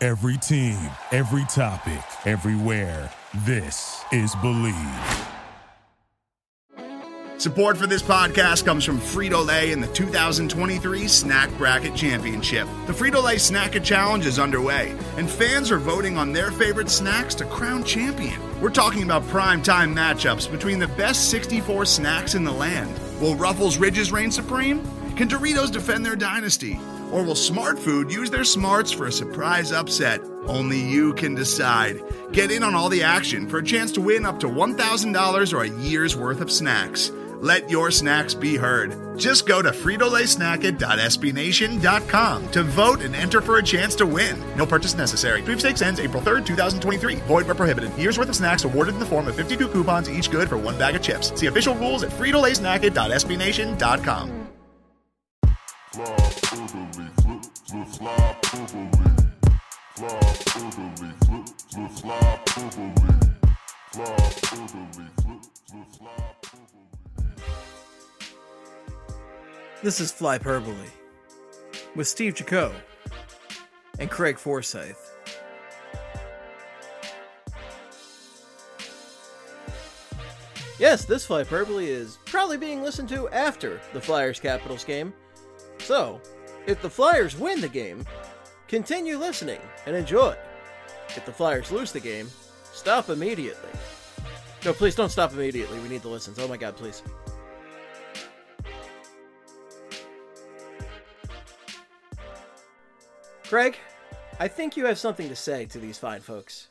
Every team, every topic, everywhere. This is Believe. Support for this podcast comes from Frito-Lay and the 2023 Snack Bracket Championship. The Frito-Lay Snack-It Challenge is underway, and fans are voting on their favorite snacks to crown champion. We're talking about prime-time matchups between the best 64 snacks in the land. Will Ruffles Ridges reign supreme? Can Doritos defend their dynasty? Or will Smart Food use their smarts for a surprise upset? Only you can decide. Get in on all the action for a chance to win up to $1,000 or a year's worth of snacks. Let your snacks be heard. Just go to fritolaysnacket.sbnation.com to vote and enter for a chance to win. No purchase necessary. Sweepstakes ends April 3rd, 2023. Void where prohibited. Year's worth of snacks awarded in the form of 52 coupons, each good for one bag of chips. See official rules at fritolaysnacket.sbnation.com. This is Flyperbole with Steve Jaco and Craig Forsyth. Yes, this Flyperbole is probably being listened to after the Flyers-Capitals game. So, if the Flyers win the game, continue listening and enjoy. If the Flyers lose the game, stop immediately. No, please don't stop immediately. We need the listens. Oh my god, please. Craig, I think you have something to say to these fine folks.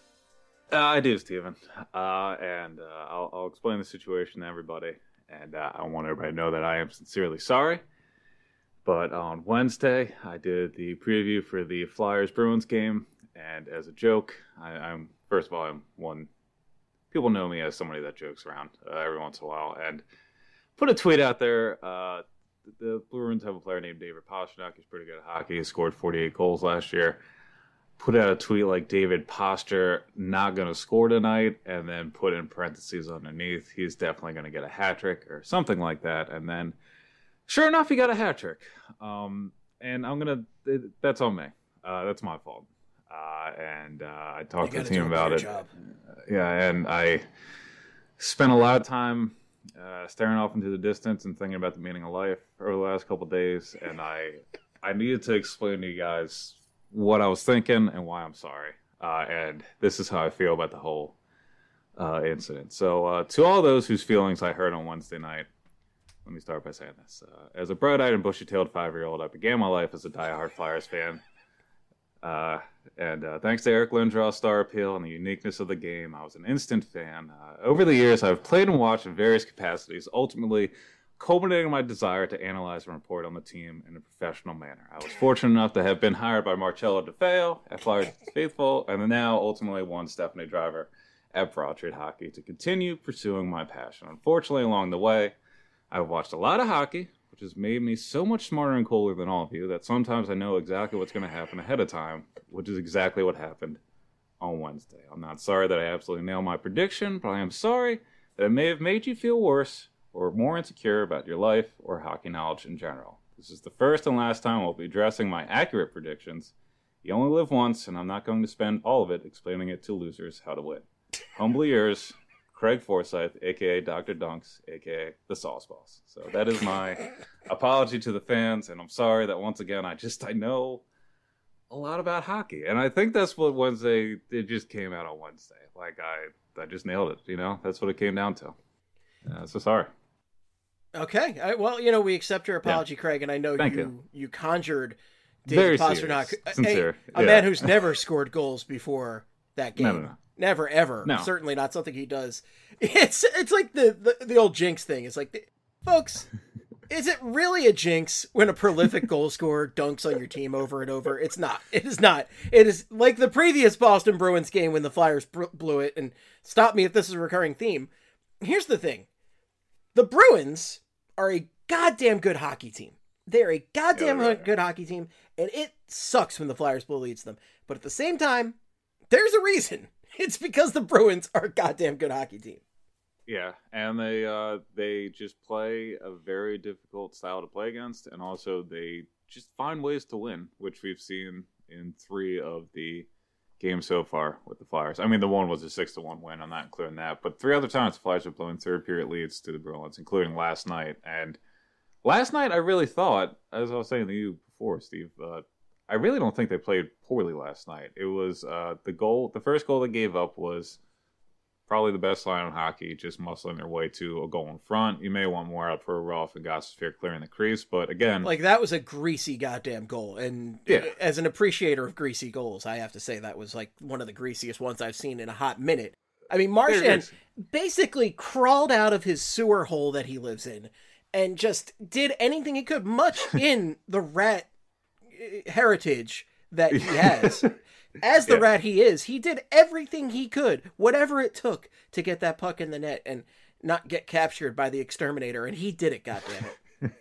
I do, Steven. And I'll explain the situation to everybody. And I want everybody to know that I am sincerely sorry. But on Wednesday, I did the preview for the Flyers-Bruins game. And as a joke, I'm one. People know me as somebody that jokes around every once in a while. And put a tweet out there. The Bruins have a player named David Pastrnak. He's pretty good at hockey. He scored 48 goals last year. Put out a tweet like David Posture not going to score tonight, and then put in parentheses underneath, he's definitely going to get a hat trick or something like that. And then, sure enough, he got a hat trick. And that's on me. That's my fault. And I talked to the team about it. And I spent a lot of time staring off into the distance and thinking about the meaning of life over the last couple of days. And I needed to explain to you guys what I was thinking and why I'm sorry. And this is how I feel about the whole incident. So to all those whose feelings I hurt on Wednesday night, let me start by saying this. As a bright-eyed and bushy-tailed 5-year-old, I began my life as a diehard Flyers fan. And thanks to Eric Lindros' star appeal and the uniqueness of the game, I was an instant fan. Over the years, I've played and watched in various capacities, ultimately culminating my desire to analyze and report on the team in a professional manner. I was fortunate enough to have been hired by Marcello DeFeo at Flyers Faithful, and now ultimately won Stephanie Driver at Broad Street Hockey to continue pursuing my passion. Unfortunately, along the way, I've watched a lot of hockey, which has made me so much smarter and cooler than all of you that sometimes I know exactly what's going to happen ahead of time, which is exactly what happened on Wednesday. I'm not sorry that I absolutely nailed my prediction, but I am sorry that it may have made you feel worse or more insecure about your life or hockey knowledge in general. This is the first and last time I'll be addressing my accurate predictions. You only live once, and I'm not going to spend all of it explaining it to losers how to win. Humbly yours, Craig Forsyth, a.k.a. Dr. Dunks, a.k.a. the Sauce Boss. So that is my apology to the fans, and I'm sorry that once again I know a lot about hockey. And I think that's what Wednesday, it just came out on Wednesday. Like, I just nailed it, That's what it came down to. So sorry. Okay. Well, we accept your apology, yeah. Craig, and I know you conjured David Pastrnak, a man who's never scored goals before that game. No. Never, ever. No. Certainly not something he does. It's like the old jinx thing. It's like, folks, is it really a jinx when a prolific goal scorer dunks on your team over and over? It's not. It is not. It is like the previous Boston Bruins game when the Flyers blew it, and stop me if this is a recurring theme. Here's the thing. The Bruins are a goddamn good hockey team. They're a goddamn good hockey team, and it sucks when the Flyers blow leads them. But at the same time, there's a reason. It's because the Bruins are a goddamn good hockey team. Yeah, and they just play a very difficult style to play against, and also they just find ways to win, which we've seen in 3 of the games so far with the Flyers. I mean, the one was a 6-1 win. I'm not including that. But 3 other times the Flyers have blown third-period leads to the Bruins, including last night. And last night I really thought, as I was saying to you before, Steve, I really don't think they played poorly last night. It was the first goal they gave up was probably the best line in hockey, just muscling their way to a goal in front. You may want more out for a Rolf and Gostisbehere clearing the crease, but again... Like, that was a greasy goddamn goal, and as an appreciator of greasy goals, I have to say that was, like, one of the greasiest ones I've seen in a hot minute. I mean, Marchand basically crawled out of his sewer hole that he lives in and just did anything he could, much in the Rat heritage that he has. As the Rat he is, he did everything he could, whatever it took, to get that puck in the net and not get captured by the exterminator, and he did it, goddammit.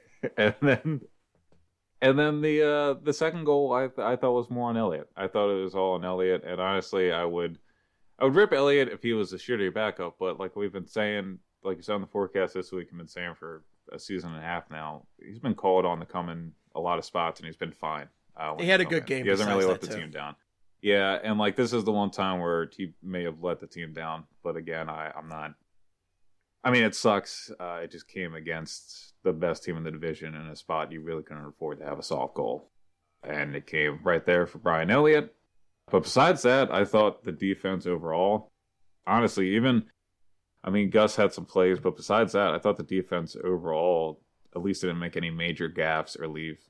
and then the second goal I thought was more on Elliott. I thought it was all on Elliott, and honestly I would rip Elliott if he was a shitty backup, but like we've been saying, like you saw in the forecast this week, I've been saying for a season and a half now, he's been called on to come in a lot of spots, and he's been fine. He had a good game. He hasn't really let the team down. Yeah, and like this is the one time where he may have let the team down, but again, I'm not. I mean, it sucks. It just came against the best team in the division in a spot you really couldn't afford to have a soft goal, and it came right there for Brian Elliott. But besides that, I thought the defense overall, honestly, Gus had some plays, but besides that, I thought the defense overall at least didn't make any major gaffes or leave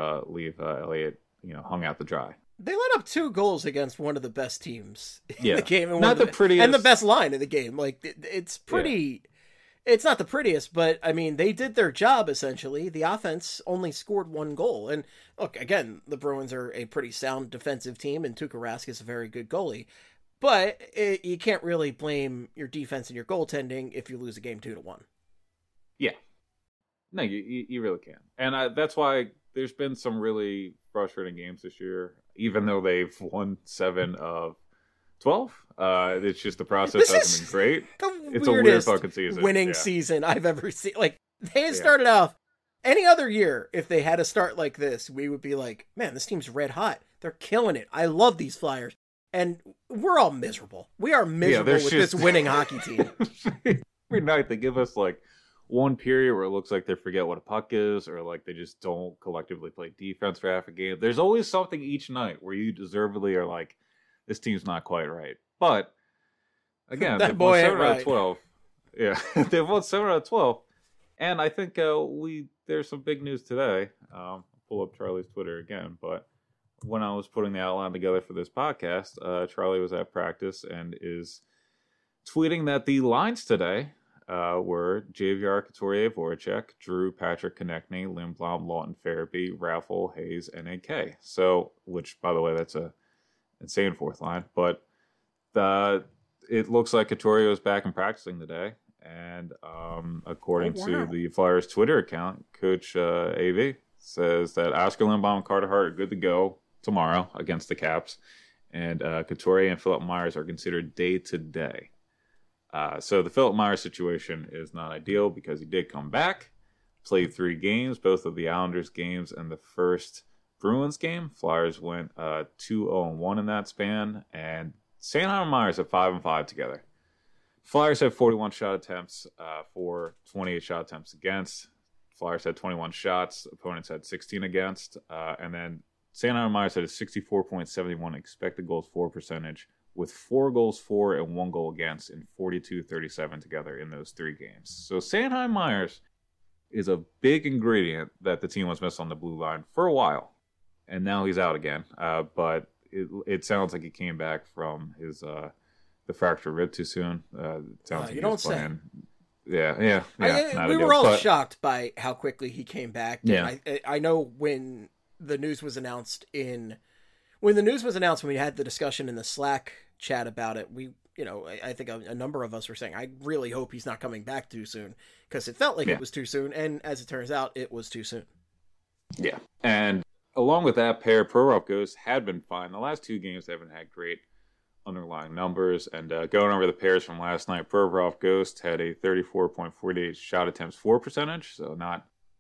Elliott, hung out to dry. They let up 2 goals against one of the best teams in the game, and not the prettiest, and the best line in the game. Like, it's pretty. Yeah. It's not the prettiest, but I mean, they did their job essentially. The offense only scored 1 goal, and look, again, the Bruins are a pretty sound defensive team, and Tuukka Rask is a very good goalie. But you can't really blame your defense and your goaltending if you lose a game 2-1. Yeah, no, you really can't, and that's why there's been some really frustrating games this year. Even though they've won 7 of 12, it's just the process hasn't been great. It's a weird fucking season. Winning season I've ever seen. Like, they started off any other year. If they had a start like this, we would be like, man, this team's red hot. They're killing it. I love these Flyers. And we're all miserable. We are miserable with this winning hockey team. Every night they give us like one period where it looks like they forget what a puck is, or like they just don't collectively play defense for half a game. There's always something each night where you deservedly are like, this team's not quite right. But again, they've won 7 out of 12. Yeah, they've won 7 out of 12. And I think there's some big news today. I'll pull up Charlie's Twitter again, but when I was putting the outline together for this podcast, Charlie was at practice and is tweeting that the lines today were JVR, Couturier, Voracek, Drew, Patrick, Konechny, Lindblom, Lawton, Farabee, Raffle, Hayes, and AK. So, which, by the way, that's a insane 4th line. But it looks like Couturier is back and practicing today. And according to the Flyers Twitter account, Coach AV says that Oscar Lindblom and Carter Hart are good to go tomorrow against the Caps. And Couturier and Philip Myers are considered day-to-day. So the Philip Myers situation is not ideal because he did come back, played 3 games, both of the Islanders games and the first Bruins game. Flyers went 2-0-1 in that span, and Sanheim and Myers have 5-5 together. Flyers had 41 shot attempts for 28 shot attempts against. Flyers had 21 shots, opponents had 16 against, and then Sanheim and Myers had a 64.71 expected goals for percentage, with 4 goals for and 1 goal against in 42-37 together in those 3 games. So Sanheim Myers is a big ingredient that the team was missing on the blue line for a while, and now he's out again. But it sounds like he came back from his the fractured rib too soon. Sounds like you don't say. Yeah. We were all shocked by how quickly he came back. Yeah. I know when the news was announced when we had the discussion in the Slack chat about it, I think a number of us were saying, I really hope he's not coming back too soon, because it felt like it was too soon, and as it turns out, it was too soon. Yeah, and along with that pair, Provorov Ghost had been fine. The last 2 games they haven't had great underlying numbers, and going over the pairs from last night, Provorov Ghost had a 34.48 shot attempts for percentage, so not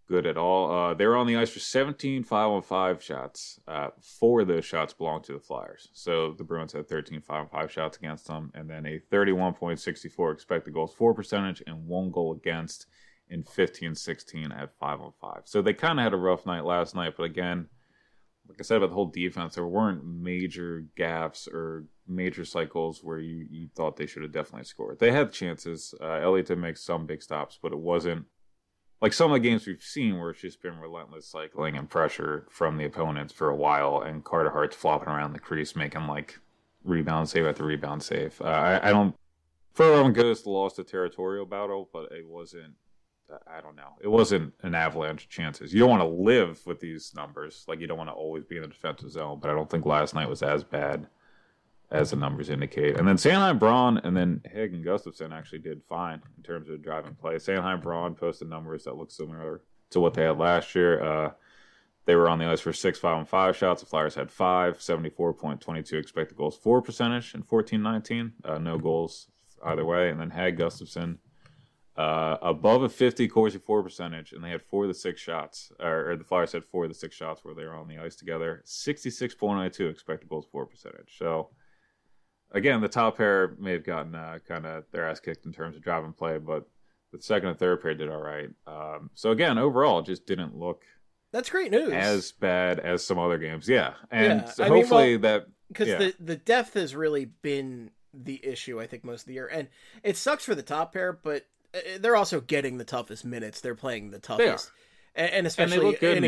good at all. They were on the ice for 17 5-on-5 shots. 4 of those shots belonged to the Flyers. So the Bruins had 13 5-on-5 shots against them, and then a 31.64 expected goals for percentage and 1 goal against in 15-16 at 5-on-5. So they kind of had a rough night last night, but again, like I said about the whole defense, there weren't major gaffes or major cycles where you thought they should have definitely scored. They had chances. Elliott did make some big stops, but it wasn't like some of the games we've seen where it's just been relentless cycling and pressure from the opponents for a while, and Carter Hart's flopping around the crease making like rebound save after rebound save. I don't. Further Ghost lost a territorial battle, but it wasn't. I don't know. It wasn't an avalanche of chances. You don't want to live with these numbers. Like, you don't want to always be in the defensive zone, but I don't think last night was as bad as the numbers indicate. And then Sanheim, Braun, and then Higg and Gustafsson actually did fine in terms of driving play. Sanheim, Braun posted numbers that look similar to what they had last year. They were on the ice for 6 5-on-5 shots. The Flyers had 5, 74.22 expected goals for percentage in 14-19. No goals either way. And then Higg, Gustafsson, above a 50 Corsi for percentage, and they had 4 of the 6 shots, or the Flyers had 4 of the 6 shots where they were on the ice together. 66.92 expected goals for percentage. So, again, the top pair may have gotten kind of their ass kicked in terms of driving play, but the second and third pair did all right. So, again, overall, it just didn't look that's great news. As bad as some other games. Yeah. And yeah. so hopefully that... Because the depth has really been the issue, I think, most of the year. And it sucks for the top pair, but they're also getting the toughest minutes. They're playing the toughest, and especially in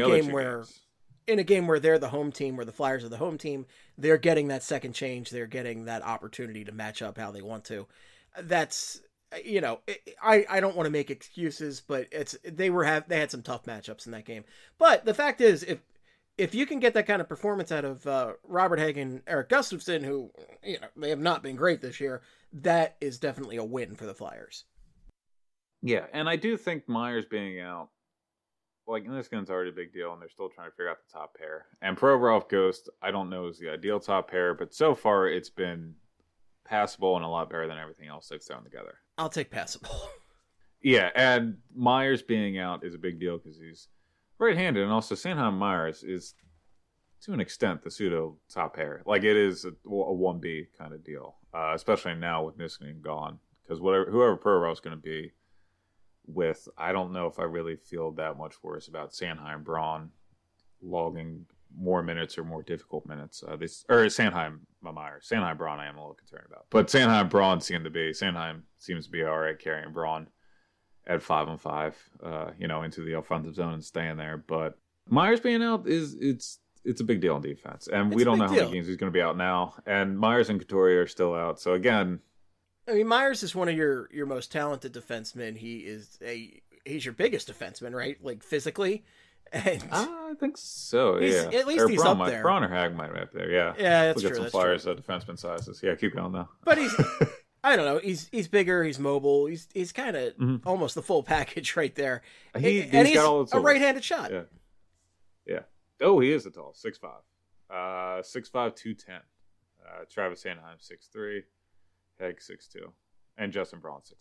a game where they're the home team, where the Flyers are the home team, they're getting that second change. They're getting that opportunity to match up how they want to. That's I don't want to make excuses, but they had some tough matchups in that game. But the fact is, if you can get that kind of performance out of Robert Hagg and Erik Gustafsson, who they have not been great this year, that is definitely a win for the Flyers. Yeah, and I do think Myers being out, like, Niskanen is already a big deal, and they're still trying to figure out the top pair. And Provorov Ghost, I don't know, is the ideal top pair, but so far it's been passable and a lot better than everything else they've thrown together. I'll take passable. Yeah, and Myers being out is a big deal because he's right-handed, and also Sanheim Myers is, to an extent, the pseudo top pair. Like, it is a 1B kind of deal, especially now with Niskanen gone, because whoever Provorov's going to be with, I don't know if I really feel that much worse about Sanheim Braun logging more minutes or more difficult minutes. Sanheim Myers. Sanheim Braun I am a little concerned about. But Sanheim Braun Sanheim seems to be all right carrying Braun at 5-on-5, into the offensive zone and staying there. But Myers being out it's a big deal in defense. And we don't know how many games he's going to be out now. And Myers and Couturier are still out. So again, I mean, Myers is one of your most talented defensemen. He's your biggest defenseman, right? Like, physically. And I think so, yeah. At least he's up there. Braun or Hagg might be up there, yeah. Yeah, that's true. Look at some Flyers defenseman sizes. Yeah, keep going, though. But he's, I don't know, he's bigger, he's mobile, he's kind of almost the full package right there. He's got all the tools. A right-handed shot. Yeah. Oh, he is a tall, 6'5". 6'5", 210. Travis Sanheim, 6'3". Hagg 6'2", and Justin Braun 6'2".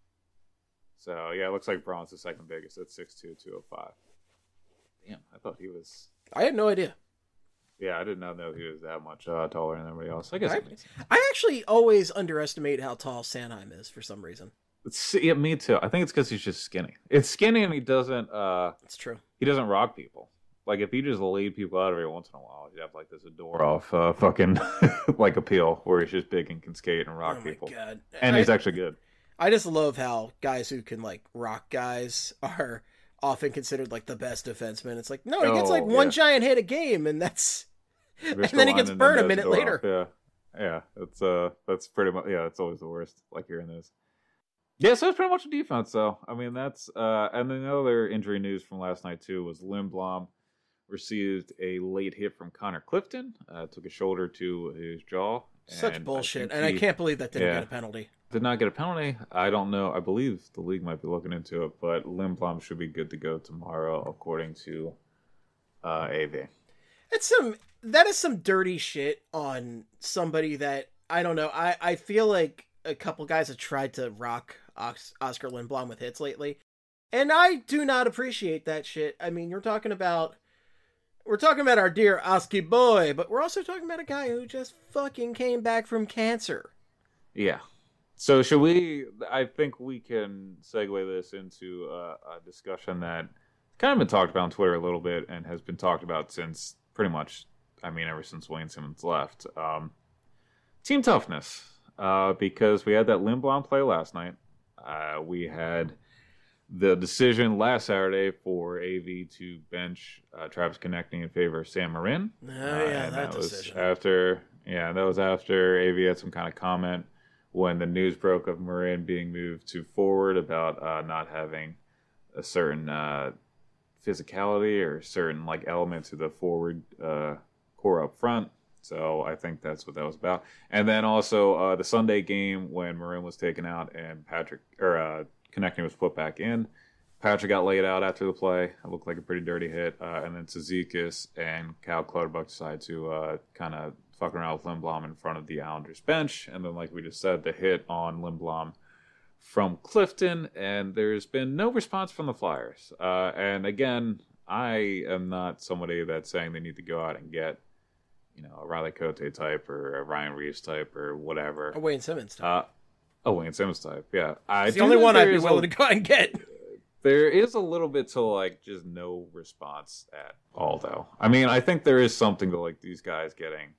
So yeah, it looks like Braun's the second biggest at 6'2", 205. Damn, I thought he was. I had no idea. Yeah, I did not know he was that much taller than everybody else. I guess I actually always underestimate how tall Sanheim is for some reason. Yeah, me too. I think it's because he's just skinny. It's skinny, and he doesn't. It's true. He doesn't rock people. Like, if he just laid people out every once in a while, he'd have, like, this Adorov fucking, like, appeal, where he's just big and can skate and rock people. Oh, my God. And he's actually good. I just love how guys who can, like, rock guys are often considered, like, the best defenseman. It's like, no, he gets, like, one giant hit a game, and that's... and then he gets burned a minute later. Yeah. That's pretty much... Yeah, it's always the worst, like, hearing this. Yeah, so it's pretty much a defense, though. I mean, that's... and then the other injury news from last night, too, was Lindblom received a late hit from Connor Clifton, took a shoulder to his jaw. Such bullshit, and I can't believe that didn't get a penalty. Did not get a penalty. I don't know. I believe the league might be looking into it, but Lindblom should be good to go tomorrow, according to AV. That is some dirty shit on somebody that, I don't know, I feel like a couple guys have tried to rock Oscar Lindblom with hits lately. And I do not appreciate that shit. I mean, we're talking about our dear Oski boy, but we're also talking about a guy who just fucking came back from cancer. Yeah. So should we, I think we can segue this into a discussion that kind of been talked about on Twitter a little bit and has been talked about since pretty much, I mean, ever since Wayne Simmons left. Team toughness, because we had that Lindblom play last night. We had the decision last Saturday for AV to bench Travis Konechny in favor of Sam Marin. Oh, yeah, that decision. That was after AV had some kind of comment when the news broke of Marin being moved to forward about not having a certain physicality or certain like element to the forward core up front. So I think that's what that was about. And then also the Sunday game when Marin was taken out and Konechny was put back in. Patrick got laid out after the play. It looked like a pretty dirty hit. And then Cizikas and Cal Clutterbuck decided to kind of fuck around with Lindblom in front of the Islanders bench. And then, like we just said, the hit on Lindblom from Clifton. And there's been no response from the Flyers. And again, I am not somebody that's saying they need to go out and get, a Riley Cote type or a Ryan Reeves type or whatever. A Wayne Simmons type. Wayne Simmons type, yeah. It's the only one I'd be willing to go out and get. There is a little bit to, like, just no response at all, though. I mean, I think there is something to, like, these guys getting,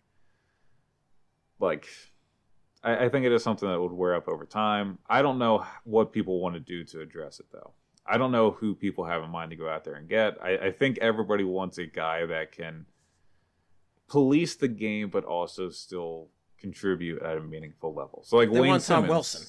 like, I think it is something that would wear up over time. I don't know what people want to do to address it, though. I don't know who people have in mind to go out there and get. I think everybody wants a guy that can police the game, but also still contribute at a meaningful level. So, like, they Wayne want Simmons.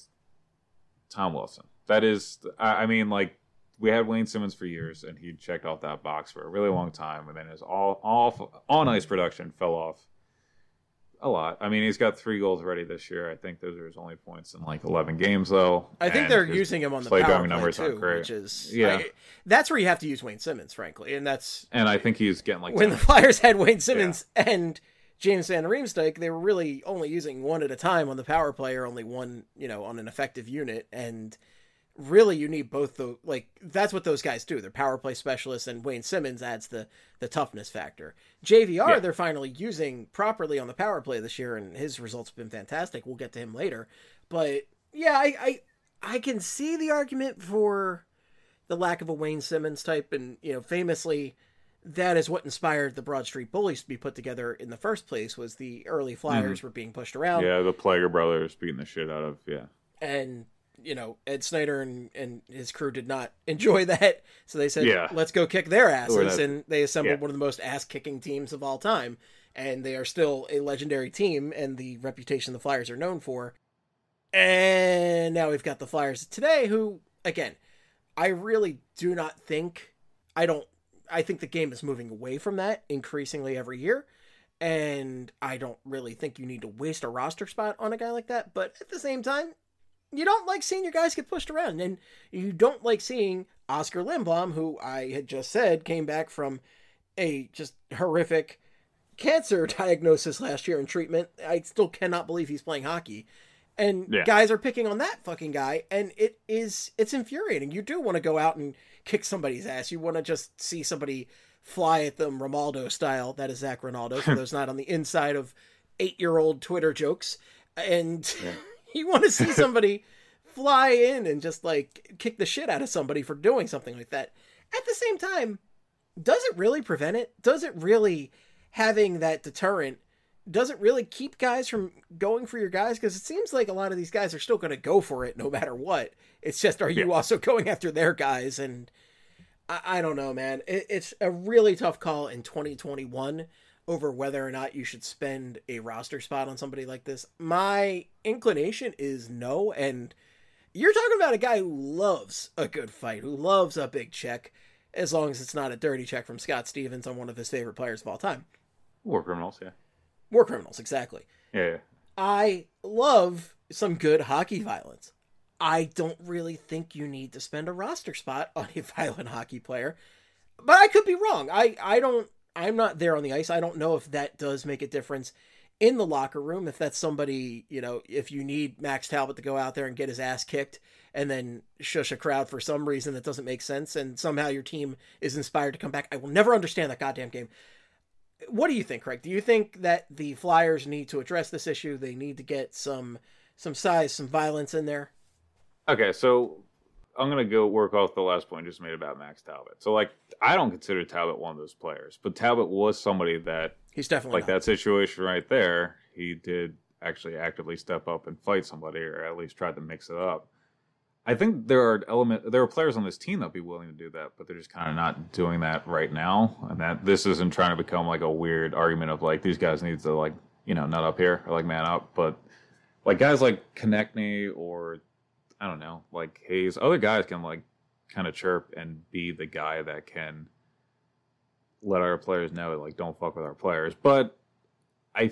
Tom Wilson. That is, I mean, like, we had Wayne Simmons for years, and he checked off that box for a really long time, and then his on-ice production fell off a lot. I mean, he's got 3 goals already this year. I think those are his only points in, like, 11 games, though. I think they're using him on the power play, too, which is... Yeah. That's where you have to use Wayne Simmons, frankly, and that's... And I think he's getting, like... When the Flyers had Wayne Simmons and James Van Riemsdyk, they were really only using one at a time on the power play, or only one, on an effective unit, and... Really, you need both that's what those guys do. They're power play specialists, and Wayne Simmons adds the toughness factor. JVR, they're finally using properly on the power play this year, and his results have been fantastic. We'll get to him later. But, yeah, I can see the argument for the lack of a Wayne Simmons type, and, famously, that is what inspired the Broad Street Bullies to be put together in the first place, was the early Flyers were being pushed around. Yeah, the Plager brothers beating the shit out of, And... Ed Snyder and his crew did not enjoy that. So they said, let's go kick their asses. And they assembled one of the most ass-kicking teams of all time. And they are still a legendary team and the reputation the Flyers are known for. And now we've got the Flyers today who, again, I really do not think... I think the game is moving away from that increasingly every year. And I don't really think you need to waste a roster spot on a guy like that. But at the same time, you don't like seeing your guys get pushed around, and you don't like seeing Oskar Lindblom, who I had just said came back from a just horrific cancer diagnosis last year and treatment. I still cannot believe he's playing hockey. And guys are picking on that fucking guy, and it's infuriating. You do want to go out and kick somebody's ass. You want to just see somebody fly at them Ronaldo style. That is Zach Ronaldo, for those not on the inside of 8-year-old Twitter jokes. And... Yeah. You want to see somebody fly in and just, like, kick the shit out of somebody for doing something like that. At the same time, does it really prevent it? Does it really, having that deterrent, does it really keep guys from going for your guys? Because it seems like a lot of these guys are still going to go for it no matter what. It's just, are you also going after their guys? And I don't know, man. It's a really tough call in 2021 over whether or not you should spend a roster spot on somebody like this. My inclination is no, and you're talking about a guy who loves a good fight, who loves a big check, as long as it's not a dirty check from Scott Stevens on one of his favorite players of all time. War criminals, yeah. War criminals, exactly. Yeah. I love some good hockey violence. I don't really think you need to spend a roster spot on a violent hockey player, but I could be wrong. I'm not there on the ice. I don't know if that does make a difference in the locker room, if that's somebody, if you need Max Talbot to go out there and get his ass kicked and then shush a crowd for some reason that doesn't make sense, and somehow your team is inspired to come back. I will never understand that goddamn game. What do you think, Craig? Do you think that the Flyers need to address this issue? They need to get some size, some violence in there? Okay, so I'm going to go work off the last point just made about Max Talbot. So, I don't consider Talbot one of those players, but Talbot was somebody that, he's definitely not. That situation right there, he did actually actively step up and fight somebody, or at least tried to mix it up. I think there are players on this team that'd be willing to do that, but they're just kind of not doing that right now. And that this isn't trying to become a weird argument of these guys need to nut up here or man up. But guys like Konechny or I don't know, Hayes, other guys can kind of chirp and be the guy that can let our players know don't fuck with our players. But I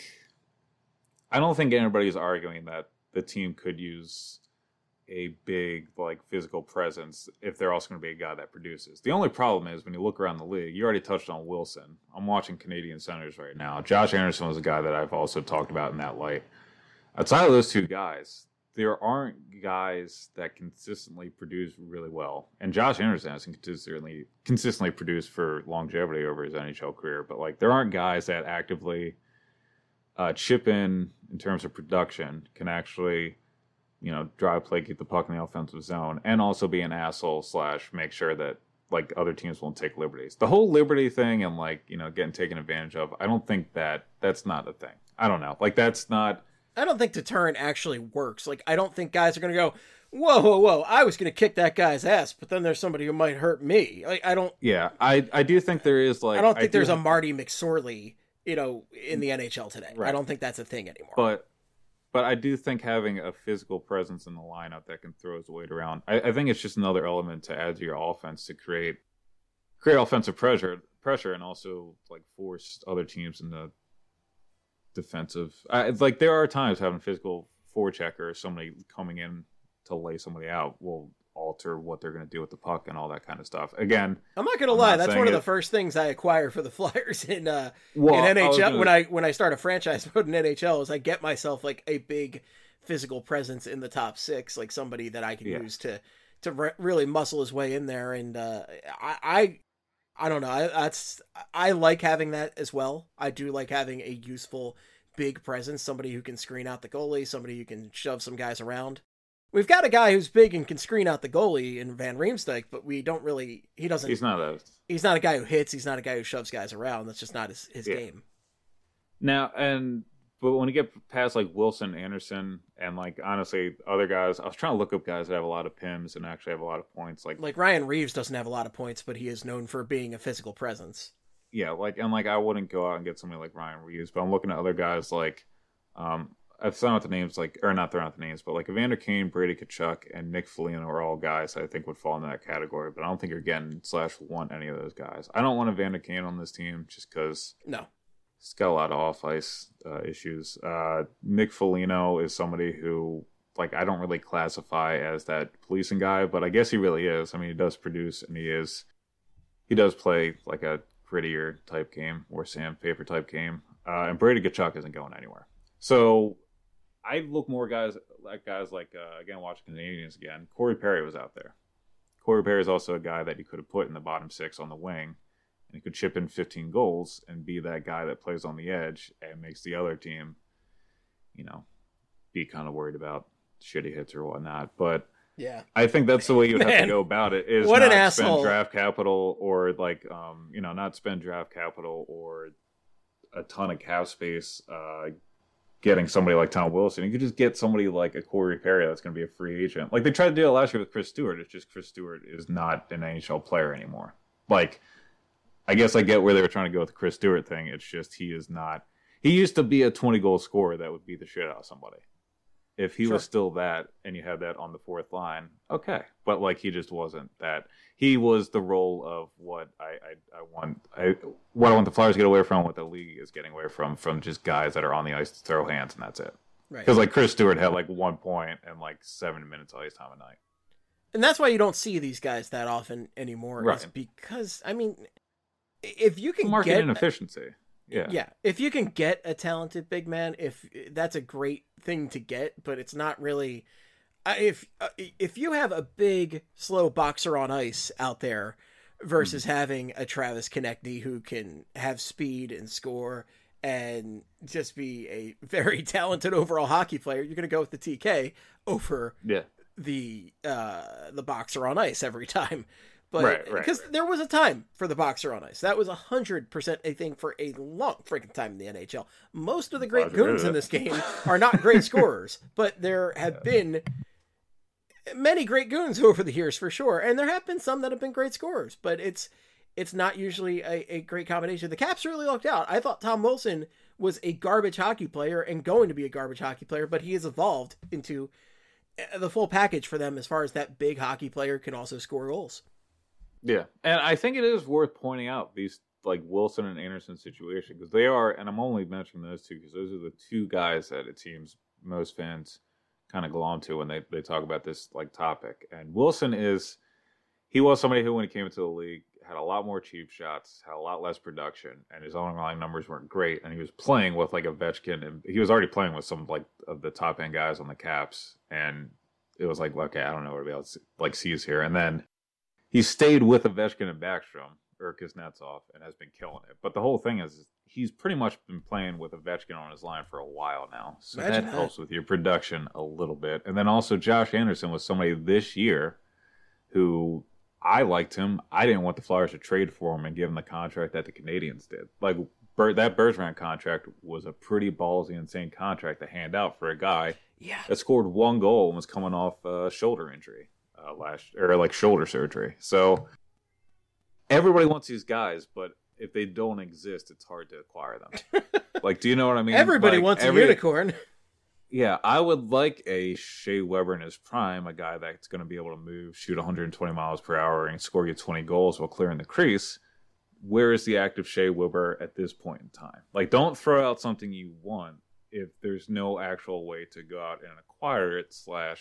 don't think anybody's arguing that the team could use a big physical presence if they're also going to be a guy that produces. The only problem is when you look around the league, you already touched on Wilson. I'm watching Canadian centers right now. Josh Anderson was a guy that I've also talked about in that light. Outside of those two guys, there aren't guys that consistently produce really well. And Josh Anderson has consistently produced for longevity over his NHL career, but there aren't guys that actively chip in terms of production, can actually drive play, keep the puck in the offensive zone, and also be an asshole / make sure that other teams won't take liberties. The whole liberty thing and getting taken advantage of, I don't think that's not a thing. I don't know. That's not. I don't think deterrent actually works. I don't think guys are going to go, whoa, I was going to kick that guy's ass, but then there's somebody who might hurt me. I don't. Yeah, I do think there is I don't think there's a Marty McSorley, in the NHL today. Right. I don't think that's a thing anymore. But I do think having a physical presence in the lineup that can throw his weight around, I think it's just another element to add to your offense to create offensive pressure, and also force other teams into defensive. There are times having a physical forechecker or somebody coming in to lay somebody out will alter what they're going to do with the puck and all that kind of stuff. Again, I'm not going to lie, that's one of the first things I acquire for the Flyers in NHL when I start a franchise mode in NHL is I get myself a big physical presence in the top six, somebody that I can use to really muscle his way in there. And I don't know. I like having that as well. I do like having a useful big presence, somebody who can screen out the goalie, somebody who can shove some guys around. We've got a guy who's big and can screen out the goalie in Van Riemsdyk, but we don't really. He's not a guy who hits. He's not a guy who shoves guys around. That's just not his game. Now, but when you get past Wilson, Anderson, and honestly other guys, I was trying to look up guys that have a lot of PIMs and actually have a lot of points. Like Ryan Reeves doesn't have a lot of points, but he is known for being a physical presence. Yeah, I wouldn't go out and get somebody like Ryan Reeves, but I'm looking at other guys I've thrown out the names or not thrown out the names, but Evander Kane, Brady Tkachuk, and Nick Foligno are all guys I think would fall into that category. But I don't think you're getting / want any of those guys. I don't want Evander Kane on this team just because he's got a lot of off ice issues. Nick Foligno is somebody who I don't really classify as that policing guy, but I guess he really is. I mean, he does produce and he does play a grittier type game or sandpaper type game. And Brady Tkachuk isn't going anywhere. So I look more guys again, watching Canadians again. Corey Perry was out there. Corey Perry is also a guy that you could have put in the bottom six on the wing, and he could chip in 15 goals and be that guy that plays on the edge and makes the other team, be kind of worried about shitty hits or whatnot. But yeah, I think that's the way you would have to go about it. Is what not an asshole. Spend draft capital or not spend draft capital or a ton of cap space. Getting somebody like Tom Wilson, you could just get somebody like a Corey Perry that's going to be a free agent. They tried to do it last year with Chris Stewart. It's just Chris Stewart is not an NHL player anymore. I guess I get where they were trying to go with the Chris Stewart thing. It's just he is not. He used to be a 20-goal scorer that would beat the shit out of somebody. If he was still that, and you had that on the fourth line, okay. But he just wasn't that. He was the role of what I want the Flyers to get away from, what the league is getting away from just guys that are on the ice to throw hands, and that's it. Right. Because Chris Stewart had 1 point and 7 minutes of ice time a night. And that's why you don't see these guys that often anymore. Right. Is because if you can market inefficiency. Yeah, if you can get a talented big man, if that's a great thing to get, but it's not really. If you have a big, slow boxer on ice out there versus having a Travis Konecny who can have speed and score and just be a very talented overall hockey player, you're going to go with the TK over the boxer on ice every time. But because there was a time for the boxer on ice, that was 100% a thing for a long freaking time in the NHL. Most of the great goons in this game are not great scorers, but there have been many great goons over the years for sure, and there have been some that have been great scorers, but it's not usually a great combination. The Caps really lucked out. I thought Tom Wilson was a garbage hockey player and going to be a garbage hockey player, but he has evolved into the full package for them as far as that big hockey player can also score goals. Yeah, and I think it is worth pointing out these like Wilson and Anderson situation because they are, and I'm only mentioning those two because those are the two guys that it seems most fans kind of glom to when they talk about this like topic. And Wilson he was somebody who when he came into the league had a lot more cheap shots, had a lot less production, and his underlying numbers weren't great. And he was playing with like Ovechkin, and he was already playing with some like of the top end guys on the Caps, and it was like, okay, I don't know what to be able to like sees here. And then he stayed with Ovechkin and Backstrom or Kuznetsov and has been killing it. But the whole thing is he's pretty much been playing with Ovechkin on his line for a while now. So that helps with your production a little bit. And then also Josh Anderson was somebody this year who I liked him. I didn't want the Flyers to trade for him and give him the contract that the Canadians did. Like that Bergevin contract was a pretty ballsy, insane contract to hand out for a guy that scored one goal and was coming off a shoulder injury. Shoulder surgery. So everybody wants these guys, but if they don't exist, it's hard to acquire them. Like, do you know what I mean? Everybody wants a unicorn. Yeah, I would like a Shea Weber in his prime, a guy that's going to be able to move, shoot 120 miles per hour, and score you 20 goals while clearing the crease. Where is the active Shea Weber at this point in time? Like, don't throw out something you want if there's no actual way to go out and acquire it,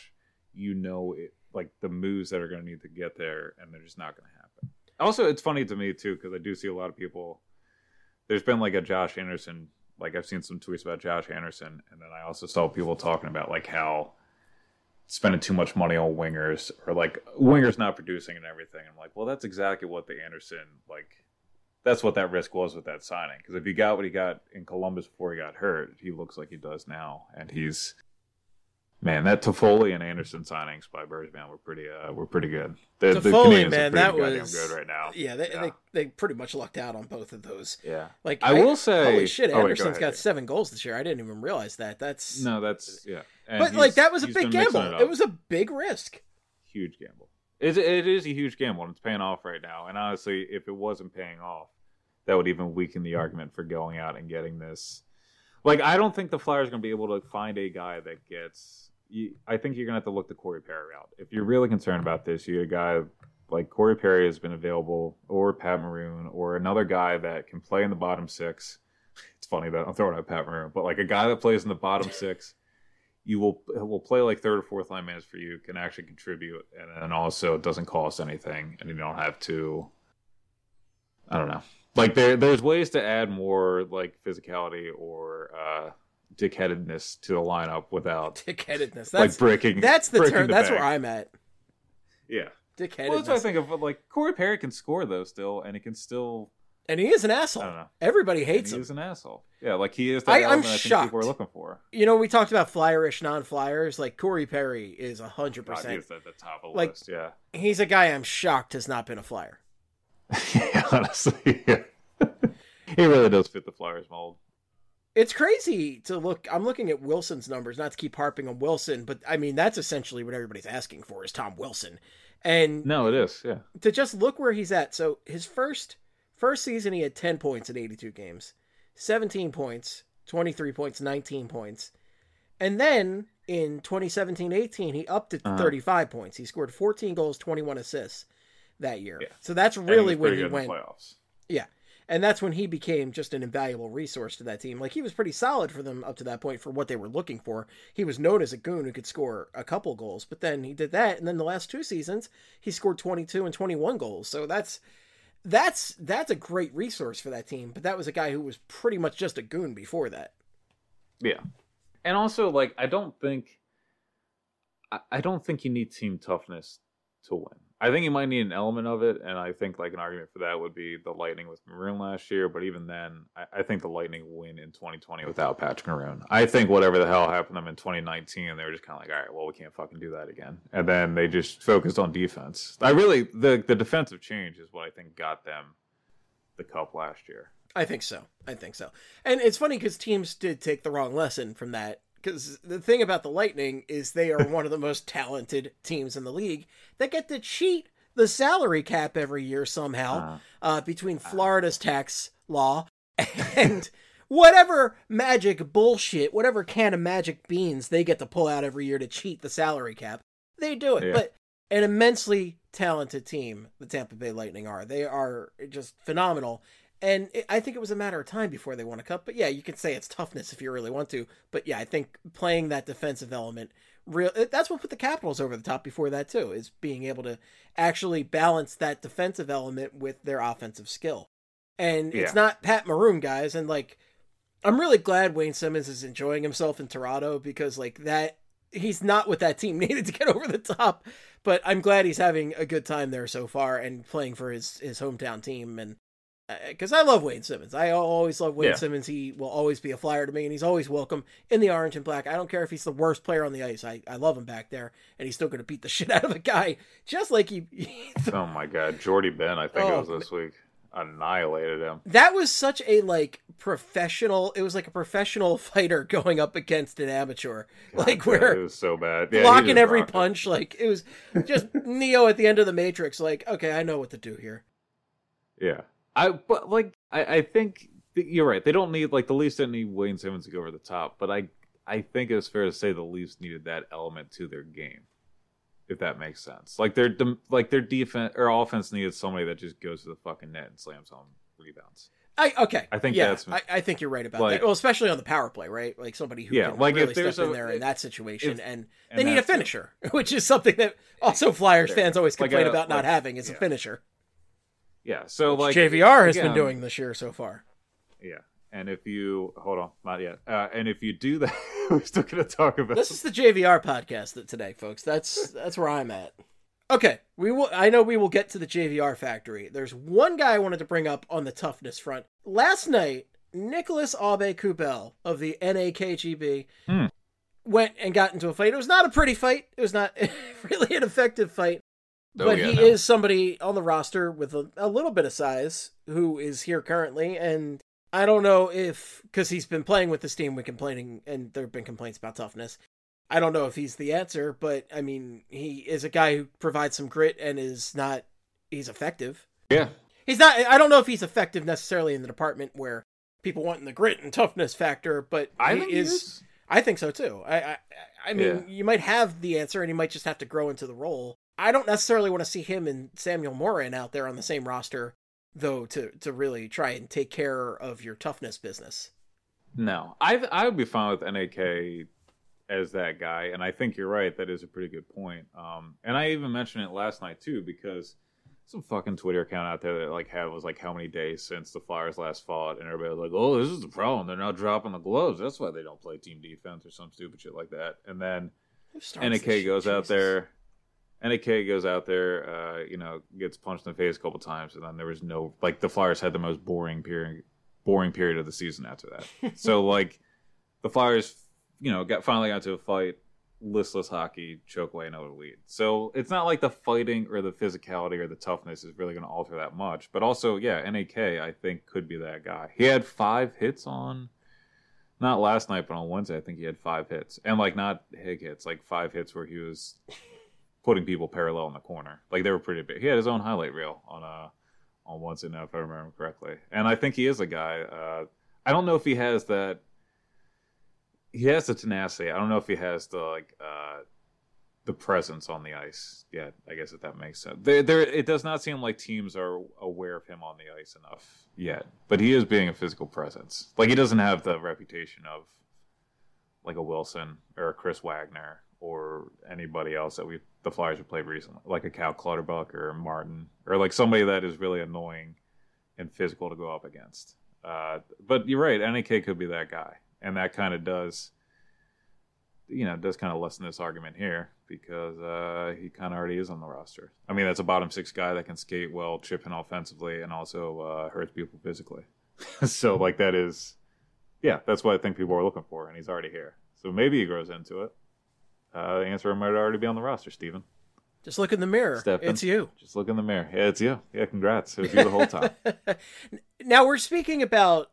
/ like the moves that are going to need to get there, and they're just not going to happen. Also, it's funny to me, too, because I do see a lot of people. There's been like a Josh Anderson, like I've seen some tweets about Josh Anderson, and then I also saw people talking about like how spending too much money on wingers or like wingers not producing and everything. I'm like, well, that's exactly what the Anderson, like, that's what that risk was with that signing. Because if he got what he got in Columbus before he got hurt, he looks like he does now, and he's. Man, that Toffoli and Anderson signings by Bergevin were pretty good. Toffoli, man, that was good right now. Yeah, they pretty much lucked out on both of those. Yeah, like I will say, holy shit, Anderson's got 7 goals this year. I didn't even realize that. That's yeah. And but like that was a big gamble. It was a big risk. Huge gamble. It is a huge gamble, and it's paying off right now. And honestly, if it wasn't paying off, that would even weaken the argument for going out and getting this. Like, I don't think the Flyers are going to be able to find a guy that gets. I think you're going to have to look the Corey Perry route. If you're really concerned about this, you get a guy like Corey Perry has been available, or Pat Maroon, or another guy that can play in the bottom 6. It's funny that I'm throwing out Pat Maroon, but like a guy that plays in the bottom 6, you will play like third or fourth line minutes for you, can actually contribute, and then also it doesn't cost anything, and you don't have to. I don't know. Like there's ways to add more like physicality or dickheadedness to the lineup without dickheadedness. That's like breaking. That's the term. That's bank. where I'm at. Yeah, dickheadedness. Well, that's what I think of. Like Corey Perry can score though still, and he can still. And he is an asshole. I don't know. Everybody hates him. He is an asshole. Yeah, like he is. That I'm shocked. I think people are looking for. You know, we talked about Flyerish, non-Flyers. Like Corey Perry is 100%. He's at the top of the like, list. Yeah, he's a guy I'm shocked has not been a Flyer. Yeah, honestly, yeah. He really does fit the Flyers mold. It's crazy to look. I'm looking at Wilson's numbers, not to keep harping on Wilson, but I mean, that's essentially what everybody's asking for is Tom Wilson. And no, it is. Yeah. To just look where he's at. So his first season, he had 10 points in 82 games, 17 points, 23 points, 19 points. And then in 2017-18, he upped to 35 points. He scored 14 goals, 21 assists that year. Yeah. So that's really when he went. Playoffs. Yeah. And that's when he became just an invaluable resource to that team. Like, he was pretty solid for them up to that point for what they were looking for. He was known as a goon who could score a couple goals, but then he did that. And then the last 2 seasons, he scored 22 and 21 goals. So that's that's a great resource for that team. But that was a guy who was pretty much just a goon before that. Yeah. And also, like, I don't think you need team toughness to win. I think you might need an element of it, and I think like an argument for that would be the Lightning with Maroon last year. But even then, I think the Lightning win in 2020 without Patrick Maroon. I think whatever the hell happened to them in 2019, they were just kind of like, all right, well, we can't fucking do that again. And then they just focused on defense. The defensive change is what I think got them the cup last year. I think so. And it's funny because teams did take the wrong lesson from that. Because the thing about the Lightning is they are one of the most talented teams in the league that get to cheat the salary cap every year somehow between Florida's tax law and whatever magic bullshit, whatever can of magic beans they get to pull out every year to cheat the salary cap. They do it. Yeah. But an immensely talented team, the Tampa Bay Lightning are. They are just phenomenal. And I think it was a matter of time before they won a cup. But yeah, you can say it's toughness if you really want to. But yeah, I think playing that defensive element, that's what put the Capitals over the top before that too, is being able to actually balance that defensive element with their offensive skill. And it's not Pat Maroon, guys. And like, I'm really glad Wayne Simmons is enjoying himself in Toronto because like that, he's not what that team needed to get over the top. But I'm glad he's having a good time there so far and playing for his hometown team. And because I love Wayne Simmons. I always love Wayne Simmons. He will always be a Flyer to me, and he's always welcome in the orange and black. I don't care if he's the worst player on the ice. I love him back there, and he's still going to beat the shit out of a guy, just like he oh, my God. Jordy Ben, I think it was this week, annihilated him. That was such a, professional... It was like a professional fighter going up against an amateur. God, where... It was so bad. Blocking every punch. It was just Neo at the end of the Matrix. Okay, I know what to do here. Yeah. I think you're right. They don't need, the Leafs didn't need Wayne Simmons to go over the top, but I think it's fair to say the Leafs needed that element to their game, if that makes sense. Their defense or offense needed somebody that just goes to the fucking net and slams home rebounds. I think that's... I think you're right about that. Well, especially on the power play, right? Somebody who can really step in there in that situation, and they need a finisher, which is something that also Flyers fans always complain about not having is a finisher. Yeah, so JVR has been doing this year so far. Yeah, and if you hold on, not yet. And if you do that, we're still going to talk about this. Is the JVR podcast today, folks. That's where I'm at. Okay, I know we will get to the JVR factory. There's one guy I wanted to bring up on the toughness front. Last night, Nicholas Aube-Kubel of the NAKGB went and got into a fight. It was not a pretty fight. It was not really an effective fight. But he is somebody on the roster with a little bit of size who is here currently. And I don't know if, because he's been playing with this team when complaining, and there have been complaints about toughness. I don't know if he's the answer, but I mean, he is a guy who provides some grit and he's effective. Yeah. I don't know if he's effective necessarily in the department where people want the grit and toughness factor, but I think so too. I mean, you might have the answer and he might just have to grow into the role. I don't necessarily want to see him and Samuel Morin out there on the same roster, though, to really try and take care of your toughness business. No, I would be fine with NAK as that guy, and I think you're right. That is a pretty good point. And I even mentioned it last night too, because some fucking Twitter account out there that was how many days since the Flyers last fought, and everybody was like, "Oh, this is the problem. They're not dropping the gloves. That's why they don't play team defense or some stupid shit like that." And then NAK goes out there. NAK goes out there, gets punched in the face a couple times, and then there was no the Flyers had the most boring period of the season after that. So the Flyers, finally got to a fight, listless hockey, choke away another lead. So it's not like the fighting or the physicality or the toughness is really going to alter that much. But also, NAK I think could be that guy. He had 5 hits not last night, but on Wednesday I think he had 5 hits, and not hig hits, 5 hits where he was putting people parallel in the corner. They were pretty big. He had his own highlight reel on Wednesday now, if I remember correctly. And I think he is a guy. I don't know if he has that. He has the tenacity. I don't know if he has the presence on the ice yet. I guess if that makes sense. It does not seem like teams are aware of him on the ice enough yet. But he is being a physical presence. He doesn't have the reputation of a Wilson or a Chris Wagner or anybody else that the Flyers have played recently, like a Cal Clutterbuck or a Martin, or like somebody that is really annoying and physical to go up against. But you're right, NAK could be that guy, and that kind of does kind of lessen this argument here because he kind of already is on the roster. I mean, that's a bottom six guy that can skate well, chip in offensively, and also hurts people physically. So, like, that's what I think people are looking for, and he's already here. So maybe he grows into it. The answer might already be on the roster, Steven. Just look in the mirror. It's you. Just look in the mirror. Yeah, it's you. Yeah, congrats. It was you the whole time. Now we're speaking about,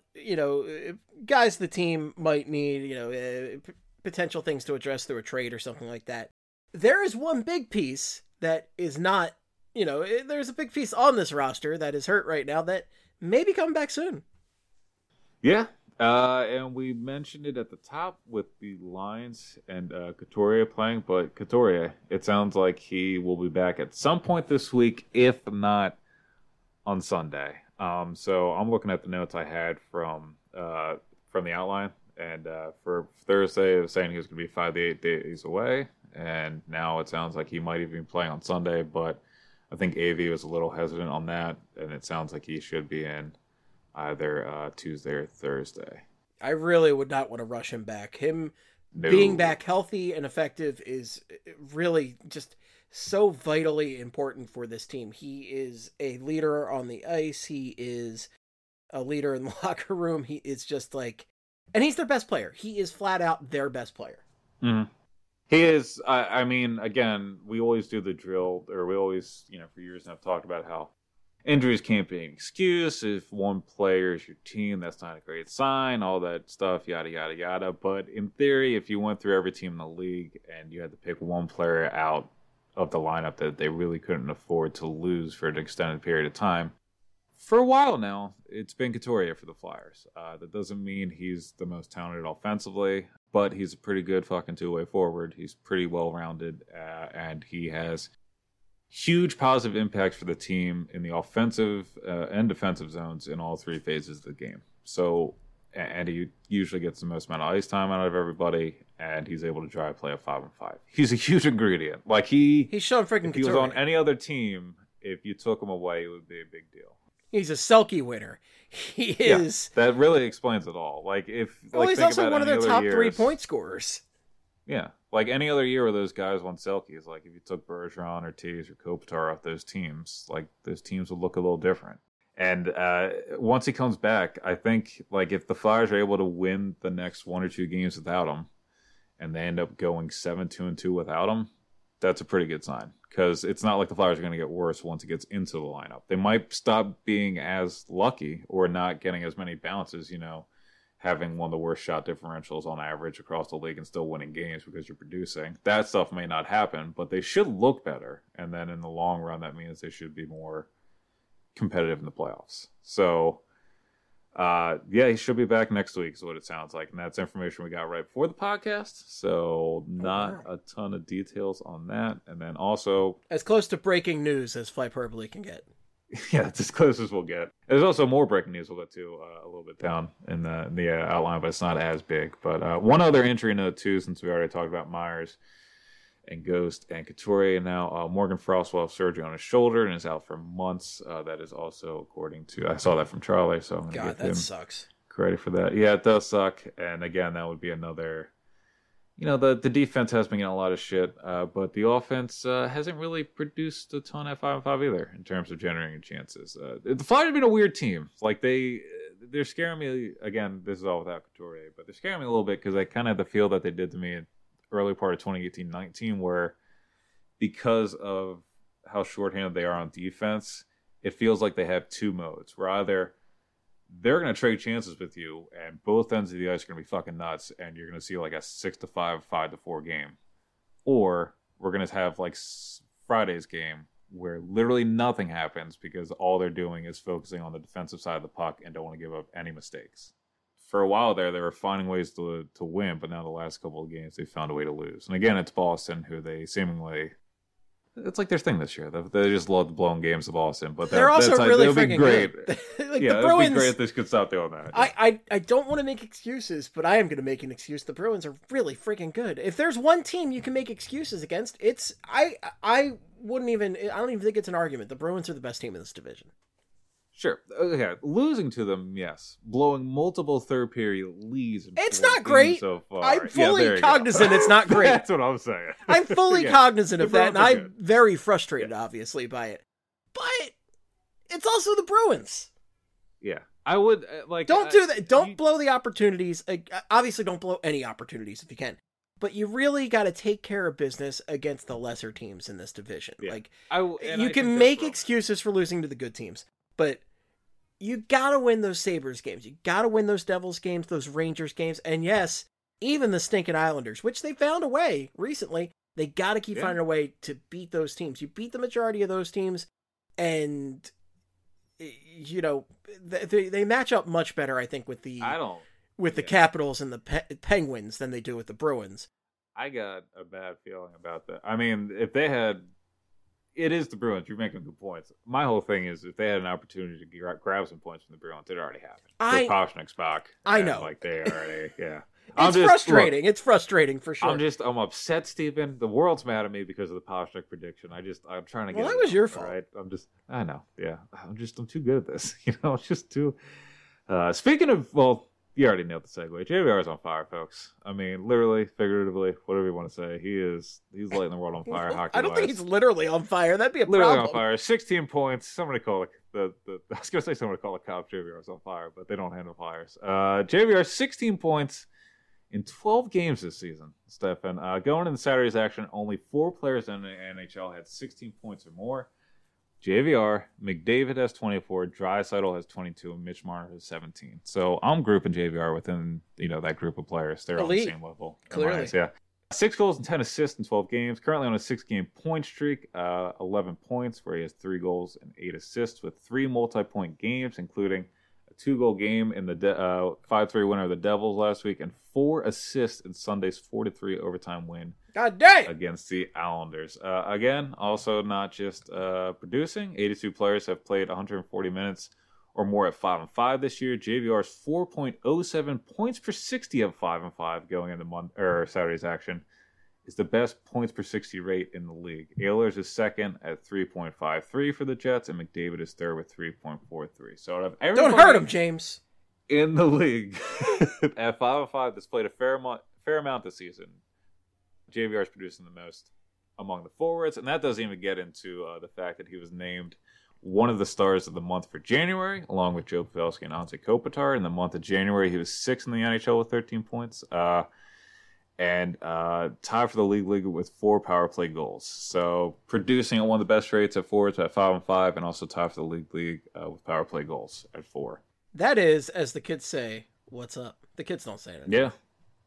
guys the team might need, potential things to address through a trade or something like that. There is one big piece that is not, there's a big piece on this roster that is hurt right now that may be coming back soon. Yeah. And we mentioned it at the top with the Lions and Couturier playing, but Couturier, it sounds like he will be back at some point this week, if not on Sunday. So I'm looking at the notes I had from the outline, and for Thursday, it was saying he was going to be 5 to 8 days away, and now it sounds like he might even be playing on Sunday, but I think AV was a little hesitant on that, and it sounds like he should be in either Tuesday or Thursday. I really would not want to rush him back. Being back healthy and effective is really just so vitally important for this team. He is a leader on the ice. He is a leader in the locker room. He is just like, and he's their best player. He is flat out their best player. Mm-hmm. He is. I mean, again, we always do the drill, or we always, for years now have talked about how injuries can't be an excuse. If one player is your team, that's not a great sign, all that stuff, yada, yada, yada. But in theory, if you went through every team in the league and you had to pick one player out of the lineup that they really couldn't afford to lose for an extended period of time, for a while now, it's been Couturier for the Flyers. That doesn't mean he's the most talented offensively, but he's a pretty good fucking two-way forward. He's pretty well-rounded, and he has huge positive impact for the team in the offensive and defensive zones in all three phases of the game. So, and he usually gets the most amount of ice time out of everybody, and he's able to drive play a 5-on-5. He's a huge ingredient. Like he's shown freaking. If he was on any other team, if you took him away, it would be a big deal. He's a Selke winner. He is. Yeah, that really explains it all. Like if he's also one of their top 3-point scorers. Yeah, like any other year where those guys won Selkies, like if you took Bergeron or Taves or Kopitar off those teams, like those teams would look a little different. And once he comes back, I think like if the Flyers are able to win the next 1 or 2 games without him, and they end up going 7-2-2 without him, that's a pretty good sign. Because it's not like the Flyers are going to get worse once it gets into the lineup. They might stop being as lucky or not getting as many bounces, having one of the worst shot differentials on average across the league and still winning games because you're producing. That stuff may not happen, but they should look better. And then in the long run, that means they should be more competitive in the playoffs. So, he should be back next week is what it sounds like. And that's information we got right before the podcast. So not a ton of details on that. And then also, as close to breaking news as Flyperbole can get. Yeah, it's as close as we'll get. There's also more breaking news we'll get to a little bit down in the outline, but it's not as big. But one other injury note, too, since we already talked about Myers and Ghost and Couturier. Now, Morgan Frost will have surgery on his shoulder and is out for months. That is also according to, I saw that from Charlie, so I'm going to give him sucks. Credit for that. Yeah, it does suck. And again, that would be another, the defense has been getting a lot of shit, but the offense hasn't really produced a ton at 5-on-5 either in terms of generating chances. The Flyers have been a weird team. Like they're scaring me. Again, this is all without Couturier, but they're scaring me a little bit because I kind of have the feel that they did to me in early part of 2018-19, where because of how shorthanded they are on defense, it feels like they have two modes. Where either they're going to trade chances with you, and both ends of the ice are going to be fucking nuts, and you're going to see like a 6-5, 5-4 game. Or we're going to have like Friday's game, where literally nothing happens because all they're doing is focusing on the defensive side of the puck and don't want to give up any mistakes. For a while there, they were finding ways to win, but now the last couple of games, they found a way to lose. And again, it's Boston, who they seemingly it's like their thing this year. They just love blowing games to Boston, but they're also really freaking great. Good. Like, yeah, the Bruins, it'd be great if this could stop doing that. I don't want to make excuses, but I am going to make an excuse. The Bruins are really freaking good. If there's one team you can make excuses against, it's I don't even think it's an argument. The Bruins are the best team in this division. Sure. Okay. Losing to them, yes. Blowing multiple third period leads. It's not great. So far. I'm fully cognizant it's not great. That's what I'm saying. I'm fully cognizant of that, and I'm good. very frustrated, obviously, by it. But it's also the Bruins. Yeah. I would, Don't do that. Don't blow the opportunities. Obviously, don't blow any opportunities if you can. But you really got to take care of business against the lesser teams in this division. Yeah. You can make excuses for losing to the good teams, but you got to win those Sabres games. You got to win those Devils games, those Rangers games. And yes, even the stinking Islanders, which they found a way recently, they got to keep finding a way to beat those teams. You beat the majority of those teams, and, you know, they match up much better, I think, with the Capitals and the Penguins than they do with the Bruins. I got a bad feeling about that. I mean, if they had... It is the Bruins. You're making good points. My whole thing is if they had an opportunity to grab some points from the Bruins, it already happened. Pastrnak, Spock. I know. Like they already, yeah. It's frustrating. It's frustrating for sure. I'm upset, Stephen. The world's mad at me because of the Pastrnak prediction. I'm trying to get. Well, that was your fault. Right? I know. Yeah. I'm too good at this. You know, it's just too. Speaking of, well, you already nailed the segue. JVR is on fire, folks. I mean, literally, figuratively, whatever you want to say. He's lighting the world on fire. Hockey. I don't think he's literally on fire. That'd be a literally problem. on fire. 16 points. Somebody call it I was gonna say somebody call the cops. JVR is on fire, but they don't handle fires. JVR 16 points in 12 games this season. Stefan, going into Saturday's action, only 4 players in the NHL had 16 points or more. JVR, McDavid has 24, Draisaitl has 22, and Mitch Marner has 17. So I'm grouping JVR within that group of players. They're on the same level. Clearly. Yeah. 6 goals and 10 assists in 12 games. Currently on a 6-game point streak, 11 points, where he has 3 goals and 8 assists with 3 multi-point games, including a 2-goal game in the 5-3 winner of the Devils last week, and 4 assists in Sunday's 4-3 overtime win. God dang! Against the Islanders. Again, also not just producing. 82 players have played 140 minutes or more at 5-5 this year. JVR's 4.07 points per 60 at 5-5 going into Saturday's action is the best points per 60 rate in the league. Ehlers is second at 3.53 for the Jets, and McDavid is third with 3.43. So out of everybody, don't hurt him, James. In the league at 5-5 that's played a fair amount this season, JVR is producing the most among the forwards, and that doesn't even get into the fact that he was named one of the stars of the month for January, along with Joe Pavelski and Anze Kopitar. In the month of January, he was 6th in the NHL with 13 points, and tied for the league with 4 power play goals. So producing at one of the best rates at forwards at 5-5, and also tied for the league with power play goals at 4. That is, as the kids say, what's up? The kids don't say it. Yeah.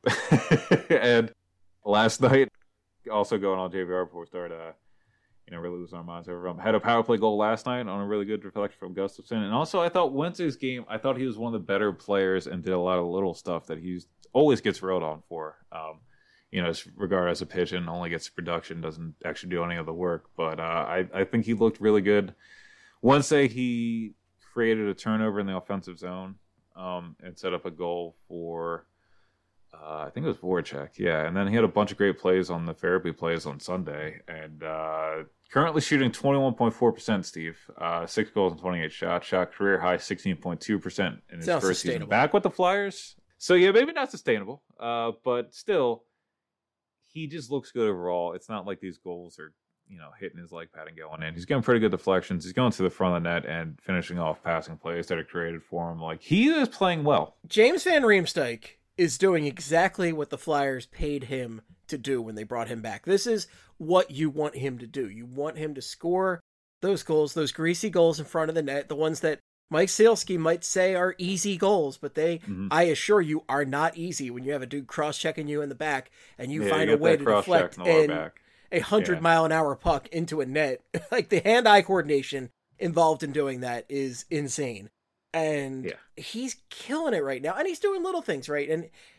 And last night, also going on JVR before we start, really losing our minds over him. Had a power play goal last night on a really good deflection from Gustafsson. And also, I thought Wednesday's game, I thought he was one of the better players and did a lot of little stuff that he always gets railed on for. As regarded as a pigeon, only gets production, doesn't actually do any of the work. But I think he looked really good. Wednesday, he created a turnover in the offensive zone and set up a goal for... I think it was Voracek, yeah. And then he had a bunch of great plays on the therapy plays on Sunday. And currently shooting 21.4%, Steve. 6 goals and 28 shots. Shot career high 16.2% in his first season back with the Flyers. So, yeah, maybe not sustainable. But still, he just looks good overall. It's not like these goals are, hitting his leg pad and going in. He's getting pretty good deflections. He's going to the front of the net and finishing off passing plays that are created for him. Like, he is playing well. James Van Riemsdyk is doing exactly what the Flyers paid him to do when they brought him back. This is what you want him to do. You want him to score those goals, those greasy goals in front of the net, the ones that Mike Sealski might say are easy goals, but they, I assure you, are not easy when you have a dude cross-checking you in the back and you find a way to deflect a 100-mile-an-hour puck into a net. Like, the hand-eye coordination involved in doing that is insane. And he's killing it right now. And he's doing little things, right? And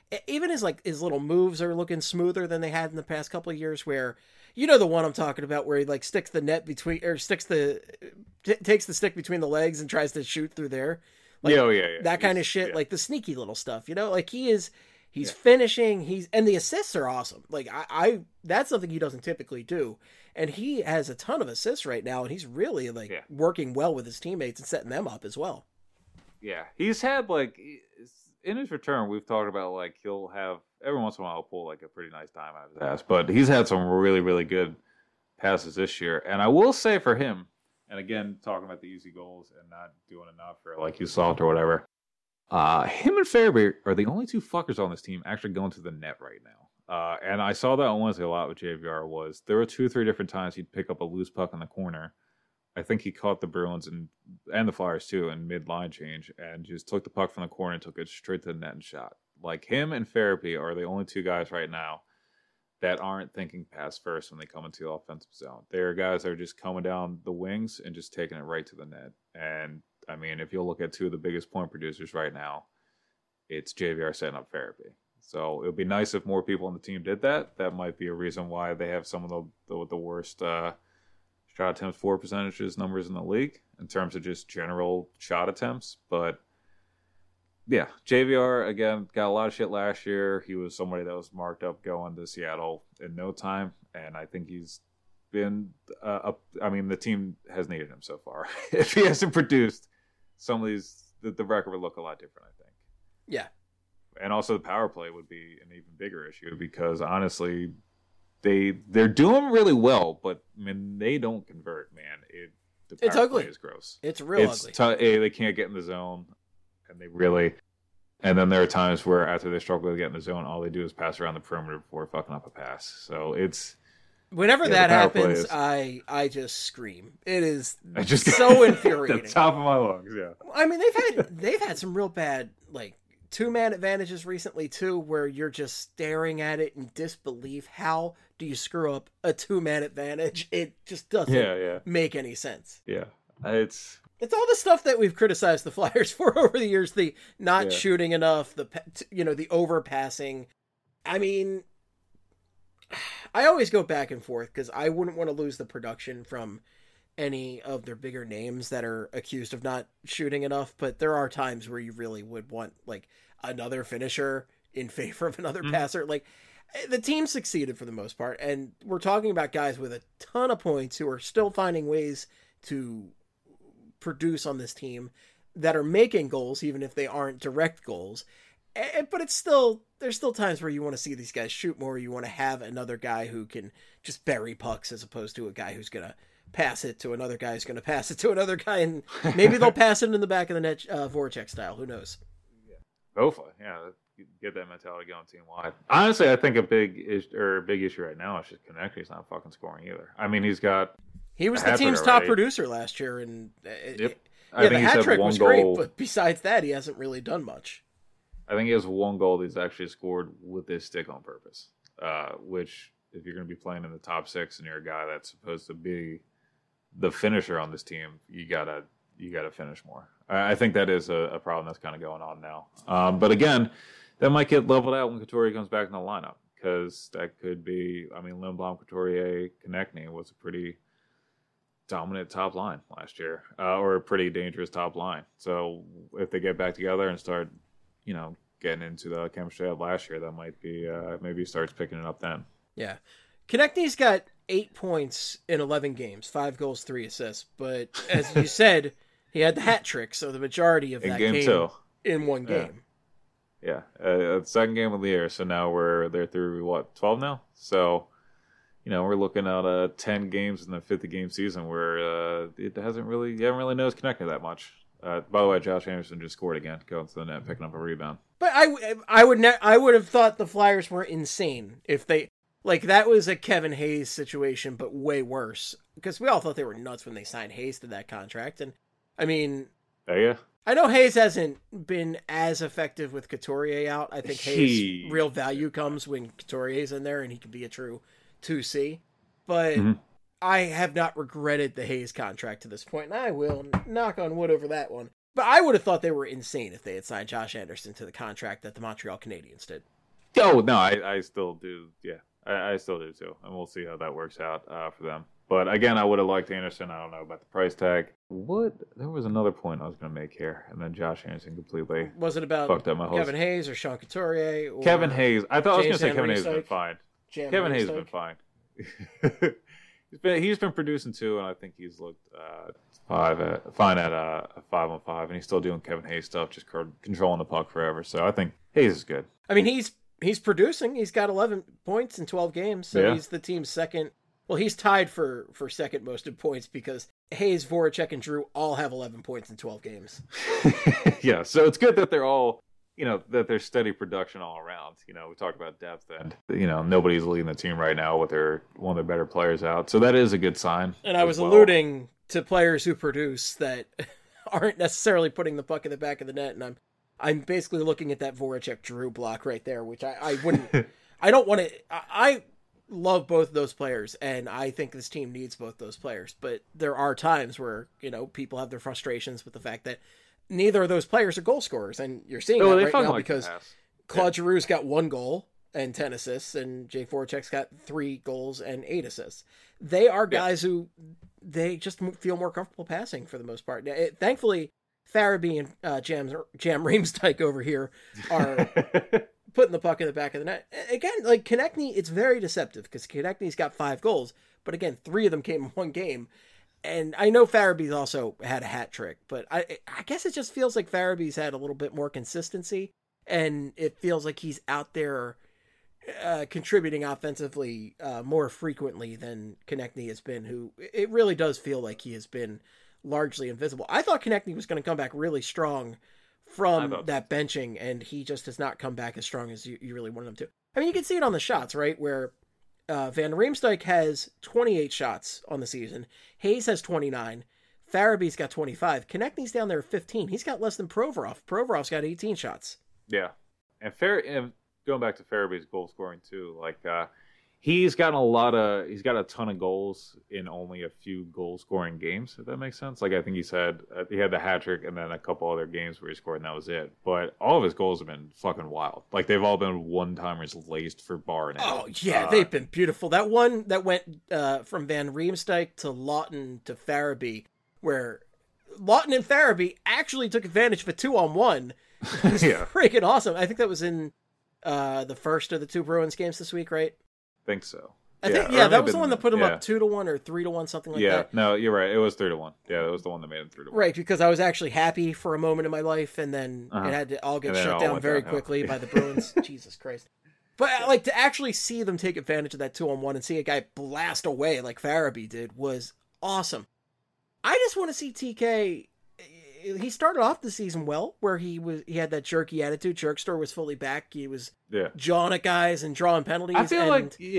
even his little moves are looking smoother than they had in the past couple of years, where, you know, the one I'm talking about where he like sticks the net between, or takes the stick between the legs and tries to shoot through there. Like, yeah. That kind of shit, like the sneaky little stuff, you know, like he's finishing, and the assists are awesome. Like I that's something he doesn't typically do. And he has a ton of assists right now, and he's really working well with his teammates and setting them up as well. Yeah. He's had like, in his return, we've talked about like he'll have, every once in a while he'll pull like a pretty nice time out of his ass, but he's had some really, really good passes this year. And I will say for him, and again, talking about the easy goals and not doing enough for like Usoft or whatever, him and Farabee are the only two fuckers on this team actually going to the net right now. And I saw that on Wednesday a lot with JVR. There were 2 or 3 different times he'd pick up a loose puck in the corner. I think he caught the Bruins and the Flyers too in mid-line change and just took the puck from the corner and took it straight to the net and shot. Like him and Farabee are the only 2 guys right now that aren't thinking pass first when they come into the offensive zone. They're guys that are just coming down the wings and just taking it right to the net. And, I mean, if you look at 2 of the biggest point producers right now, it's JVR setting up Farabee. So it would be nice if more people on the team did that. That might be a reason why they have some of the worst shot attempts for percentages numbers in the league in terms of just general shot attempts. But yeah, JVR, again, got a lot of shit last year. He was somebody that was marked up going to Seattle in no time. And I think he's been, the team has needed him so far. If he hasn't produced, some of these, the record would look a lot different, I think. Yeah. And also the power play would be an even bigger issue because honestly, they're doing really well, but I mean, they don't convert, man. The power play is gross. It's real ugly. They can't get in the zone. And then there are times where after they struggle to get in the zone, all they do is pass around the perimeter before fucking up a pass. So it's whenever that happens, I just scream. It is so infuriating. The top of my lungs, yeah. I mean, they've had some real bad like 2-man advantages recently too, where you're just staring at it in disbelief. How do you screw up a 2-man advantage? It just doesn't make any sense. Yeah, It's all the stuff that we've criticized the Flyers for over the years, the not shooting enough, the overpassing. I mean, I always go back and forth because I wouldn't want to lose the production from any of their bigger names that are accused of not shooting enough, but there are times where you really would want like another finisher in favor of another passer. Like the team succeeded for the most part, and we're talking about guys with a ton of points who are still finding ways to produce on this team that are making goals, even if they aren't direct goals. But there's still times where you want to see these guys shoot more. You want to have another guy who can just bury pucks as opposed to a guy who's going to pass it to another guy who's going to pass it to another guy. And maybe they'll pass it in the back of the net, Voracek style. Who knows? Hopefully. Yeah. Get that mentality going team wide. Honestly, I think a big issue right now is just Konechny's not fucking scoring either. I mean, he was the team's top producer last year, and the hat trick was great, but besides that, he hasn't really done much. I think he has 1 goal that he's actually scored with his stick on purpose, which if you're going to be playing in the top 6 and you're a guy that's supposed to be the finisher on this team, you gotta finish more. I think that is a problem that's kind of going on now. But again, that might get leveled out when Couturier comes back in the lineup because that could be. I mean, Lindblom, Couturier, Konechny was a pretty dominant top line last year, or a pretty dangerous top line. So if they get back together and start, getting into the chemistry of last year, that might be maybe he starts picking it up then. Yeah, Konechny's got 8 points in 11 games, 5 goals, 3 assists. But as you said, he had the hat trick, so the majority of that came in one game. Yeah, second game of the year. So now they're through 12 now. So. We're looking at 10 games in the 50-game season where you haven't really noticed Konechny that much. By the way, Josh Anderson just scored again, going to the net, picking up a rebound. But I would have thought the Flyers were insane if they that was a Kevin Hayes situation, but way worse because we all thought they were nuts when they signed Hayes to that contract. And I mean, I know Hayes hasn't been as effective with Couturier out. I think Hayes' real value comes when Couturier's in there and he can be a true 2C, but I have not regretted the Hayes contract to this point, and I will knock on wood over that one. But I would have thought they were insane if they had signed Josh Anderson to the contract that the Montreal Canadiens did. Oh no, I still do. Yeah, I still do too, and we'll see how that works out for them. But again, I would have liked Anderson. I don't know about the price tag. What? There was another point I was going to make here, and then Josh Anderson completely Was it about fucked up my whole. Kevin Hayes or Sean Couturier? Or Kevin Hayes. I thought I was going to James say Van Kevin Hayes has been Riemsdyk? fine. Jam Kevin Hayes has Riemsdyk? been fine. He's been producing too, and I think he's looked fine at a 5-on-5, and he's still doing Kevin Hayes stuff, just controlling the puck forever. So I think Hayes is good. I mean, he's producing. He's got 11 points in 12 games, so Yeah. he's the team's second. Well, he's tied for second most in points because Hayes, Voracek, and Drew all have 11 points in 12 games. Yeah, so it's good that they're all, that there's steady production all around. We talked about depth, and nobody's leading the team right now with one of their better players out. So that is a good sign. And I was as well. alluding to players who produce that aren't necessarily putting the puck in the back of the net, and I'm basically looking at that Voracek Drew block right there, which I wouldn't. I don't want to. I love both of those players, and I think this team needs both those players. But there are times where people have their frustrations with the fact that neither of those players are goal scorers, and you're seeing that right now because Claude Giroux's got 1 goal and 10 assists, and Jake Voracek's got 3 goals and 8 assists. They are guys who they just feel more comfortable passing for the most part. Thankfully, Farabee and Jam Riemsdyk over here are putting the puck in the back of the net. Again, like Konechny, it's very deceptive because Konechny's got 5 goals, but again, 3 of them came in 1 game. And I know Farabee's also had a hat trick, but I guess it just feels like Farabee's had a little bit more consistency, and it feels like he's out there contributing offensively more frequently than Konechny has been, who it really does feel like he has been largely invisible. I thought Konechny was going to come back really strong from that benching, and he just has not come back as strong as you really wanted him to. I mean, you can see it on the shots, right? Where Van Riemsdyk has 28 shots on the season. Hayes has 29. Farabee's got 25. Konechny's down there at 15. He's got less than Provorov. Provorov's got 18 shots. Yeah. And going back to Farabee's goal scoring too, he's got a ton of goals in only a few goal scoring games, if that makes sense. I think he said he had the hat trick and then a couple other games where he scored and that was it. But all of his goals have been fucking wild. They've all been one-timers laced for bar net. Oh yeah, they've been beautiful. That one that went from Van Riemsdyk to Lawton to Farabee, where Lawton and Farabee actually took advantage of a 2-on-1. It was freaking awesome. I think that was in the first of the 2 Bruins games this week, right? I think so. I think that was the one that put him up 2-1 or 3-1, something like that. Yeah, no, you're right. It was 3-1. Yeah, that was the one that made him 3-1. Right, because I was actually happy for a moment in my life, and then it had to all get shut down very quickly by the Bruins. Jesus Christ. But to actually see them take advantage of that 2-on-1 and see a guy blast away like Farabee did was awesome. I just want to see TK. He started off the season well, where he had that jerky attitude. Jerkster was fully back. He was jawing at guys and drawing penalties. I feel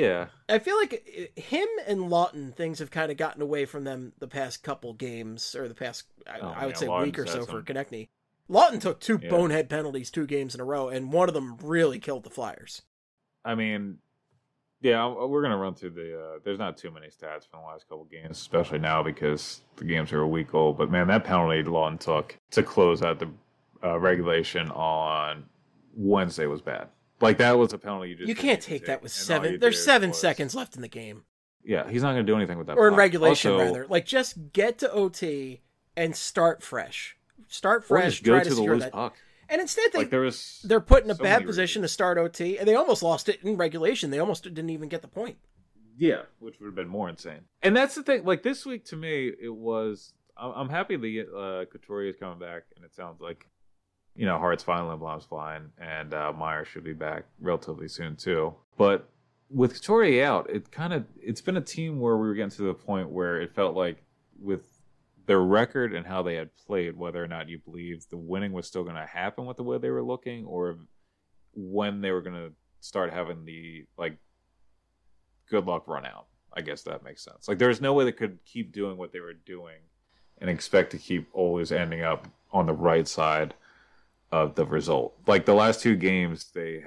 like him and Lawton, things have kind of gotten away from them the past couple games, or the past I would say week or so for Konechny. Lawton took 2 bonehead penalties 2 games in a row, and one of them really killed the Flyers. I mean, yeah, we're going to run through there's not too many stats from the last couple games, especially now because the games are a week old. But, man, that penalty Lawton took to close out the regulation on Wednesday was bad. That was a penalty you can't take that with 7. There's 7 seconds left in the game. Yeah, he's not going to do anything with that. Or in regulation, rather. Just get to OT and start fresh. Start fresh. Or just go try to to the secure loose that puck. And instead, they're put in a bad position to start OT, and they almost lost it in regulation. They almost didn't even get the point. Yeah, which would have been more insane. And that's the thing. This week, to me, it was... I'm happy the Couturier is coming back, and it sounds like, Hart's fine, Lindblom's fine, and Meyer should be back relatively soon, too. But with Couturier out, it's been a team where we were getting to the point where it felt like with their record and how they had played, whether or not you believe the winning was still going to happen with the way they were looking, or when they were going to start having the good luck run out. I guess that makes sense. There's no way they could keep doing what they were doing and expect to keep always ending up on the right side of the result. The last 2 games, they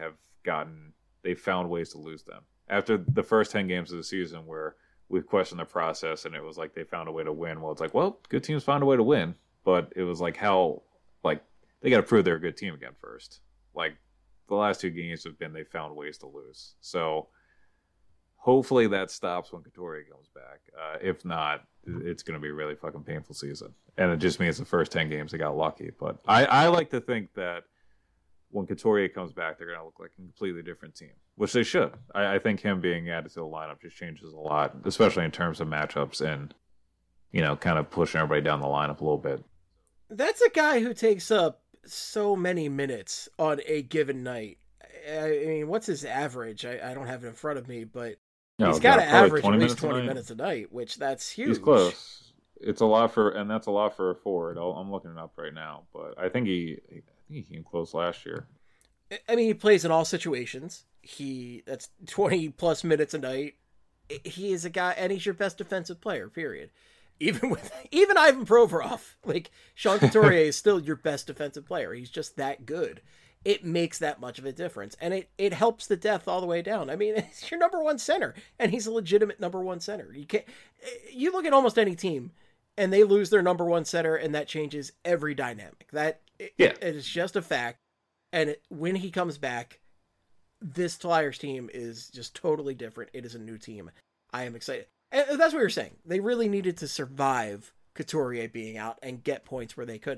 found ways to lose them. After the first 10 games of the season where we've questioned the process, and it was they found a way to win. Well, it's good teams find a way to win, but it was how they got to prove they're a good team again first. the last two games have been they found ways to lose. So hopefully that stops when Couturier comes back. If not, it's going to be a really fucking painful season. And it just means the first 10 games they got lucky. But I like to think that when Couturier comes back, they're going to look like a completely different team, which they should. I think him being added to the lineup just changes a lot, especially in terms of matchups and, kind of pushing everybody down the lineup a little bit. That's a guy who takes up so many minutes on a given night. I mean, what's his average? I don't have it in front of me, but he's got to average at least 20 minutes a night, which that's huge. He's close. It's a lot and that's a lot for a forward. I'm looking it up right now, but I think he came close last year. I mean, he plays in all situations. That's 20 plus minutes a night. He is a guy, and he's your best defensive player, period. Even Ivan Provorov, like Sean Couturier is still your best defensive player. He's just that good. It makes that much of a difference, and it helps the depth all the way down. I mean, it's your number one center, and he's a legitimate number one center. You look at almost any team, and they lose their number one center, and that changes every dynamic. It is just a fact. And when he comes back, this Flyers team is just totally different. It is a new team. I am excited. And that's what you're saying. They really needed to survive Couturier being out and get points where they could.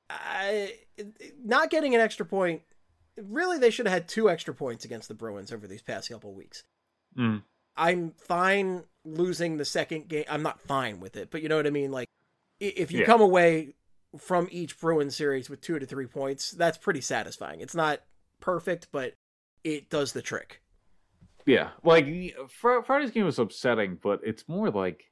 Not getting an extra point, really they should have had 2 extra points against the Bruins over these past couple of weeks. Mm. I'm fine losing the second game. I'm not fine with it, but you know what I mean? Like, if you come away from each Bruins series with 2 to 3 points, that's pretty satisfying. It's not perfect, but it does the trick. Yeah, like Friday's game was upsetting, but it's more like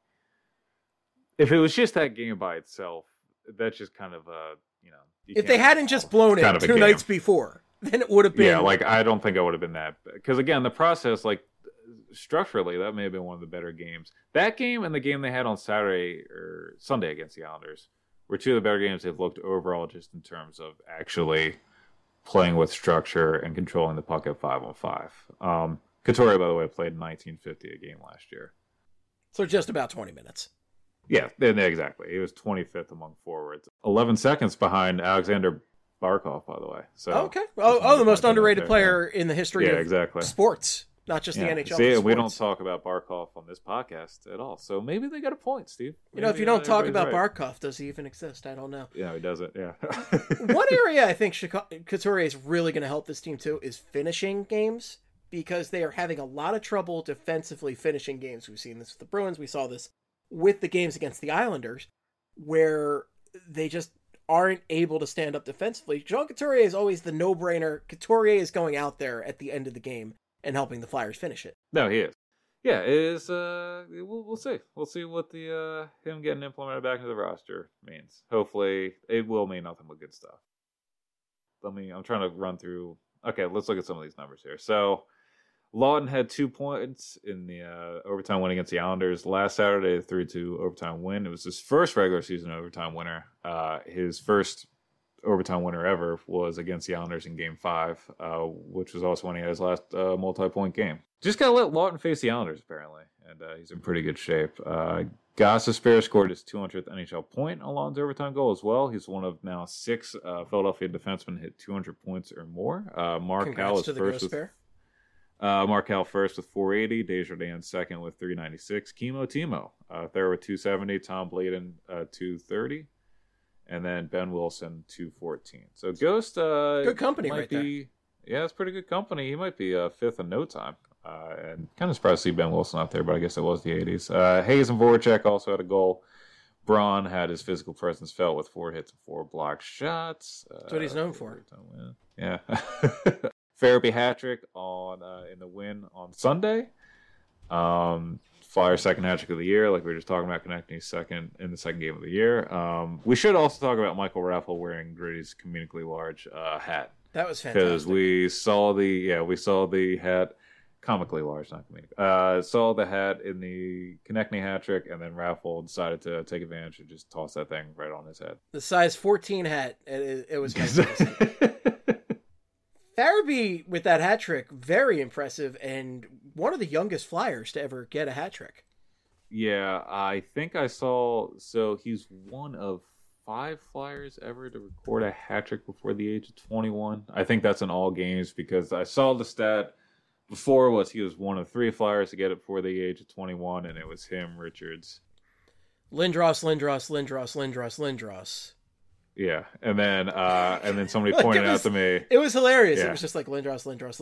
if it was just that game by itself, that's just kind of if they hadn't just blown it 2 nights before, then it would have been. Yeah, like I don't think I would have been that, because again, the process, like structurally, that may have been one of the better games. That game and the game they had on Saturday or Sunday against the Islanders were 2 of the better games they've looked overall, just in terms of actually playing with structure and controlling the puck at 5-on-5. Couturier, by the way, played 1950 a game last year. So just about 20 minutes. Yeah, exactly. He was 25th among forwards. 11 seconds behind Alexander Barkov, by the way. So okay. The most underrated player in the history of sports, not just the NHL. See, we don't talk about Barkov on this podcast at all. So maybe they got a point, Steve. Maybe, if you don't talk about Barkov, does he even exist? I don't know. Yeah, he doesn't. Yeah. One area I think Couturier is really going to help this team too is finishing games, because they are having a lot of trouble defensively finishing games. We've seen this with the Bruins. We saw this with the games against the Islanders, where they just aren't able to stand up defensively. Sean Couturier is always the no-brainer. Couturier is going out there at the end of the game and helping the Flyers finish it. No, he is. Yeah, it is. We'll see. We'll see what the him getting implemented back into the roster means. Hopefully, it will mean nothing but good stuff. I'm trying to run through. Okay, let's look at some of these numbers here. So, Lawton had 2 points in the overtime win against the Islanders last Saturday, 3-2 overtime win. It was his first regular season overtime winner. His first overtime winner ever was against the Islanders in Game 5, which was also when he had his last multi-point game. Just got to let Lawton face the Islanders, apparently, and he's in pretty good shape. Gostisbehere scored his 200th NHL point on Lawton's overtime goal as well. He's one of now 6 Philadelphia defensemen hit 200 points or more. Markelle is first with... Markelle first with 480, Desjardins second with 396, Timo third with 270, Tom Blayden 230, and then Ben Wilson 214. So Ghost good company right there. Yeah, it's pretty good company. He might be 5th in no time. And kind of surprised to see Ben Wilson out there, but I guess it was the 80s. Hayes and Voracek also had a goal. Braun had his physical presence felt with 4 hits and 4 blocked shots. That's what he's known for. Yeah. Farabee hat-trick in the win on Sunday. Flyers second hat-trick of the year, like we were just talking about, connecting second in the second game of the year. We should also talk about Michael Raffl wearing Gritty's comedically large hat. That was fantastic. Because we saw the hat, comically large, not comedic. Saw the hat in the Konechny hat-trick, and then Raffl decided to take advantage and just toss that thing right on his head. The size 14 hat, it was fantastic. Farabee with that hat trick, very impressive, and one of the youngest Flyers to ever get a hat trick. Yeah, I think I saw. So he's one of 5 Flyers ever to record a hat trick before the age of 21. I think that's in all games because I saw the stat before he was one of 3 Flyers to get it before the age of 21, and it was him, Richards. Lindros. Yeah, and then somebody pointed out to me. It was hilarious. Yeah. It was just like Lindros.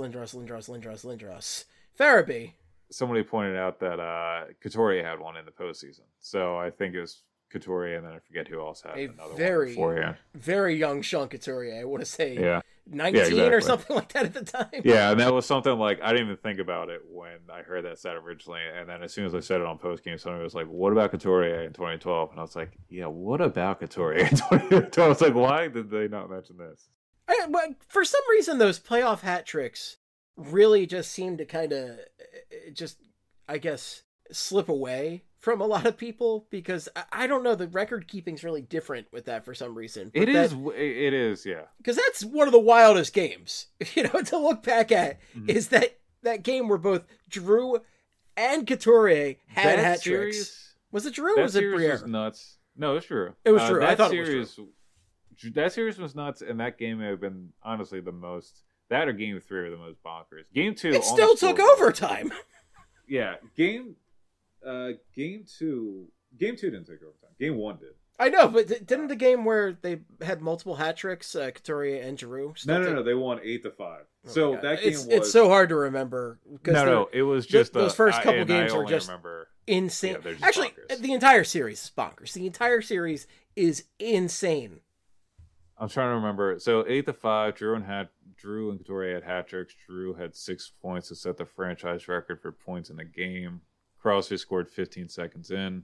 Farabee. Somebody pointed out that Couturier had one in the postseason. So I think it was Couturier, and then I forget who else had another one beforehand. Very young Sean Couturier. I want to say 19 exactly. or something like that at the time. Yeah, and that was something like, I didn't even think about it when I heard that stat originally. And then as soon as I said it on postgame, somebody was like, what about Couturier in 2012? And I was like, yeah, what about Couturier in 2012? I was like, why did they not mention this? For some reason, those playoff hat tricks really just seem to kind of I guess, slip away from a lot of people because I don't know, the record keeping's really different with that for some reason. It is, yeah. Because that's one of the wildest games, to look back at is that game where both Drew and Couturier had hat tricks. Was it Drew or was it Briere? Was nuts. No, it was Drew. It was Drew. I thought it was Drew. That series was nuts, and that game may have been honestly the most. That or Game 3 are the most bonkers. Game 2, it still took overtime. Yeah, Game 2 didn't take overtime. Game 1 did. I know, but didn't the game where they had multiple hat tricks, Couturier and Giroux? No, they won 8-5. So that game it's so hard to remember. No, it was just those first couple games were just insane. Yeah, just actually, bonkers. The entire series is bonkers. The entire series is insane. I'm trying to remember. So 8-5, Drew and Couturier had hat tricks. Drew had 6 points to set the franchise record for points in a game. Crosby scored 15 seconds in.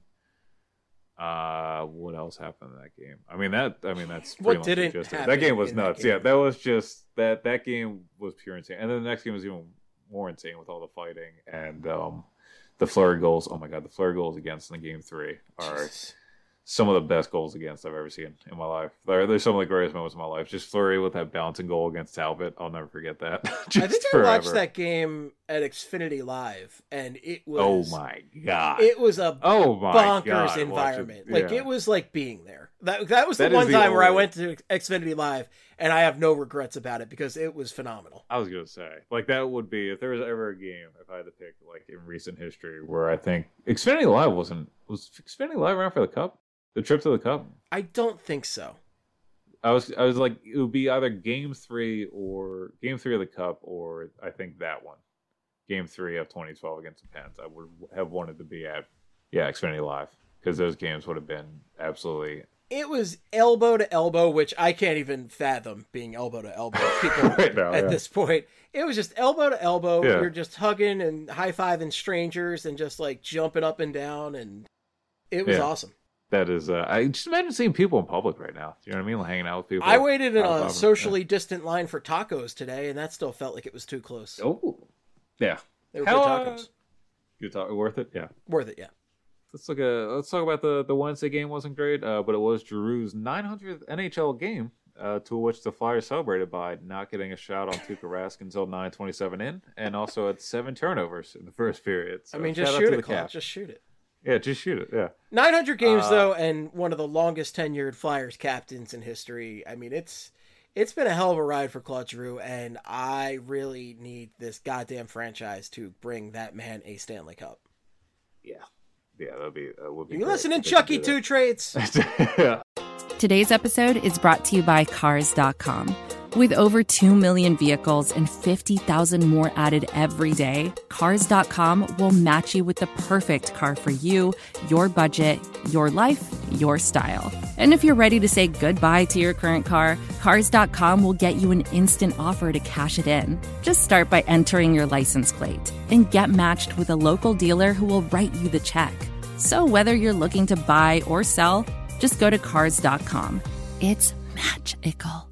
What else happened in that game? That's pretty much just it. That game was nuts. Yeah, that was just that game was pure insane. And then the next game was even more insane with all the fighting and the flurry goals. Oh my god, the flurry goals against in Game 3 are some of the best goals against I've ever seen in my life. There's some of the greatest moments of my life. Just Fleury with that bouncing goal against Talbot. I'll never forget that. I think I watched that game at Xfinity Live, and it was... Oh, my God. It was a bonkers environment. It was like being there. That was the one time where I went to Xfinity Live, and I have no regrets about it because it was phenomenal. I was going to say, that would be, if there was ever a game, if I had to pick, in recent history, where I think Xfinity Live was Xfinity Live around for the Cup? The trip to the Cup? I don't think so. I was like, it would be either Game 3 of the Cup, or I think that one. Game 3 of 2012 against the Pens. I would have wanted to be at, Xfinity Live, because those games would have been absolutely... It was elbow to elbow, which I can't even fathom being elbow to elbow people right now, at this point. It was just elbow to elbow. Yeah. You're just hugging and high-fiving strangers and just jumping up and down, and it was awesome. That is, I just imagine seeing people in public right now. You know what I mean? Hanging out with people. I waited in a socially distant line for tacos today, and that still felt like it was too close. Oh, yeah. They were good tacos. Good talk. Worth it? Yeah. Worth it, yeah. Let's talk about the Wednesday game. Wasn't great, but it was Giroux's 900th NHL game, to which the Flyers celebrated by not getting a shot on Tuukka Rask until 9:27 in, and also had 7 turnovers in the first period. So just shoot it, Clark. Just shoot it. Yeah, just shoot it, yeah. 900 games, though, and one of the longest tenured Flyers captains in history. It's been a hell of a ride for Claude Giroux, and I really need this goddamn franchise to bring that man a Stanley Cup. Yeah. Yeah, that would be You listening, Chucky Two Trades? Yeah. Today's episode is brought to you by Cars.com. With over 2 million vehicles and 50,000 more added every day, Cars.com will match you with the perfect car for you, your budget, your life, your style. And if you're ready to say goodbye to your current car, Cars.com will get you an instant offer to cash it in. Just start by entering your license plate and get matched with a local dealer who will write you the check. So whether you're looking to buy or sell, just go to Cars.com. It's magical.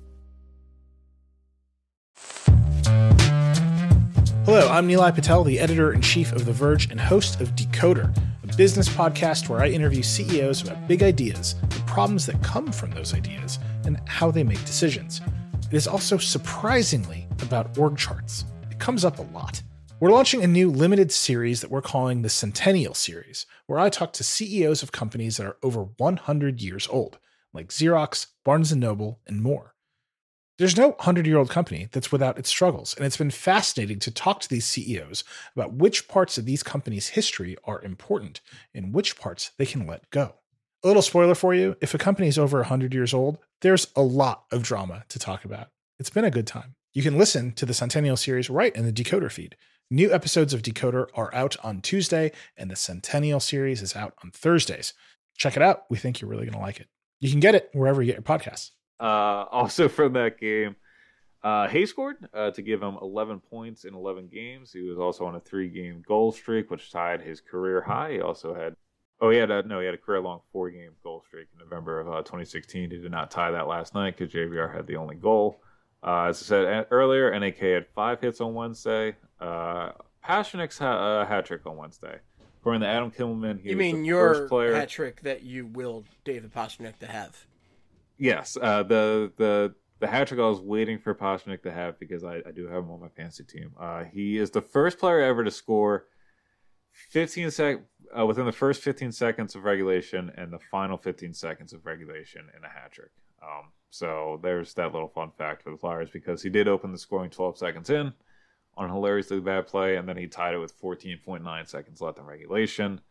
Hello, I'm Nilay Patel, the editor-in-chief of The Verge and host of Decoder, a business podcast where I interview CEOs about big ideas, the problems that come from those ideas, and how they make decisions. It is also surprisingly about org charts. It comes up a lot. We're launching a new limited series that we're calling the Centennial Series, where I talk to CEOs of companies that are over 100 years old. like Xerox, Barnes & Noble, and more. There's no 100-year-old company that's without its struggles, and it's been fascinating to talk to these CEOs about which parts of these companies' history are important and which parts they can let go. A little spoiler for you, if a company is over 100 years old, there's a lot of drama to talk about. It's been a good time. You can listen to the Centennial series right in the Decoder feed. New episodes of Decoder are out on Tuesday, and the Centennial series is out on Thursdays. Check it out. We think you're really going to like it. You can get it wherever you get your podcasts. Also from that game, Hay scored to give him 11 points in 11 games. He was also on a 3-game goal streak, which tied his career high. He also had, he had a career-long 4-game goal streak in November of 2016. He did not tie that last night because JVR had the only goal. As I said earlier, NAK had 5 hits on Wednesday. Pastrnak's hat trick on Wednesday. According to Adam Kimmelman, he was the first player. Hat trick that you willed David Pastrnak to have? Yes, the hat trick I was waiting for Pastrnak to have because I do have him on my fantasy team. He is the first player ever to score within the first 15 seconds of regulation and the final 15 seconds of regulation in a hat trick. So there's that little fun fact for the Flyers because he did open the scoring 12 seconds in on a hilariously bad play, and then he tied it with 14.9 seconds left in regulation.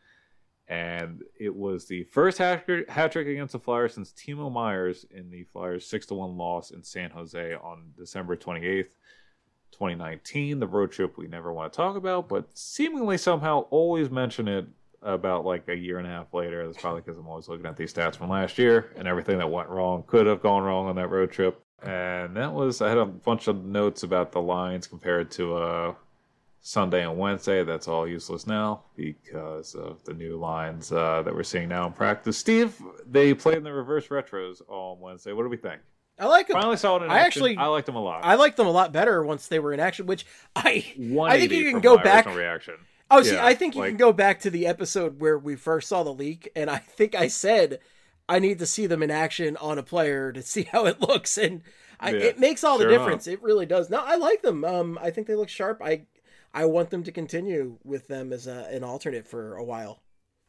And it was the first hat trick against the Flyers since Timo Myers in the Flyers' 6-1 loss in San Jose on December 28th, 2019. The road trip we never want to talk about, but seemingly somehow always mention it about like a year and a half later. That's probably because I'm always looking at these stats from last year, and everything that went wrong could have gone wrong on that road trip. And I had a bunch of notes about the lines compared to Sunday and Wednesday. That's all useless now because of the new lines that we're seeing now in practice. Steve, they played in the reverse retros on Wednesday. What do we think? I like them. Finally saw it in action. I liked them a lot. I liked them a lot better once they were in action, which I think you can go back. Reaction. Oh, see, I think you can go back to the episode where we first saw the leak, and I think I said I need to see them in action on a player to see how it looks, and it makes all the difference. It really does. No, I like them. I think they look sharp. I want them to continue with them as an alternate for a while.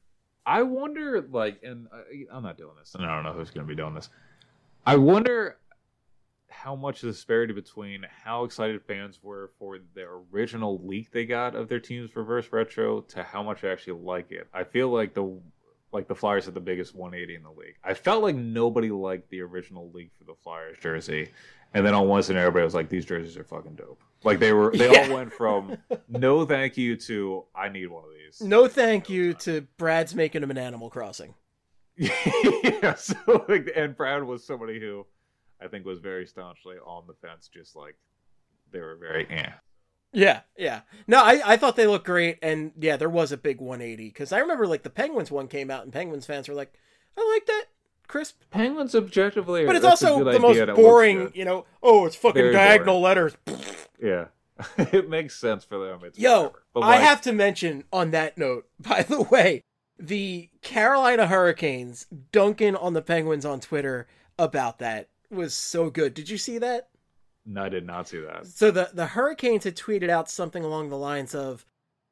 I wonder, and I'm not doing this, and I don't know who's going to be doing this. I wonder how much the disparity between how excited fans were for the original leak they got of their team's reverse retro to how much they actually like it. I feel like the Flyers had the biggest 180 in the league. I felt like nobody liked the original leak for the Flyers jersey. And then on Wednesday, everybody was like, these jerseys are fucking dope. Like they all went from no thank you to I need one of these. No thank you to Brad's making them an Animal Crossing. Yeah, so and Brad was somebody who I think was very staunchly on the fence, just like they were very Yeah. No, I thought they looked great, and yeah, there was a big 180 because I remember like the Penguins one came out, and Penguins fans were like, "I like that crisp." Penguins objectively, but it's also the most boring. It's fucking very diagonal boring letters. Yeah, it makes sense for them. I have to mention on that note, by the way, the Carolina Hurricanes dunking on the Penguins on Twitter about that was so good. Did you see that? No, I did not see that. So the Hurricanes had tweeted out something along the lines of,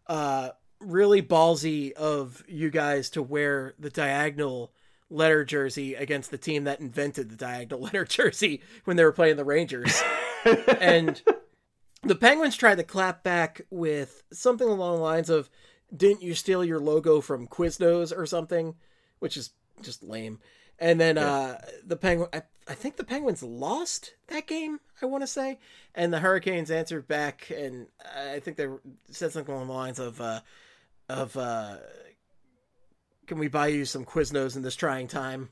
really ballsy of you guys to wear the diagonal letter jersey against the team that invented the diagonal letter jersey when they were playing the Rangers. And the Penguins tried to clap back with something along the lines of, didn't you steal your logo from Quiznos or something? Which is just lame. And then the Penguin, I think the Penguins lost that game, I want to say. And the Hurricanes answered back, and I think they said something along the lines of can we buy you some Quiznos in this trying time?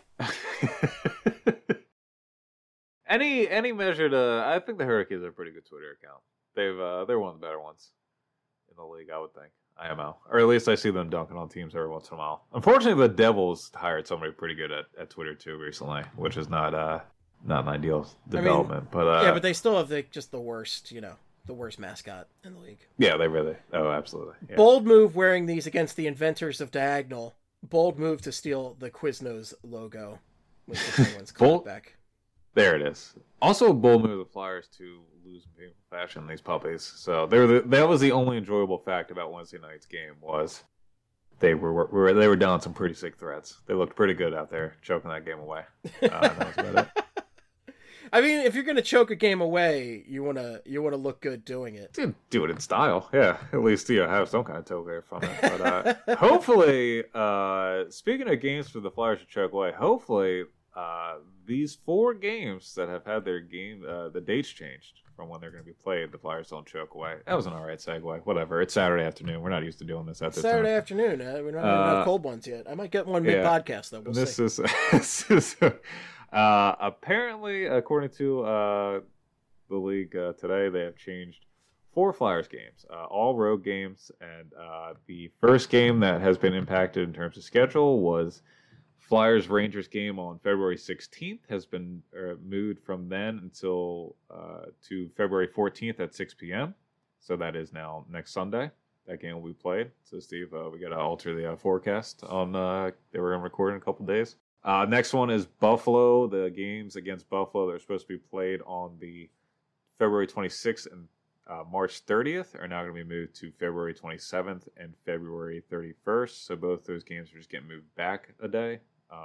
Any measure to, I think the Hurricanes are a pretty good Twitter account. They're one of the better ones in the league, I would think. IMO. Or at least I see them dunking on teams every once in a while. Unfortunately, the Devils hired somebody pretty good at Twitter too recently, which is not an ideal development. But they still have the worst, the worst mascot in the league. Yeah, absolutely. Yeah. Bold move wearing these against the inventors of Diagonal. Bold move to steal the Quiznos logo with the Penguins coming back. There it is. Also a bold move of the Flyers to lose in painful fashion, these puppies. So that was the only enjoyable fact about Wednesday night's game was they were down some pretty sick threats. They looked pretty good out there, choking that game away. That was about it. I mean, if you're gonna choke a game away, you wanna look good doing it. Do it in style, yeah. At least have some kind of takeaway from it. But hopefully, speaking of games for the Flyers to choke away, hopefully these 4 games that have had their the dates changed from when they're going to be played, the Flyers don't choke away. That was an all right segue. Whatever. It's Saturday afternoon. We're not used to doing this at this Saturday time. afternoon. We're not having enough cold ones yet. I might get one mid-podcast, though. We'll see. This is apparently, according to the league today, they have changed 4 Flyers games, all road games, and the first game that has been impacted in terms of schedule was Flyers-Rangers game on February 16th has been moved from then until to February 14th at 6 p.m. So that is now next Sunday. That game will be played. So, Steve, we got to alter the forecast on they were going to record in a couple days. Next one is Buffalo. The games against Buffalo that are supposed to be played on the February 26th and March 30th are now going to be moved to February 27th and February 31st. So both those games are just getting moved back a day.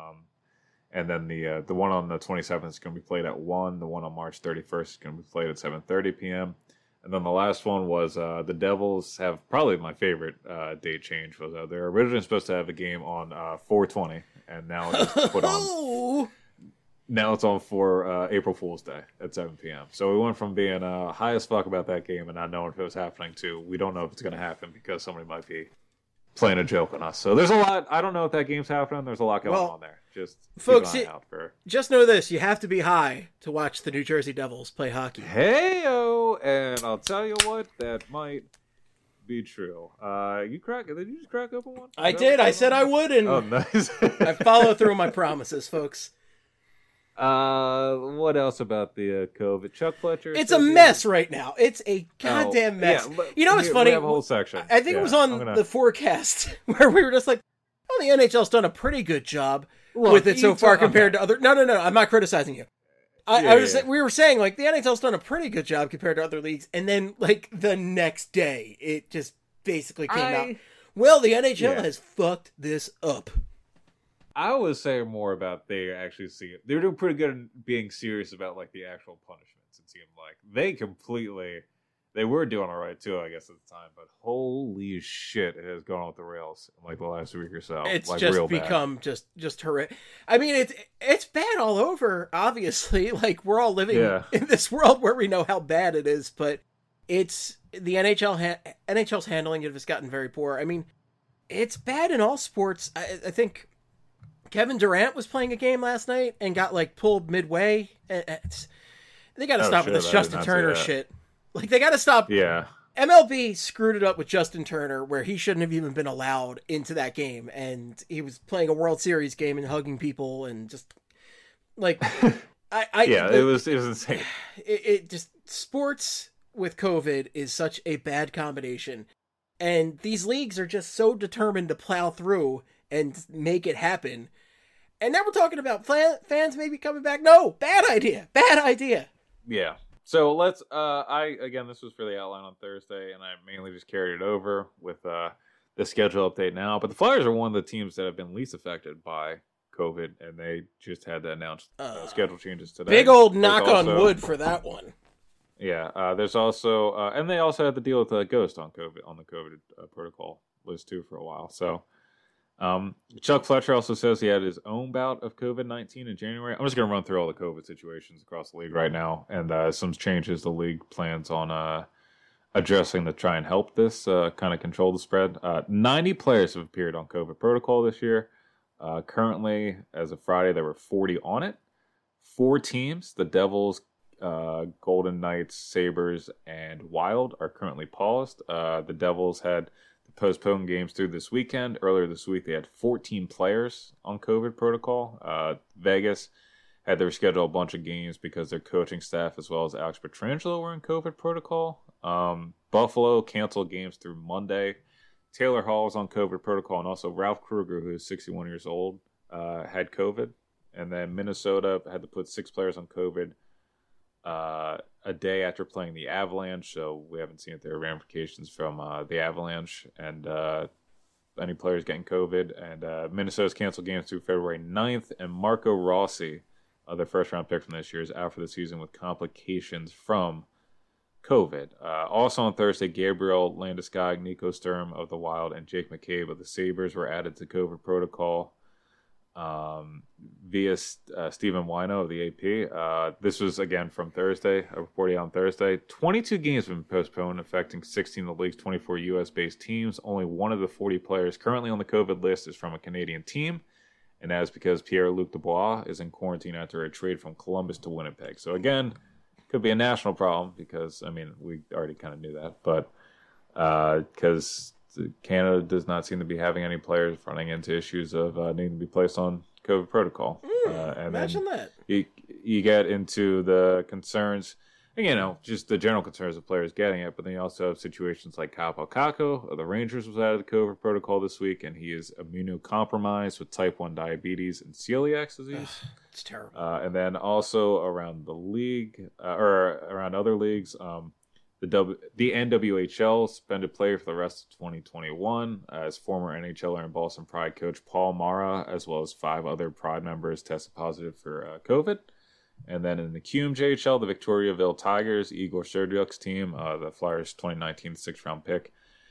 And then the one on the 27th is going to be played at 1. The one on March 31st is going to be played at 7:30 p.m. And then the last one was the Devils have probably my favorite date change. Was they were originally supposed to have a game on 4/20, and now it's put on. Now it's on for April Fool's Day at 7 p.m. So we went from being high as fuck about that game and not knowing if it was happening to we don't know if it's going to happen because somebody might be playing a joke on us. So there's a lot. I don't know if that game's happening. There's a lot going on there. Just folks, keep an eye out for. Just know this: you have to be high to watch the New Jersey Devils play hockey. Hey-o! And I'll tell you what, that might be true. Did you just crack open one? I did. I said I would, and oh, nice. I follow through my promises, folks. What else about the COVID? Chuck Fletcher. It's a mess right now. It's a goddamn mess. Yeah, you know what's funny? We have a whole section. I think it was on the forecast where we were just like, "Oh, the NHL's done a pretty good job with it so far compared to other." No. I'm not criticizing you. We were saying like the NHL's done a pretty good job compared to other leagues, and then like the next day, it just basically came out. Well, the NHL has fucked this up. I was saying more about they actually see it. They were doing pretty good in being serious about like the actual punishments. It seemed like they were doing all right too, I guess at the time. But holy shit, it has gone off the rails in like the last week or so. It's like, just become just horrific. I mean, it's bad all over. Obviously, like we're all living in this world where we know how bad it is, but it's the NHL's handling it has gotten very poor. I mean, it's bad in all sports. I think Kevin Durant was playing a game last night and got like pulled midway. They got to stop with this Justin Turner shit. Like they got to stop. Yeah. MLB screwed it up with Justin Turner where he shouldn't have even been allowed into that game. And he was playing a World Series game and hugging people and just like, it was insane. It just sports with COVID is such a bad combination. And these leagues are just so determined to plow through and make it happen. And now we're talking about fans maybe coming back. No, bad idea. Yeah. So let's, this was for the outline on Thursday, and I mainly just carried it over with the schedule update now. But the Flyers are one of the teams that have been least affected by COVID, and they just had to announce schedule changes today. Big old knock on wood for that one. Yeah, there's also, and they also had to deal with Ghost on COVID, on the COVID protocol list too for a while. So, Chuck Fletcher also says he had his own bout of COVID-19 in January. I'm just going to run through all the COVID situations across the league right now and some changes the league plans on addressing to try and help this kind of control the spread. 90 players have appeared on COVID protocol this year. Currently, as of Friday, there were 40 on it. 4 teams, the Devils, Golden Knights, Sabres, and Wild, are currently paused. The Devils had postpone games through this weekend. Earlier this week, they had 14 players on COVID protocol. Vegas had to reschedule a bunch of games because their coaching staff, as well as Alex Pietrangelo, were in COVID protocol. Buffalo canceled games through Monday. Taylor Hall was on COVID protocol, and also Ralph Kruger, who is 61 years old, had COVID. And then Minnesota had to put 6 players on COVID a day after playing the Avalanche, so we haven't seen if there are ramifications from the Avalanche. And any players getting COVID. And Minnesota's canceled games through February 9th. And Marco Rossi, their first-round pick from this year, is out for the season with complications from COVID. Also on Thursday, Gabriel Landeskog, Nico Sturm of the Wild, and Jake McCabe of the Sabres were added to COVID protocol via Stephen Wino of the AP. This was, again, from Thursday, reported on Thursday. 22 games have been postponed, affecting 16 of the league's 24 U.S.-based teams. Only one of the 40 players currently on the COVID list is from a Canadian team, and that is because Pierre-Luc Dubois is in quarantine after a trade from Columbus to Winnipeg. So, again, could be a national problem because, I mean, we already kind of knew that, but because Canada does not seem to be having any players running into issues of needing to be placed on COVID protocol. And imagine that. You get into the concerns, just the general concerns of players getting it, but then you also have situations like Kaapo Kakko of the Rangers was added to COVID protocol this week, and he is immunocompromised with type 1 diabetes and celiac disease. It's terrible. And then also around the league, or around other leagues, the NWHL suspended player for the rest of 2021 as former NHLer and Boston Pride coach Paul Mara, as well as 5 other Pride members tested positive for COVID. And then in the QMJHL, the Victoriaville Tigers, Igor Serdyuk's team, the Flyers' 2019 6th-round pick,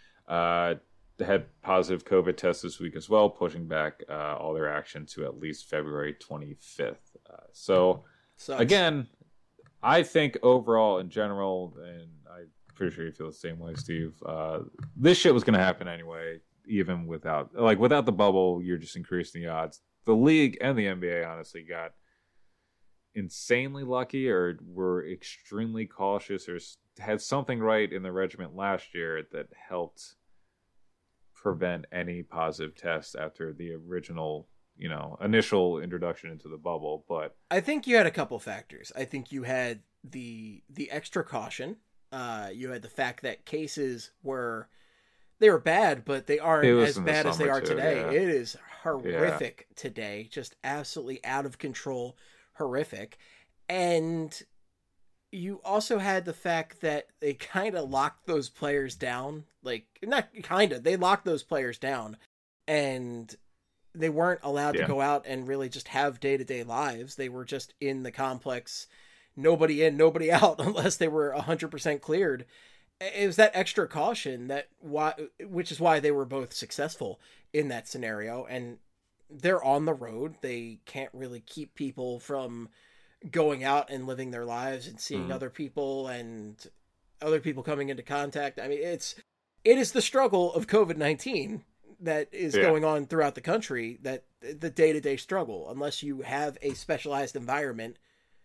had positive COVID tests this week as well, pushing back all their action to at least February 25th. Sucks. Again, I think overall, in general, and I'm pretty sure you feel the same way, Steve, this shit was going to happen anyway, even without the bubble. You're just increasing the odds. The league and the NBA, honestly, got insanely lucky, or were extremely cautious, or had something right in the regiment last year that helped prevent any positive tests after the original, initial introduction into the bubble. But I think you had a couple factors. I think you had the extra caution. You had the fact that cases were bad, but they aren't as bad as they are today. Yeah. It is horrific today, just absolutely out of control, horrific. And you also had the fact that they kind of locked those players down. They locked those players down, and they weren't allowed to go out and really just have day-to-day lives. They were just in the complex, nobody in, nobody out, unless they were 100% cleared. It was that extra caution which is why they were both successful in that scenario. And they're on the road. They can't really keep people from going out and living their lives and seeing other people and other people coming into contact. I mean, it is the struggle of COVID-19 that is going on throughout the country, that the day-to-day struggle. Unless you have a specialized environment,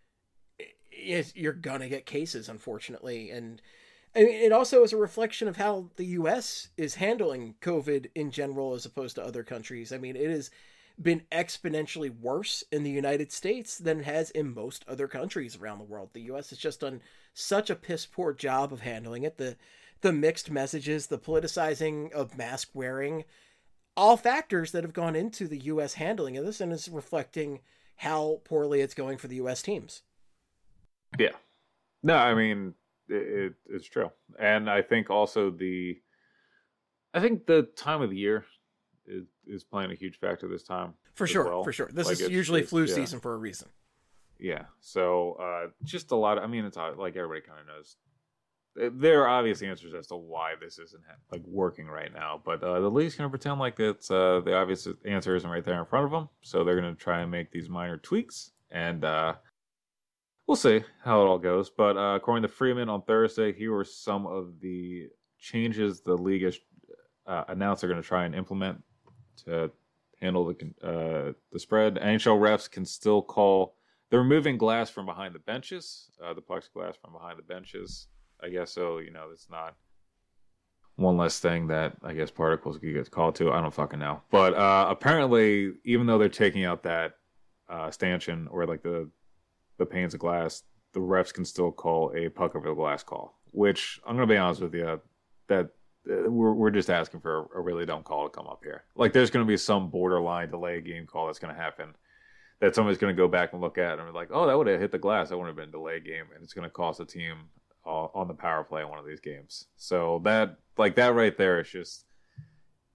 you're gonna get cases, unfortunately. And I mean, it also is a reflection of how the U.S. is handling COVID in general as opposed to other countries. I mean, it has been exponentially worse in the United States than it has in most other countries around the world. The U.S. has just done such a piss poor job of handling it. The mixed messages, the politicizing of mask wearing, all factors that have gone into the U.S. handling of this, and is reflecting how poorly it's going for the U.S. teams. Yeah. No, I mean, it's true. And I think also the time of the year is playing a huge factor this time. For sure. This is usually flu season for a reason. Yeah. So just a lot of, it's like everybody kind of knows. There are obvious answers as to why this isn't working right now, but the league's going to pretend like it's the obvious answer isn't right there in front of them. So they're going to try and make these minor tweaks, and we'll see how it all goes. But according to Freeman on Thursday, here were some of the changes the league has announced they're going to try and implement to handle the spread. NHL refs can still call. They're removing glass from behind the benches, the plexiglass from behind the benches. I guess so. It's not one less thing that I guess particles could get called to. I don't fucking know. But apparently, even though they're taking out that stanchion or the panes of glass, the refs can still call a puck over the glass call. Which I'm gonna be honest with you, that we're just asking for a really dumb call to come up here. There's gonna be some borderline delay game call that's gonna happen that somebody's gonna go back and look at and be like, oh, that would have hit the glass. That wouldn't have been a delay game, and it's gonna cost a team on the power play in one of these games. So that right there is just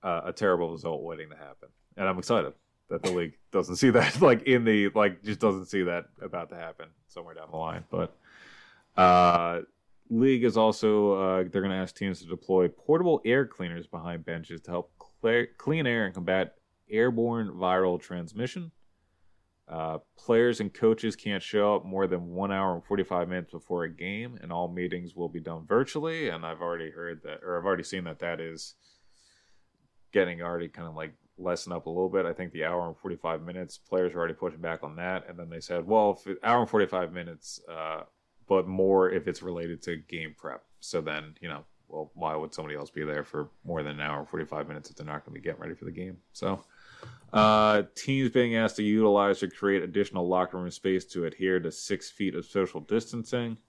a terrible result waiting to happen. And I'm excited that the league doesn't see that, just doesn't see that about to happen somewhere down the line. But league is also, they're going to ask teams to deploy portable air cleaners behind benches to help clean air and combat airborne viral transmission. Players and coaches can't show up more than 1 hour and 45 minutes before a game, and all meetings will be done virtually. And I've already seen that is getting already kind of like lessen up a little bit. I think the hour and 45 minutes, players are already pushing back on that. And then they said, well, hour and 45 minutes, but more if it's related to game prep. So then, well, why would somebody else be there for more than an hour and 45 minutes if they're not going to be getting ready for the game? So teams being asked to utilize or create additional locker room space to adhere to 6 feet of social distancing.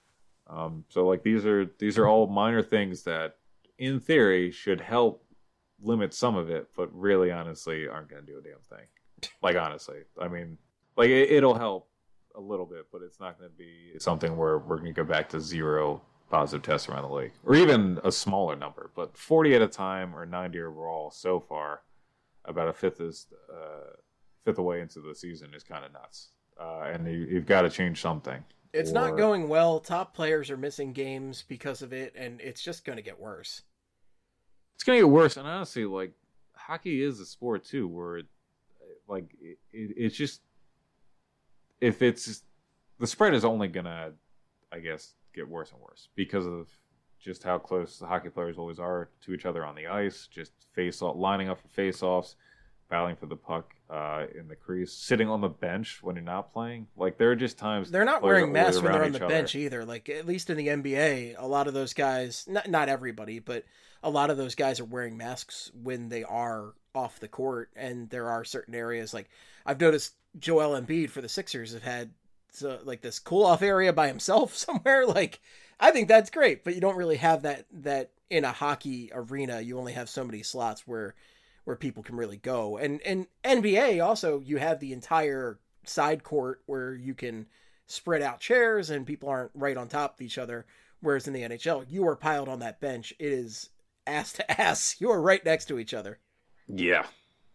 So like these are all minor things that in theory should help limit some of it, but really honestly aren't going to do a damn thing. Like honestly, I mean, like it'll help a little bit, but it's not going to be something where we're going to go back to 0 positive tests around the league, or even a smaller number. But 40 at a time or 90 overall so far, about a fifth away into the season is kind of nuts. And you've got to change something. It's not going well. Top players are missing games because of it, and it's just going to get worse. It's going to get worse. And honestly, like, hockey is a sport, too, where, it's just, if it's, the spread is only going to, I guess, get worse and worse because of just how close the hockey players always are to each other on the ice, just lining up for face-offs, battling for the puck in the crease, sitting on the bench when you're not playing. Like, there are just times they're not wearing masks when they're on the bench either. Like, at least in the NBA, a lot of those guys, not everybody, but a lot of those guys are wearing masks when they are off the court. And there are certain areas, like I've noticed Joel Embiid for the Sixers have had like this cool off area by himself somewhere. Like, I think that's great, but you don't really have that in a hockey arena. You only have so many slots where people can really go. And NBA also, you have the entire side court where you can spread out chairs and people aren't right on top of each other. Whereas in the NHL, you are piled on that bench. It is ass to ass. You are right next to each other. Yeah.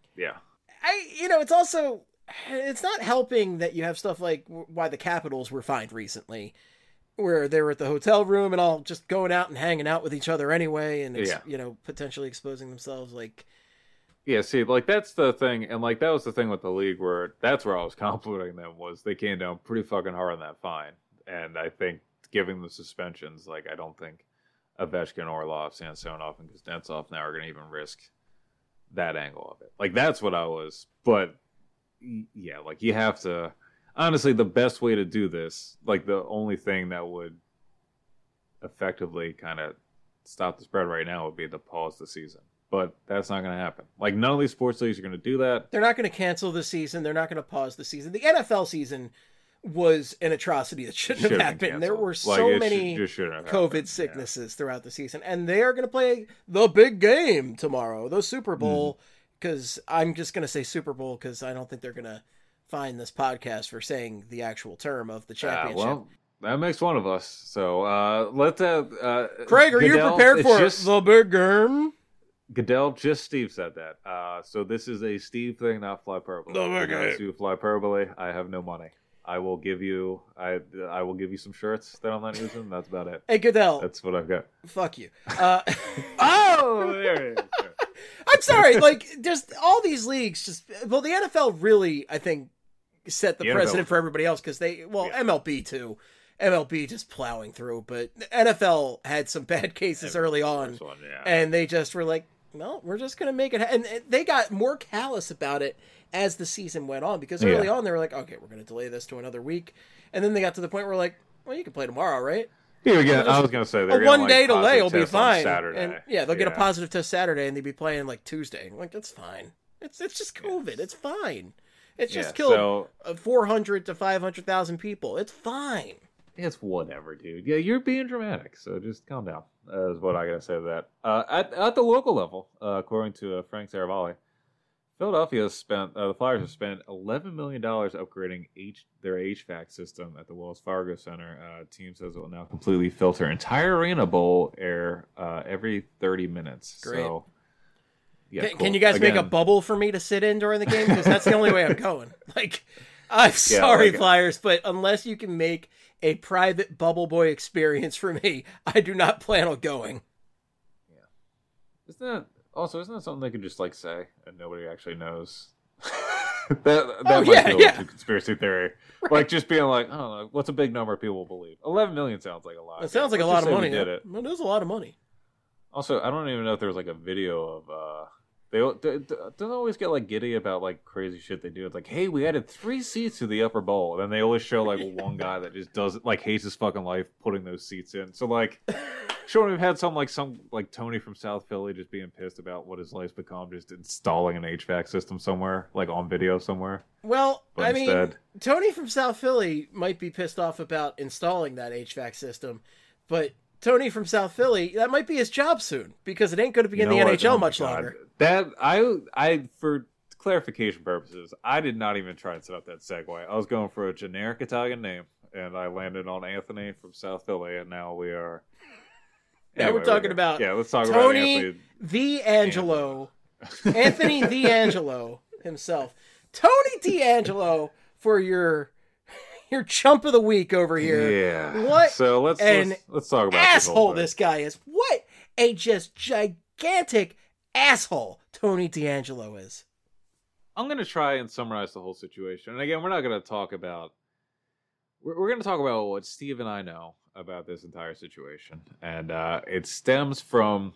It's not helping that you have stuff like why the Capitals were fined recently, where they were at the hotel room and all just going out and hanging out with each other anyway. And it's, potentially exposing themselves. Like, yeah, see, like, that's the thing. And, like, that was the thing with the league where that's where I was complimenting them was they came down pretty fucking hard on that fine. And I think giving the suspensions, like, I don't think Ovechkin, Orlov, Samsonov, and Kuznetsov now are going to even risk that angle of it. Like, that's what I was. But, yeah, like, you have to... Honestly, the best way to do this, like, the only thing that would effectively kind of stop the spread right now would be to pause the season. But that's not going to happen. Like, none of these sports leagues are going to do that. They're not going to cancel the season. They're not going to pause the season. The NFL season was an atrocity that shouldn't have happened. There were so many COVID sicknesses throughout the season. And they are going to play the big game tomorrow, the Super Bowl. Because I'm just going to say Super Bowl because I don't think they're going to fine this podcast for saying the actual term of the championship. Well, that makes one of us. So let's Craig, are you prepared for the big game? Goodell, just Steve said that. So this is a Steve thing, not Flyperbole. To Flyperbole, I have no money. I will give you some shirts that I'm not using. That's about it. Hey, Goodell. That's what I've got. Fuck you. Oh, there it is. Sure. I'm sorry. Like, just all these leagues the NFL really, I think, set the precedent for everybody else because MLB too. MLB just plowing through, but NFL had some bad cases early on, and they just were like, well, we're just going to make it. And they got more callous about it as the season went on because early on they were like, okay, we're going to delay this to another week. And then they got to the point where like, well, you can play tomorrow, right? Here again, I was going to say a one-day delay will be fine. Saturday. And they'll get a positive test Saturday and they'll be playing like Tuesday. Like, that's fine. It's just COVID. It's fine. It's just killed 400 to 500,000 people. It's fine. It's whatever, dude. Yeah, you're being dramatic, so just calm down. Is what I gotta say to that. At the local level, according to Frank Saravalli, Philadelphia has spent the Flyers have spent $11 million upgrading their HVAC system at the Wells Fargo Center. Team says it will now completely filter entire arena bowl air every 30 minutes. Great. So Yeah, Can you guys make a bubble for me to sit in during the game? Because that's the only way I'm going. Like, I'm sorry, Flyers, but unless you can make a private bubble boy experience for me, I do not plan on going. Yeah. Isn't that something they could just like say and nobody actually knows? that might be a little too conspiracy theory. Right. Like just being like, I don't know, what's a big number people believe? 11 million sounds like a lot. It sounds like a lot of money. It is a lot of money. Also, I don't even know if there was like a video of they don't always get like giddy about like crazy shit they do. It's like, hey, we added 3 seats to the upper bowl, and then they always show like one guy that just does like hates his fucking life putting those seats in. So like, sure, we've had some like Tony from South Philly just being pissed about what his life's become, just installing an HVAC system somewhere, like on video somewhere. Well, I mean, Tony from South Philly might be pissed off about installing that HVAC system, but Tony from South Philly, that might be his job soon because it ain't going to be in the NHL much longer. That I for clarification purposes, I did not even try and set up that segue. I was going for a generic Italian name, and I landed on Anthony from South Philly, and now we are. Now we're talking about let's talk Tony about D'Angelo, Anthony D'Angelo himself, Tony D'Angelo for your chump of the week over here. Yeah. What? So let's talk about asshole this guy is. What a just gigantic asshole Tony D'Angelo is. I'm going to try and summarize the whole situation. And again, we're not going to talk about... We're going to talk about what Steve and I know about this entire situation. And it stems from...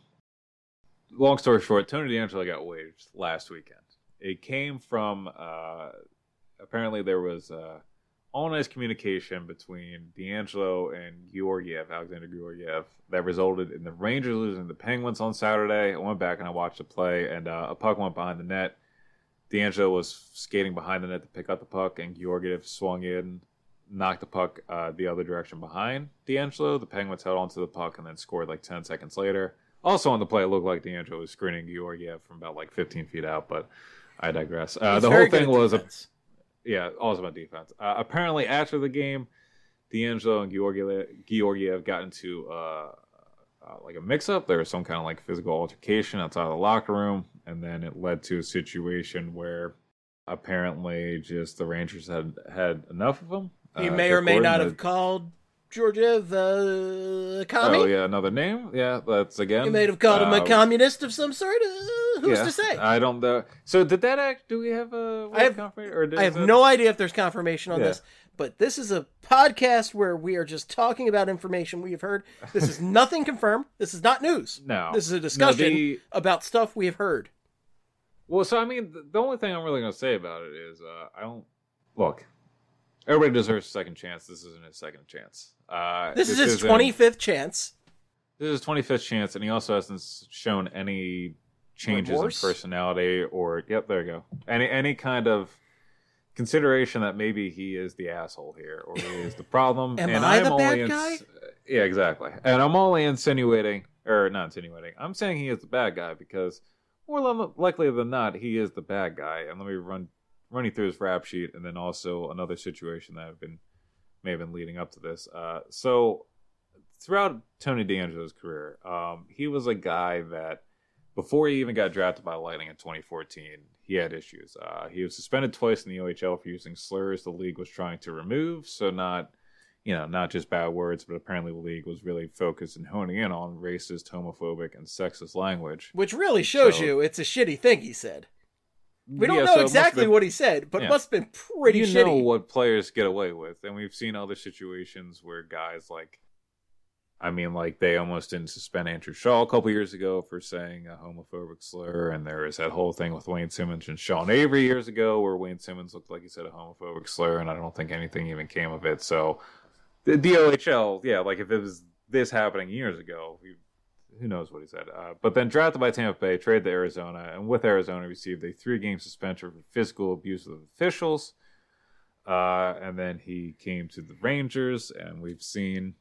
Long story short, Tony D'Angelo got waived last weekend. It came from... apparently there was... all nice communication between D'Angelo and Alexander Georgiev, that resulted in the Rangers losing the Penguins on Saturday. I went back and I watched the play, and a puck went behind the net. D'Angelo was skating behind the net to pick up the puck, and Georgiev swung in, knocked the puck the other direction behind D'Angelo. The Penguins held onto the puck and then scored like 10 seconds later. Also on the play, it looked like D'Angelo was screening Georgiev from about like 15 feet out, but I digress. The whole thing was... also about defense. Apparently, after the game, D'Angelo and Georgiev got into like a mix-up. There was some kind of like physical altercation outside of the locker room, and then it led to a situation where apparently just the Rangers had enough of them. He may or may not have called Georgiev commie. Oh yeah, another name. Yeah, that's again. He may have called him a communist of some sort. Who's to say? I don't know. So did that act? Do we have a confirmation? I have no idea if there's confirmation on this. But this is a podcast where we are just talking about information we have heard. This is nothing confirmed. This is not news. No. This is a discussion about stuff we have heard. Well, so I mean, the only thing I'm really going to say about it is look. Everybody deserves a second chance. This isn't his second chance. This is his 25th chance. This is his 25th chance, and he also hasn't shown any changes in personality or there you go. Any kind of consideration that maybe he is the asshole here or he is the problem. Am I the bad guy? Yeah, exactly. And I'm only not insinuating. I'm saying he is the bad guy because more likely than not, he is the bad guy. And let me run you through his rap sheet, and then also another situation that may have been leading up to this. So throughout Tony D'Angelo's career, he was a guy that before he even got drafted by Lightning in 2014, he had issues. He was suspended twice in the OHL for using slurs the league was trying to remove. So not just bad words, but apparently the league was really focused and honing in on racist, homophobic, and sexist language. Which really shows you it's a shitty thing he said. We don't know exactly what he said, but it must have been pretty shitty. You know what players get away with, and we've seen other situations where guys they almost didn't suspend Andrew Shaw a couple years ago for saying a homophobic slur, and there was that whole thing with Wayne Simmons and Sean Avery years ago where Wayne Simmons looked like he said a homophobic slur, and I don't think anything even came of it. So the OHL, if it was this happening years ago, who knows what he said. But then drafted by Tampa Bay, traded to Arizona, and with Arizona received a 3-game suspension for physical abuse of officials. And then he came to the Rangers, and we've seen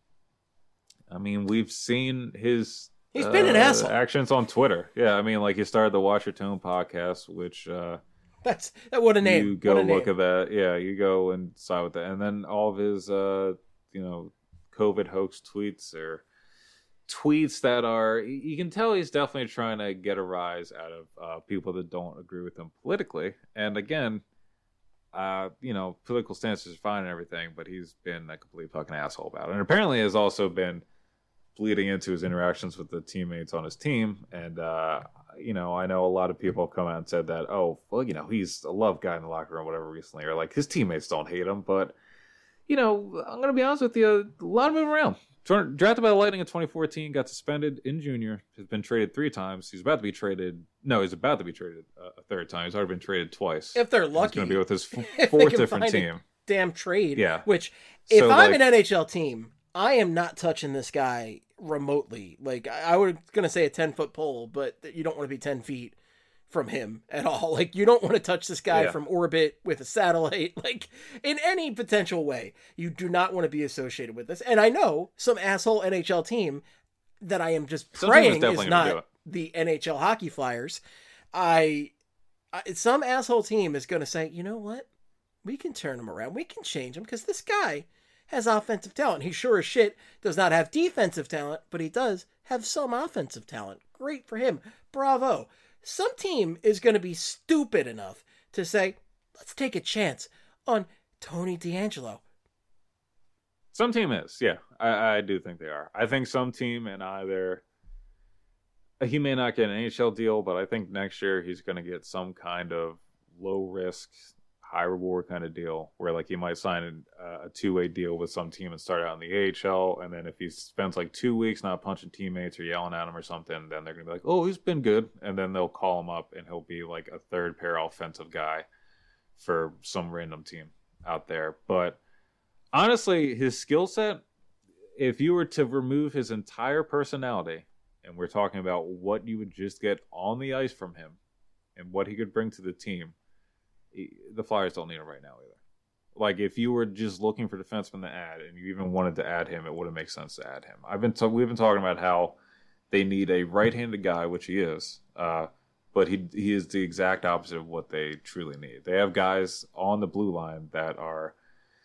his he's been an asshole actions on Twitter. Yeah, he started the Watch Your Tone podcast, which that's what a name. You go look at that. Yeah, you go and side with that, and then all of his COVID hoax tweets are tweets that are, you can tell he's definitely trying to get a rise out of people that don't agree with him politically. And again, political stances are fine and everything, but he's been a complete fucking asshole about it. And apparently has also been bleeding into his interactions with the teammates on his team. And, I know a lot of people come out and said that, he's a love guy in the locker room, whatever, recently, or like his teammates don't hate him. But, I'm going to be honest with you, a lot of moving around. Drafted by the Lightning in 2014, got suspended in junior, has been traded 3 times. He's about to be traded a third time. He's already been traded twice. If they're lucky. He's going to be with his fourth different team. Damn trade. Yeah. Which, if I'm an NHL team, I am not touching this guy remotely. Like, I was going to say a 10-foot pole, but you don't want to be 10 feet from him at all. Like, you don't want to touch this guy from orbit with a satellite, like, in any potential way. You do not want to be associated with this. And I know some asshole NHL team that I am just praying is not the NHL Hockey Flyers. Some asshole team is going to say, you know what? We can turn him around. We can change him because this guy has offensive talent. He sure as shit does not have defensive talent, but he does have some offensive talent. Great for him. Bravo. Some team is going to be stupid enough to say, let's take a chance on Tony DeAngelo. Some team is, yeah. I do think they are. I think some team, and either he may not get an NHL deal, but I think next year he's going to get some kind of low risk, high reward kind of deal where like he might sign a 2-way deal with some team and start out in the AHL, and then if he spends like 2 weeks not punching teammates or yelling at him or something, then they're gonna be like, oh, he's been good, and then they'll call him up and he'll be like a third pair offensive guy for some random team out there. But honestly, his skill set, if you were to remove his entire personality, and we're talking about what you would just get on the ice from him and what he could bring to the team, the Flyers don't need him right now either. Like, if you were just looking for defensemen to add, and you even wanted to add him, it wouldn't make sense to add him. We've been talking about how they need a right-handed guy, which he is, but he is the exact opposite of what they truly need. They have guys on the blue line that are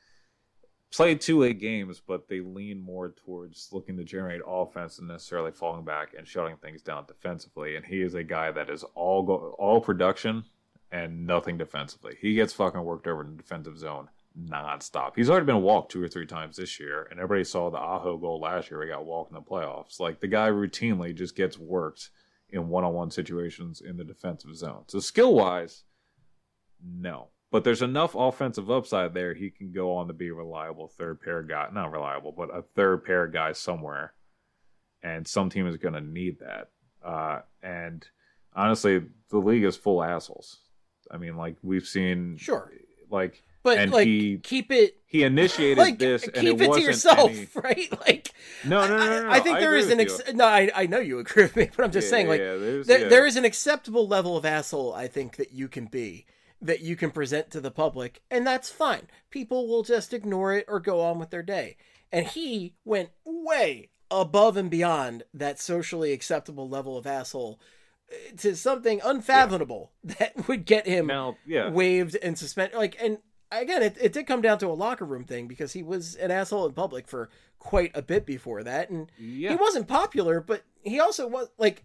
play 2-way games, but they lean more towards looking to generate offense than necessarily falling back and shutting things down defensively. And he is a guy that is all production and nothing defensively. He gets fucking worked over in the defensive zone nonstop. He's already been walked 2 or 3 times this year, and everybody saw the Aho goal last year. He got walked in the playoffs. Like, the guy routinely just gets worked in one-on-one situations in the defensive zone. So skill-wise, no. But there's enough offensive upside there, he can go on to be a reliable third-pair guy. Not reliable, but a third-pair guy somewhere. And some team is going to need that. And honestly, the league is full of assholes. I mean, like, we've seen... Sure. Like... But, and like, keep it... He initiated like, this, and keep it wasn't to yourself, any... right? Like... No. I think there is an... I know you agree with me, but I'm just saying, like, there is an acceptable level of asshole, I think, that you can be, that you can present to the public, and that's fine. People will just ignore it or go on with their day. And he went way above and beyond that socially acceptable level of asshole to something unfathomable that would get him waived and suspended. Like, and again, it did come down to a locker room thing because he was an asshole in public for quite a bit before that. And he wasn't popular, but he also was like,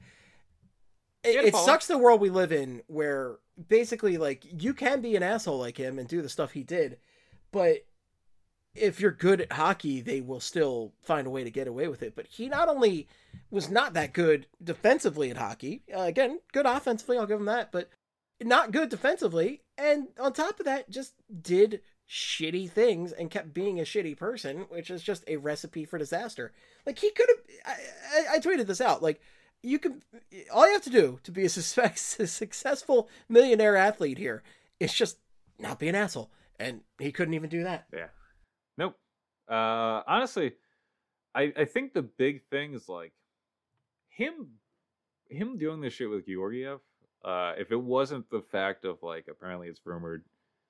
it sucks the world we live in where basically, like, you can be an asshole like him and do the stuff he did, but if you're good at hockey, they will still find a way to get away with it. But he not only was not that good defensively at hockey, again, good offensively, I'll give him that, but not good defensively. And on top of that, just did shitty things and kept being a shitty person, which is just a recipe for disaster. Like, he could have, I tweeted this out, like, all you have to do to be a successful millionaire athlete here is just not be an asshole. And he couldn't even do that. Yeah. Nope. Honestly, I think the big thing is like him doing this shit with Georgiev. If it wasn't the fact of, like, apparently it's rumored,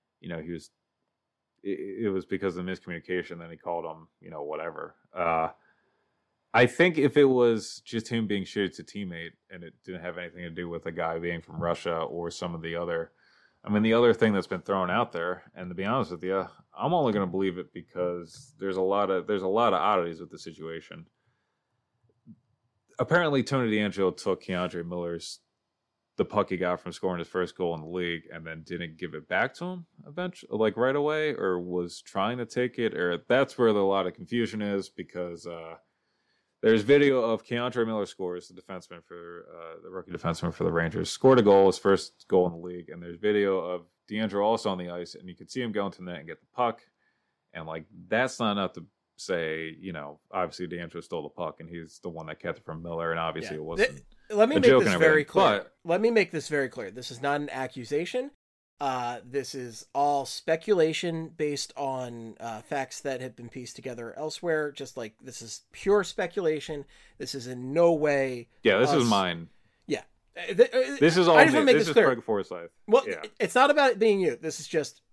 it was because of miscommunication, then he called him, whatever. I think if it was just him being shitty to teammate and it didn't have anything to do with a guy being from Russia or some of the other, the other thing that's been thrown out there, and to be honest with you, I'm only going to believe it because there's a lot of oddities with the situation. apparently Tony DeAngelo took Keandre Miller's the puck he got from scoring his first goal in the league and then didn't give it back to him eventually, like right away, or was trying to take it, or that's where a lot of confusion is, because there's video of Keandre Miller scores, the defenseman for the rookie defenseman for the Rangers, scored a goal, his first goal in the league, and there's video of DeAngelo also on the ice, and you can see him go into the net and get the puck, and like that's not enough to say, you know, obviously DeAngelo stole the puck and he's the one that kept it from Miller, and obviously it wasn't. Let me make this very clear. Let me make this very clear. This is not an accusation. This is all speculation based on facts that have been pieced together elsewhere. Just like this is pure speculation. This is in no way. Yeah, this is mine. Yeah, this is all. I just want to make this clear. Craig Forsyth. Well, yeah. It's not about it being you. This is just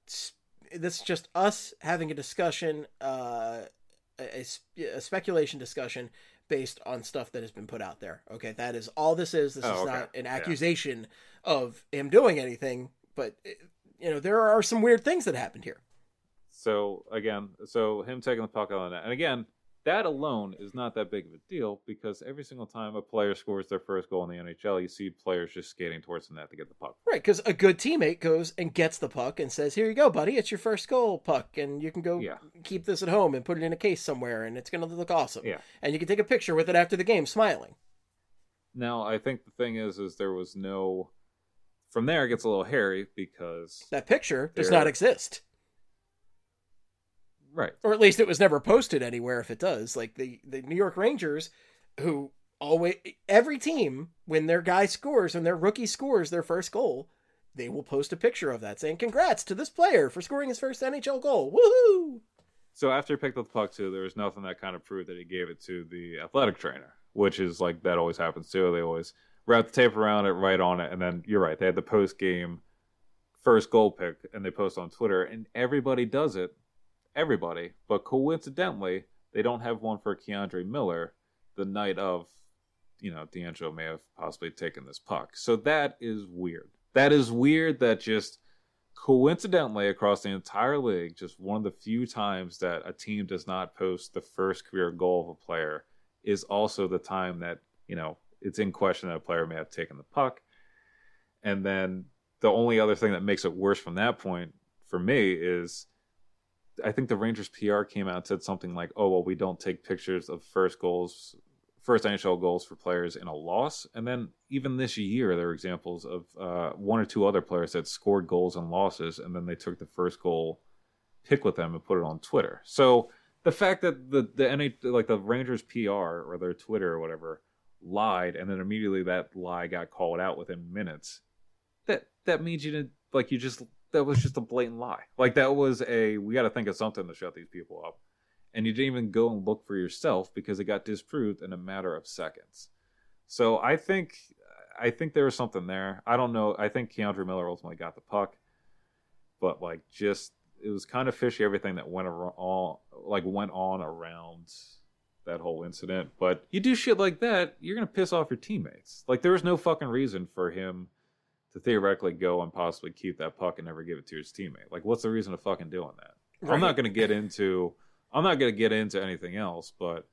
us having a discussion, a speculation discussion based on stuff that has been put out there. Okay, that is all this is. This is not an accusation of him doing anything, but you know, there are some weird things that happened here. So again, him taking the puck out of the net, and again, that alone is not that big of a deal, because every single time a player scores their first goal in the NHL, you see players just skating towards the net to get the puck. Right, because a good teammate goes and gets the puck and says, "Here you go, buddy. It's your first goal puck, and you can go keep this at home and put it in a case somewhere, and it's going to look awesome." Yeah. And you can take a picture with it after the game, smiling. Now, I think the thing is there was no... From there, it gets a little hairy, because... That picture does not exist. Right. Or at least it was never posted anywhere if it does. Like the New York Rangers, who always, every team, when their guy scores and their rookie scores their first goal, they will post a picture of that saying, "Congrats to this player for scoring his first NHL goal. Woohoo!" So after he picked up the puck too, there was nothing that kind of proved that he gave it to the athletic trainer, which is like, that always happens too. They always wrap the tape around it, write on it, and then you're right, they had the post-game first goal pick, and they post on Twitter, and everybody does it. Everybody, but coincidentally, they don't have one for Keandre Miller the night of, you know, DeAngelo may have possibly taken this puck. So that is weird. That is weird that just coincidentally across the entire league, just one of the few times that a team does not post the first career goal of a player is also the time that, you know, it's in question that a player may have taken the puck. And then the only other thing that makes it worse from that point for me is, I think the Rangers PR came out and said something like, "Oh, well, we don't take pictures of first NHL goals for players in a loss." And then even this year, there are examples of one or two other players that scored goals in losses, and then they took the first goal pic with them and put it on Twitter. So the fact that the Rangers PR or their Twitter or whatever lied, and then immediately that lie got called out within minutes, that means that was just a blatant lie. Like, that was we got to think of something to shut these people up. And you didn't even go and look for yourself because it got disproved in a matter of seconds. So I think there was something there. I don't know. I think Keandre Miller ultimately got the puck. But, it was kind of fishy, everything that went on around that whole incident. But you do shit like that, you're going to piss off your teammates. Like, there was no fucking reason for him to theoretically go and possibly keep that puck and never give it to his teammate. Like, what's the reason of fucking doing that? Right. I'm not going to get into anything else, but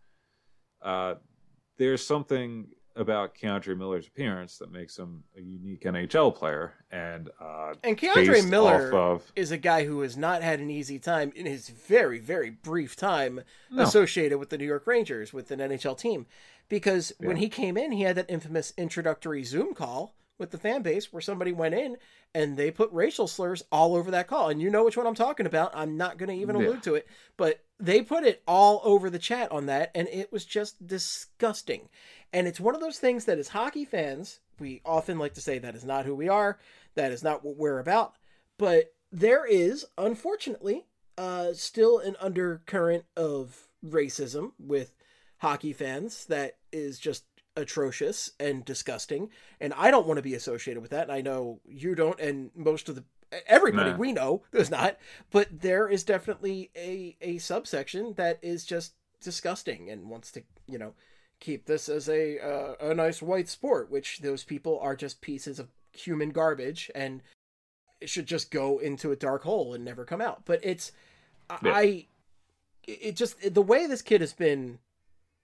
there's something about Keandre Miller's appearance that makes him a unique NHL player. And Keandre Miller is a guy who has not had an easy time in his very, very brief time associated with the New York Rangers, with an NHL team. Because when he came in, he had that infamous introductory Zoom call with the fan base where somebody went in and they put racial slurs all over that call. And you know which one I'm talking about. I'm not going to even allude to it, but they put it all over the chat on that. And it was just disgusting. And it's one of those things that as hockey fans, we often like to say that is not who we are. That is not what we're about. But there is, unfortunately, still an undercurrent of racism with hockey fans that is just atrocious and disgusting, and I don't want to be associated with that, and I know you don't, and most of everybody we know does not, but there is definitely a subsection that is just disgusting and wants to, keep this as a nice white sport, which those people are just pieces of human garbage and it should just go into a dark hole and never come out. But it's the way this kid has been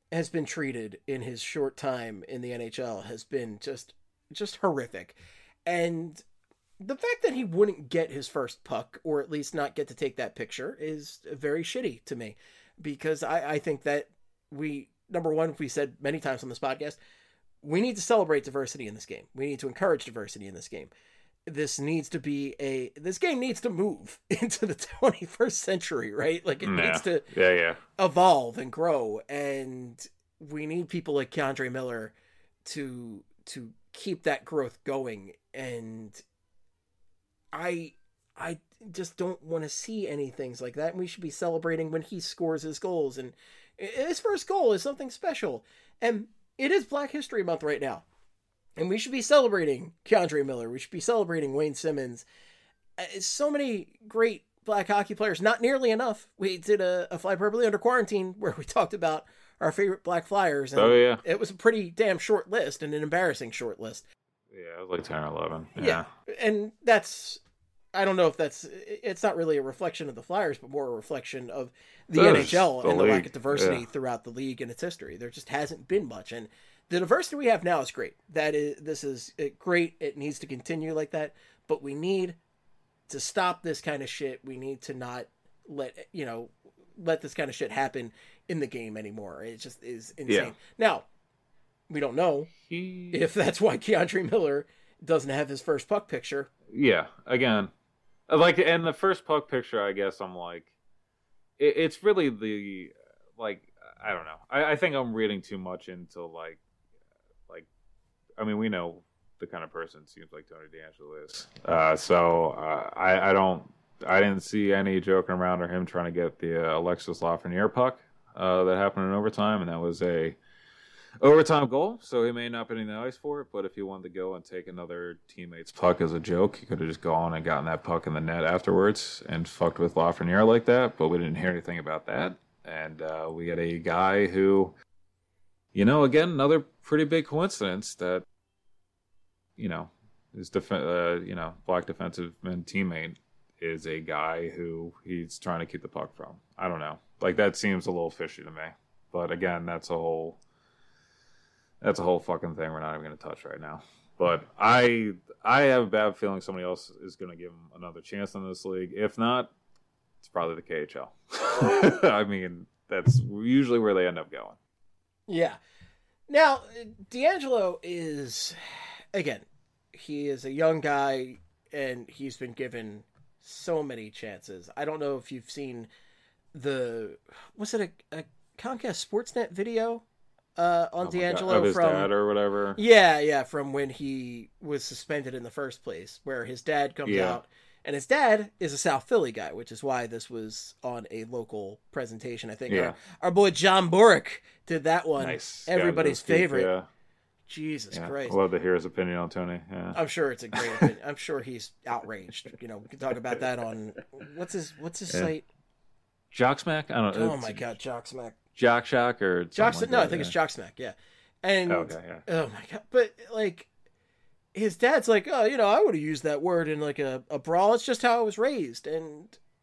has been treated in his short time in the NHL has been just horrific. And the fact that he wouldn't get his first puck, or at least not get to take that picture, is very shitty to me, because I think that number one, we said many times on this podcast, we need to celebrate diversity in this game. We need to encourage diversity in this game. This game needs to move into the 21st century, right? Like it needs to evolve and grow. And we need people like K'Andre Miller to keep that growth going. And I just don't want to see any things like that. And we should be celebrating when he scores his goals. And his first goal is something special. And it is Black History Month right now. And we should be celebrating K'Andre Miller. We should be celebrating Wayne Simmons. So many great Black hockey players. Not nearly enough. We did a Fly Purpley Under Quarantine where we talked about our favorite Black Flyers. And it was a pretty damn short list, and an embarrassing short list. Yeah, it was like 10 or 11. Yeah. And that's... I don't know if it's not really a reflection of the Flyers, but more a reflection of the NHL and the lack of diversity throughout the league and its history. There just hasn't been much. And the diversity we have now is great. This is great. It needs to continue like that, but we need to stop this kind of shit. We need to not let this kind of shit happen in the game anymore. It just is insane. Yeah. Now, we don't know if that's why K'Andre Miller doesn't have his first puck picture. Yeah, again, like, and the first puck picture, I guess I'm like, it's really the, like, I don't know. I think I'm reading too much into, like, I mean, we know the kind of person it seems like Tony DeAngelo is. I didn't see any joking around or him trying to get the Alexis Lafreniere puck that happened in overtime, and that was a overtime goal, so he may not be in the ice for it, but if he wanted to go and take another teammate's puck as a joke, he could have just gone and gotten that puck in the net afterwards and fucked with Lafreniere like that, but we didn't hear anything about that. And we had a guy who, again, another pretty big coincidence that, his Black defensive man teammate is a guy who he's trying to keep the puck from. I don't know. Like, that seems a little fishy to me. But again, that's a whole fucking thing we're not even going to touch right now. But I have a bad feeling somebody else is going to give him another chance in this league. If not, it's probably the KHL. I mean, that's usually where they end up going. Yeah. Now, DeAngelo is, again, he is a young guy, and he's been given so many chances. I don't know if you've seen was it a Comcast Sportsnet video on DeAngelo his from dad or whatever? Yeah, from when he was suspended in the first place, where his dad comes out, and his dad is a South Philly guy, which is why this was on a local presentation. I think our boy John Borick did that one. Nice. Everybody's favorite. Yeah. Jesus Christ. I'd love to hear his opinion on Tony. Yeah. I'm sure it's a great opinion. I'm sure he's outraged. We can talk about that on what's his site? Jocksmack? I don't know. Oh my God, Jocksmack. Jock Shock or Jocksmack? No, I think it's Jocksmack. Yeah. And oh my God, but like his dad's like, oh, I would have used that word in like a brawl. It's just how I was raised, and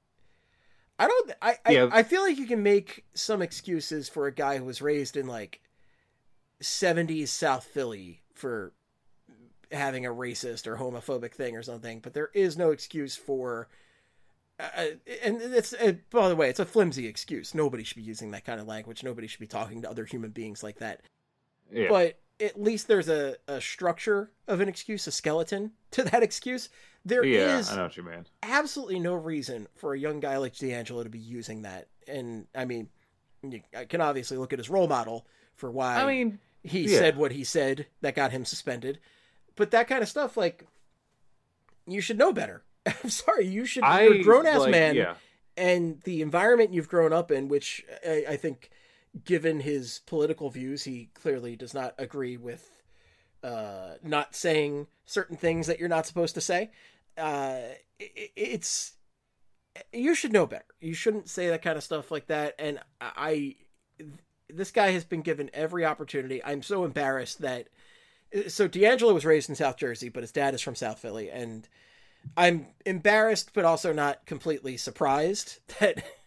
I feel like you can make some excuses for a guy who was raised in like 70s South Philly for having a racist or homophobic thing or something, but there is no excuse for. And it's by the way, it's a flimsy excuse. Nobody should be using that kind of language. Nobody should be talking to other human beings like that. Yeah. But at least there's a structure of an excuse, a skeleton to that excuse. There is I know what you mean. Absolutely no reason for a young guy like DeAngelo to be using that. And I mean, I can obviously look at his role model for why he said what he said that got him suspended. But that kind of stuff, like, you should know better. I'm sorry, you're a grown-ass man, and the environment you've grown up in, which I think, given his political views, he clearly does not agree with not saying certain things that you're not supposed to say. You should know better. You shouldn't say that kind of stuff like that, and this guy has been given every opportunity. I'm so embarrassed that... So DeAngelo was raised in South Jersey, but his dad is from South Philly, and I'm embarrassed, but also not completely surprised that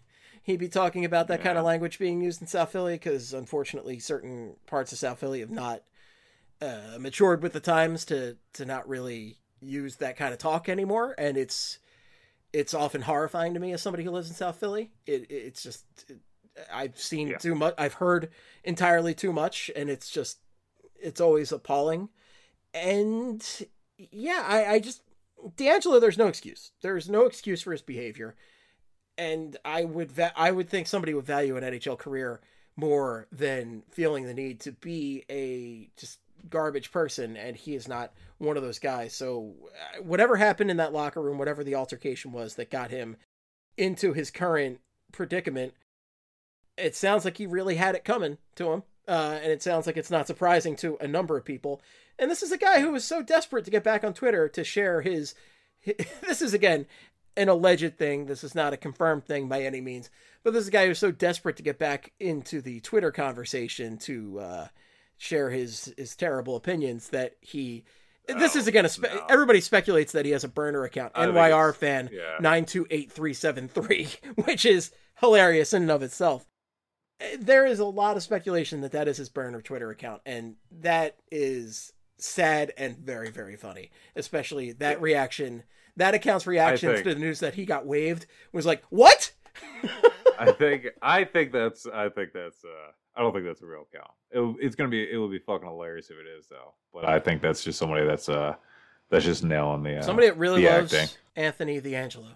he'd be talking about that kind of language being used in South Philly, because unfortunately certain parts of South Philly have not matured with the times to not really use that kind of talk anymore, and it's often horrifying to me as somebody who lives in South Philly. It's just I've seen too much, I've heard entirely too much, and it's always appalling. And yeah, I just D'Angelo, there's no excuse. There's no excuse for his behavior, and I would think somebody would value an NHL career more than feeling the need to be a just garbage person, and he is not one of those guys. So whatever happened in that locker room, whatever the altercation was that got him into his current predicament, it sounds like he really had it coming to him, and it sounds like it's not surprising to a number of people. And this is a guy who was so desperate to get back on Twitter to share his this is, again, an alleged thing. This is not a confirmed thing by any means, but this is a guy who's so desperate to get back into the Twitter conversation to share his terrible opinions that he... This is, again, everybody speculates that he has a burner account, NYR fan 928373, which is hilarious in and of itself. There is a lot of speculation that is his burner Twitter account, and that is sad and very, very funny, especially that reaction. That account's reaction to the news that he got waived was like, what? I think that's I don't think that's a real account. It will be fucking hilarious if it is, though. But I think that's just somebody that's just nailing the somebody that really loves acting. Anthony D'Angelo.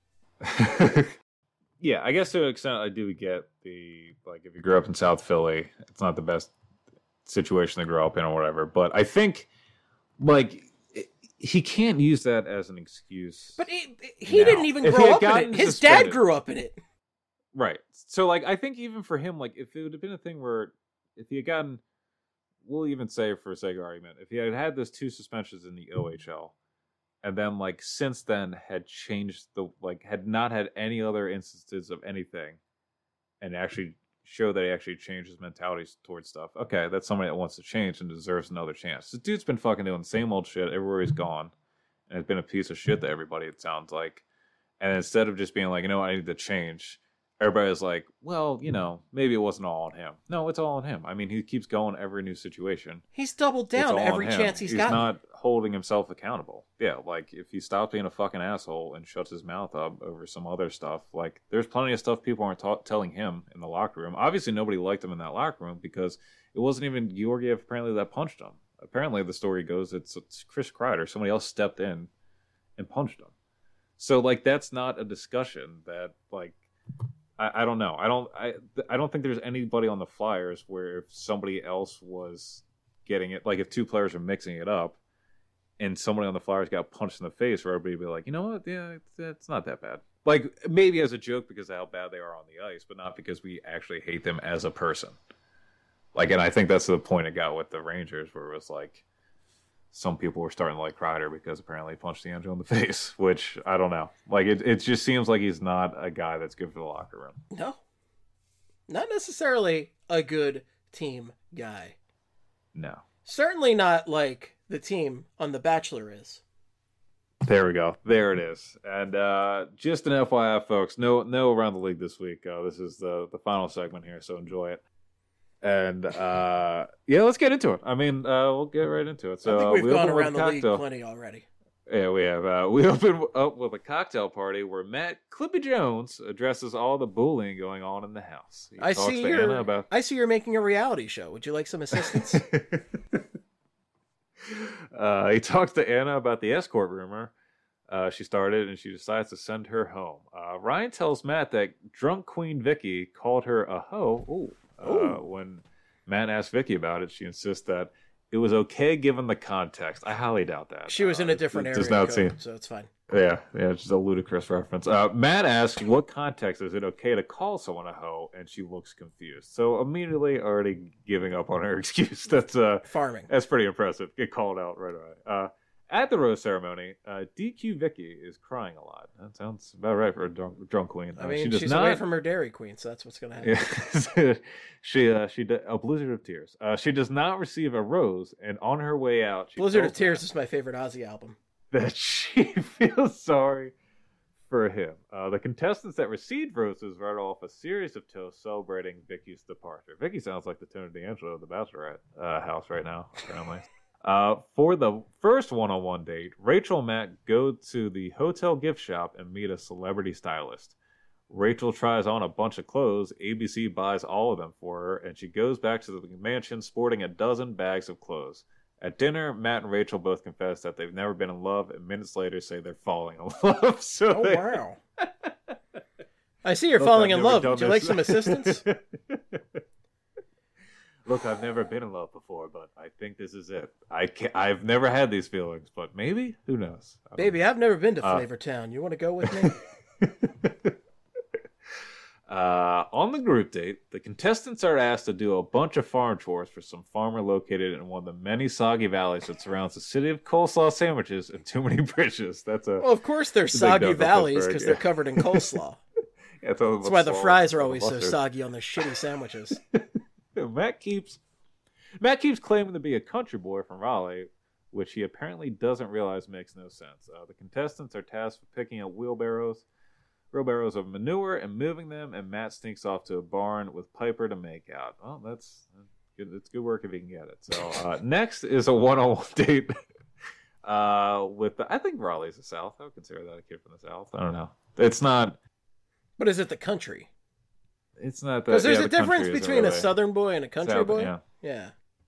Yeah, I guess to an extent I do get the, like, if you grew up in South Philly, it's not the best situation to grow up in or whatever. But I think, like, he can't use that as an excuse. But he didn't even grow up in it. His dad grew up in it. Right. So, like, I think even for him, like, if it would have been a thing where if he had gotten, we'll even say for sake of argument, if he had those 2 suspensions in the OHL, and then, like, since then had changed had not had any other instances of anything, and actually show that he actually changed his mentality towards stuff. Okay, that's somebody that wants to change and deserves another chance. This dude's been fucking doing the same old shit everywhere he's gone, and it's been a piece of shit to everybody, it sounds like. And instead of just being like, you know what, I need to change, everybody's like, well, you know, maybe it wasn't all on him. No, it's all on him. I mean, he keeps going every new situation. He's doubled down every chance he's gotten. He's not holding himself accountable. Yeah, like, if he stops being a fucking asshole and shuts his mouth up over some other stuff, like, there's plenty of stuff people aren't telling him in the locker room. Obviously, nobody liked him in that locker room because it wasn't even Georgiev, apparently, that punched him. Apparently, the story goes, it's Chris Kreider. Somebody else stepped in and punched him. So, like, that's not a discussion that, like... I don't know. I don't think there's anybody on the Flyers where if somebody else was getting it, like if 2 players are mixing it up and somebody on the Flyers got punched in the face, where everybody would be like, you know what? Yeah, it's not that bad. Like, maybe as a joke because of how bad they are on the ice, but not because we actually hate them as a person. Like, and I think that's the point it got with the Rangers, where it was like, some people were starting to like Kreider because apparently he punched D'Angelo in the face, which I don't know. Like, it just seems like he's not a guy that's good for the locker room. No. Not necessarily a good team guy. No. Certainly not like the team on The Bachelor is. There we go. There it is. And just an FYI, folks, no Around the League this week. This is the final segment here, so enjoy it. And yeah, let's get into it. I mean, we'll get right into it. So I think we've gone around the league plenty already. Yeah, we have. We opened up with a cocktail party where Matt Clippy Jones addresses all the bullying going on in the house. I see you're making a reality show. Would you like some assistance? He talks to Anna about the escort rumor she started, and she decides to send her home. Ryan tells Matt that drunk Queen Vicky called her a hoe. When Matt asked Vicky about it, she insists that it was okay given the context. I highly doubt that. She was in a different area code, so it's fine. Yeah, it's just a ludicrous reference. Matt asks, what context is it okay to call someone a hoe? And she looks confused. So immediately already giving up on her excuse. That's farming. That's pretty impressive. Get called out right away. At the rose ceremony, DQ Vicky is crying a lot. That sounds about right for a drunk queen. I mean, she's away from her Dairy Queen, so that's what's going to happen. Yeah. A blizzard of tears. She does not receive a rose, and on her way out, Blizzard of Tears is my favorite Ozzy album. That she feels sorry for him. The contestants that received roses read off a series of toasts celebrating Vicky's departure. Vicky sounds like the Tony D'Angelo of the Bachelorette house right now, apparently. For the first one-on-one date, Rachel and Matt go to the hotel gift shop and meet a celebrity stylist. Rachel tries on a bunch of clothes. ABC buys all of them for her, and she goes back to the mansion sporting a dozen bags of clothes. At dinner, Matt and Rachel both confess that they've never been in love, and minutes later say they're falling in love. Wow. I see you're falling in love. Would you like some assistance? Look, I've never been in love before, but I think this is it. I've never had these feelings, but maybe? Who knows? Baby, I've never been to Flavortown. You want to go with me? On the group date, the contestants are asked to do a bunch of farm chores for some farmer located in one of the many soggy valleys that surrounds the city of coleslaw sandwiches and too many bridges. Well, of course they're soggy valleys because they're covered in coleslaw. That's why the fries are always so soggy on their shitty sandwiches. Matt keeps claiming to be a country boy from Raleigh, which he apparently doesn't realize makes no sense. The contestants are tasked with picking up wheelbarrows of manure and moving them, and Matt sneaks off to a barn with Piper to make out. Well, that's good. It's good work if he can get it. So next is a one-on-one date I think Raleigh's the South. I would consider that a kid from the South. I don't know. It's not. But is it the country? It's not that. Because there's a difference between a Southern boy and a country boy. Yeah.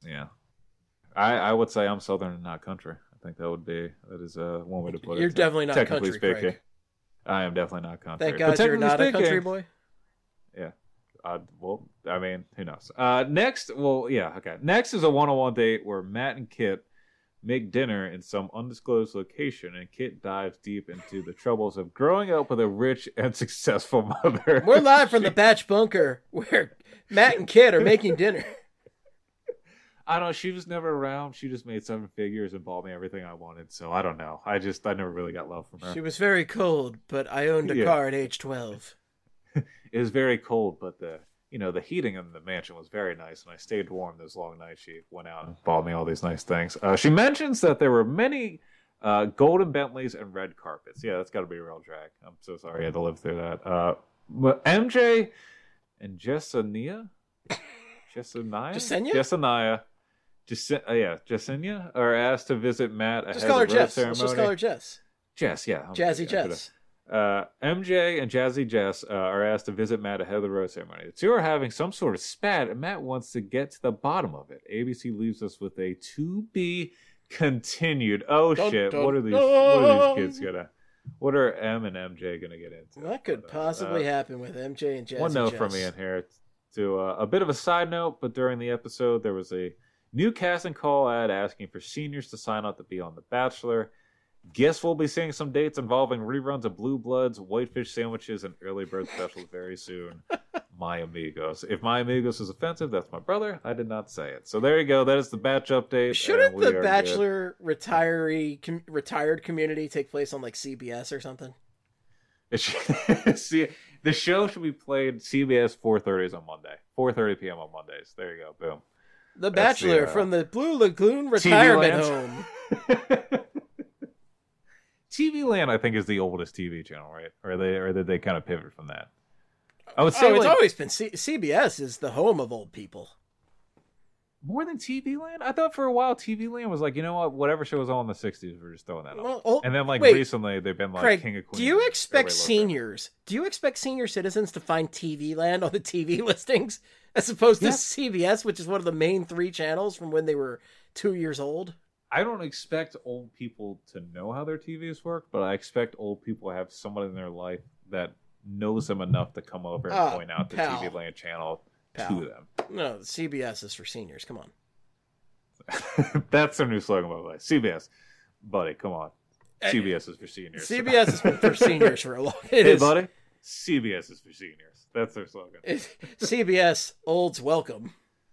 I would say I'm Southern and not country. I think that is one way to put it. You're definitely not country, speaking. Craig. I am definitely not country. Thank God you're not a country boy. Yeah. Well, I mean, who knows? Next is a one-on-one date where Matt and Kit make dinner in some undisclosed location, and Kit dives deep into the troubles of growing up with a rich and successful mother. We're live from the Batch Bunker where Matt and Kit are making dinner. I don't know. She was never around. She just made 7 figures and bought me everything I wanted. So I don't know. I never really got love from her. She was very cold, but I owned a car at age 12. It was very cold, but the heating in the mansion was very nice, and I stayed warm those long nights. She went out and bought me all these nice things. She mentions that there were many golden Bentleys and red carpets. Yeah, that's got to be a real drag. I'm so sorry I had to live through that. MJ and Jessenia are asked to visit Matt ahead of the rose ceremony. Let's just call her Jess. Jess, yeah. Jazzy Jess. MJ and Jazzy Jess are asked to visit Matt ahead of the rose ceremony. The two are having some sort of spat, and Matt wants to get to the bottom of it. ABC leaves us with a to be continued. Oh shit! What are these kids gonna? What are M and MJ gonna get into? What could possibly happen with MJ and Jazzy? One note from me in here. To a bit of a side note, but during the episode, there was a new casting call ad asking for seniors to sign up to be on The Bachelor. Guess we'll be seeing some dates involving reruns of Blue Bloods, Whitefish sandwiches, and early bird specials very soon. My amigos. If my amigos is offensive, that's my brother. I did not say it. So there you go. That is the Batch update. Shouldn't the Bachelor retired community take place on like CBS or something? See, the show should be played CBS 4:30s on Monday. 4:30 p.m. on Mondays. There you go. Boom. The Bachelor from the Blue Lagoon retirement home. TV Land, I think, is the oldest TV channel, right? Or did they kind of pivot from that? I would say it's always been CBS is the home of old people. More than TV Land? I thought for a while TV Land was like, you know what? Whatever show was on in the 60s, we're just throwing that on. And then recently they've been like Craig, King of Queens. Do you expect senior citizens to find TV Land on the TV listings as opposed to CBS, which is one of the main 3 channels from when they were 2 years old? I don't expect old people to know how their TVs work, but I expect old people to have someone in their life that knows them enough to come over and point out the TV Land channel to them. No, CBS is for seniors. Come on. That's their new slogan, by the way. CBS. Buddy, come on. CBS is for seniors. CBS has been for seniors for a long time. Hey, buddy. CBS is for seniors. That's their slogan. CBS, olds welcome.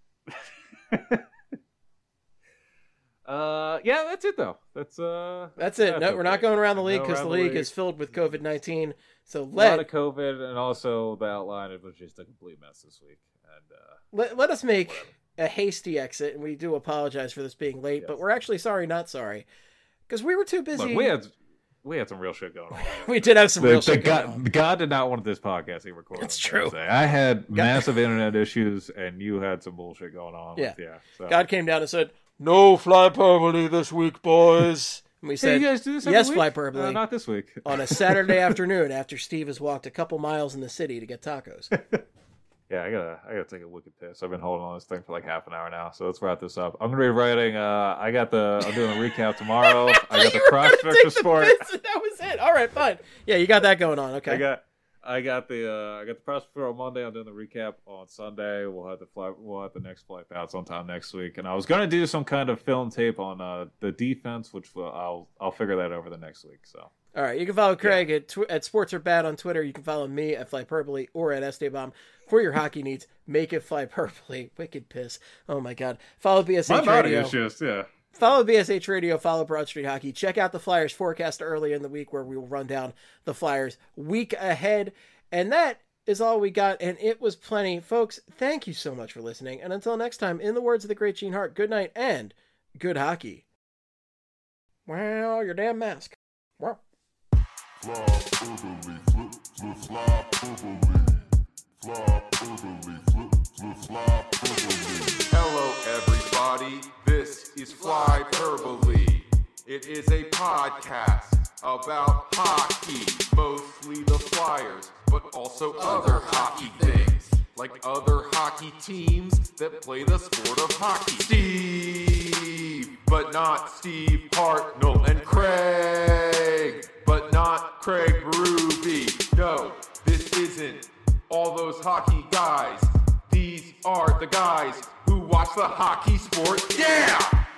Yeah, that's it, though. That's it. No, we're not going around the league because the league is filled with COVID-19. So a lot of COVID, and also the outline, it was just a complete mess this week. And let us make a hasty exit, and we do apologize for this being late, but we're actually sorry, not sorry, because we were too busy. Look, we had some real shit going on. We did have some real shit going on. God did not want this podcast to be recorded. It's true. I had massive internet issues, and you had some bullshit going on. Yeah. So. God came down and said, "No Flyperbole this week, boys." And we said, you guys do this "Yes, week? Flyperbole." Not this week. On a Saturday afternoon after Steve has walked a couple miles in the city to get tacos. Yeah, I gotta take a wicked piss. I've been holding on this thing for like half an hour now, so let's wrap this up. I'm gonna be writing. I'm doing the recap tomorrow. I got the prospectus for it. That was it. All right, fine. Yeah, you got that going on. Okay. I got the prospectus on Monday. I'm doing the recap on Sunday. We'll have the next flight out sometime next week. And I was gonna do some kind of film tape on the defense, which I'll figure that over the next week. So. All right, you can follow Craig at Sports Are Bad on Twitter. You can follow me at Flyperbole or at Esteban for your hockey needs. Make it Flyperbole. Wicked piss. Oh my God. Follow BSH My body Radio. is just Follow BSH Radio. Follow Broad Street Hockey. Check out the Flyers forecast early in the week where we will run down the Flyers week ahead. And that is all we got, and it was plenty. Folks, thank you so much for listening. And until next time, in the words of the great Gene Hart, good night and good hockey. Well, your damn mask. Wow. Hello everybody, this is Flyperbole. It is a podcast about hockey, mostly the Flyers, but also other hockey things, like other hockey teams that play the sport of hockey. Steve, but not Steve Hartnell, and Craig, but not Craig Berube. No, this isn't all those hockey guys. These are the guys who watch the hockey sport. Yeah!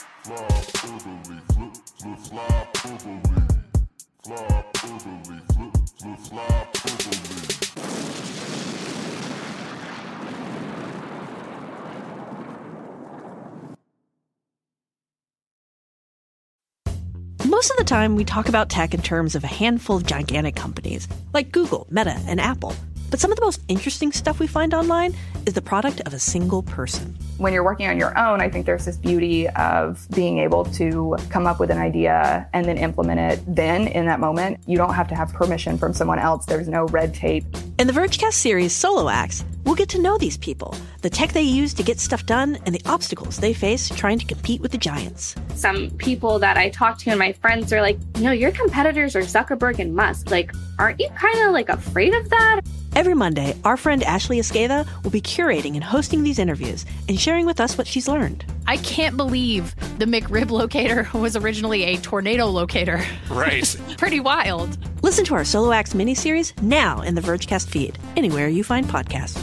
Most of the time, we talk about tech in terms of a handful of gigantic companies, like Google, Meta, and Apple. But some of the most interesting stuff we find online is the product of a single person. When you're working on your own, I think there's this beauty of being able to come up with an idea and then implement it then in that moment. You don't have to have permission from someone else. There's no red tape. In the Vergecast series Solo Acts, we'll get to know these people, the tech they use to get stuff done, and the obstacles they face trying to compete with the giants. Some people that I talk to and my friends are like, your competitors are Zuckerberg and Musk. Like, aren't you kind of like afraid of that? Every Monday, our friend Ashley Esqueda will be curating and hosting these interviews and sharing with us what she's learned. I can't believe the McRib locator was originally a tornado locator. Right. Pretty wild. Listen to our Solo Acts miniseries now in the Vergecast feed, anywhere you find podcasts.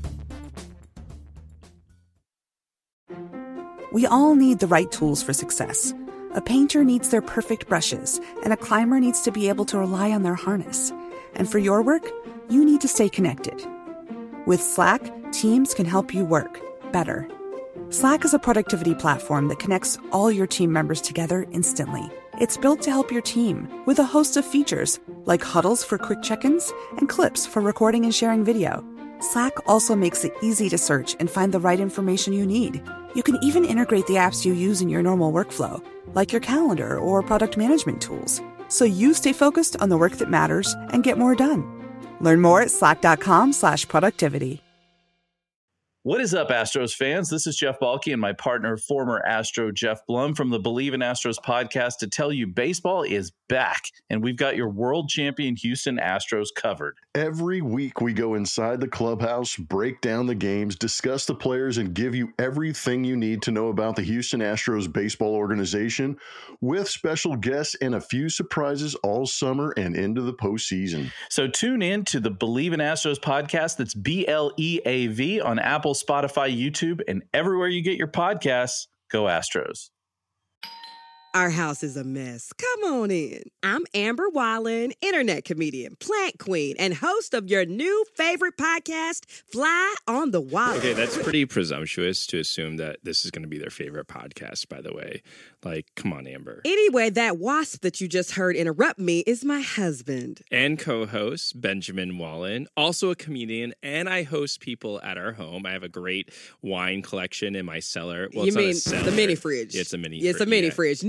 We all need the right tools for success. A painter needs their perfect brushes, and a climber needs to be able to rely on their harness. And for your work, you need to stay connected. With Slack, teams can help you work better. Slack is a productivity platform that connects all your team members together instantly. It's built to help your team with a host of features, like huddles for quick check-ins and clips for recording and sharing video. Slack also makes it easy to search and find the right information you need. You can even integrate the apps you use in your normal workflow, like your calendar or product management tools, so you stay focused on the work that matters and get more done. Learn more at slack.com/productivity. What is up, Astros fans? This is Jeff Balke and my partner, former Astro Jeff Blum from the Believe in Astros podcast to tell you baseball is back, and we've got your world champion Houston Astros covered. Every week we go inside the clubhouse, break down the games, discuss the players, and give you everything you need to know about the Houston Astros baseball organization with special guests and a few surprises all summer and into the postseason. So tune in to the Believe in Astros podcast. That's BLEAV on Apple, Spotify, YouTube, and everywhere you get your podcasts. Go Astros. Our house is a mess. Come on in. I'm Amber Wallen, internet comedian, plant queen, and host of your new favorite podcast, Fly on the Wall. Okay, that's pretty presumptuous to assume that this is going to be their favorite podcast, by the way. Like, come on, Amber. Anyway, that wasp that you just heard interrupt me is my husband. And co-host, Benjamin Wallen, also a comedian, and I host people at our home. I have a great wine collection in my cellar. Well, you mean the mini fridge? Yeah, it's a mini fridge. It's a mini fridge. New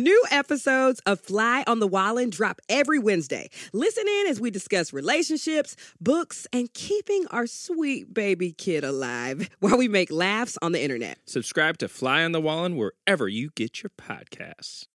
New episodes of Fly on the Wallin drop every Wednesday. Listen in as we discuss relationships, books, and keeping our sweet baby kid alive while we make laughs on the internet. Subscribe to Fly on the Wallin wherever you get your podcasts.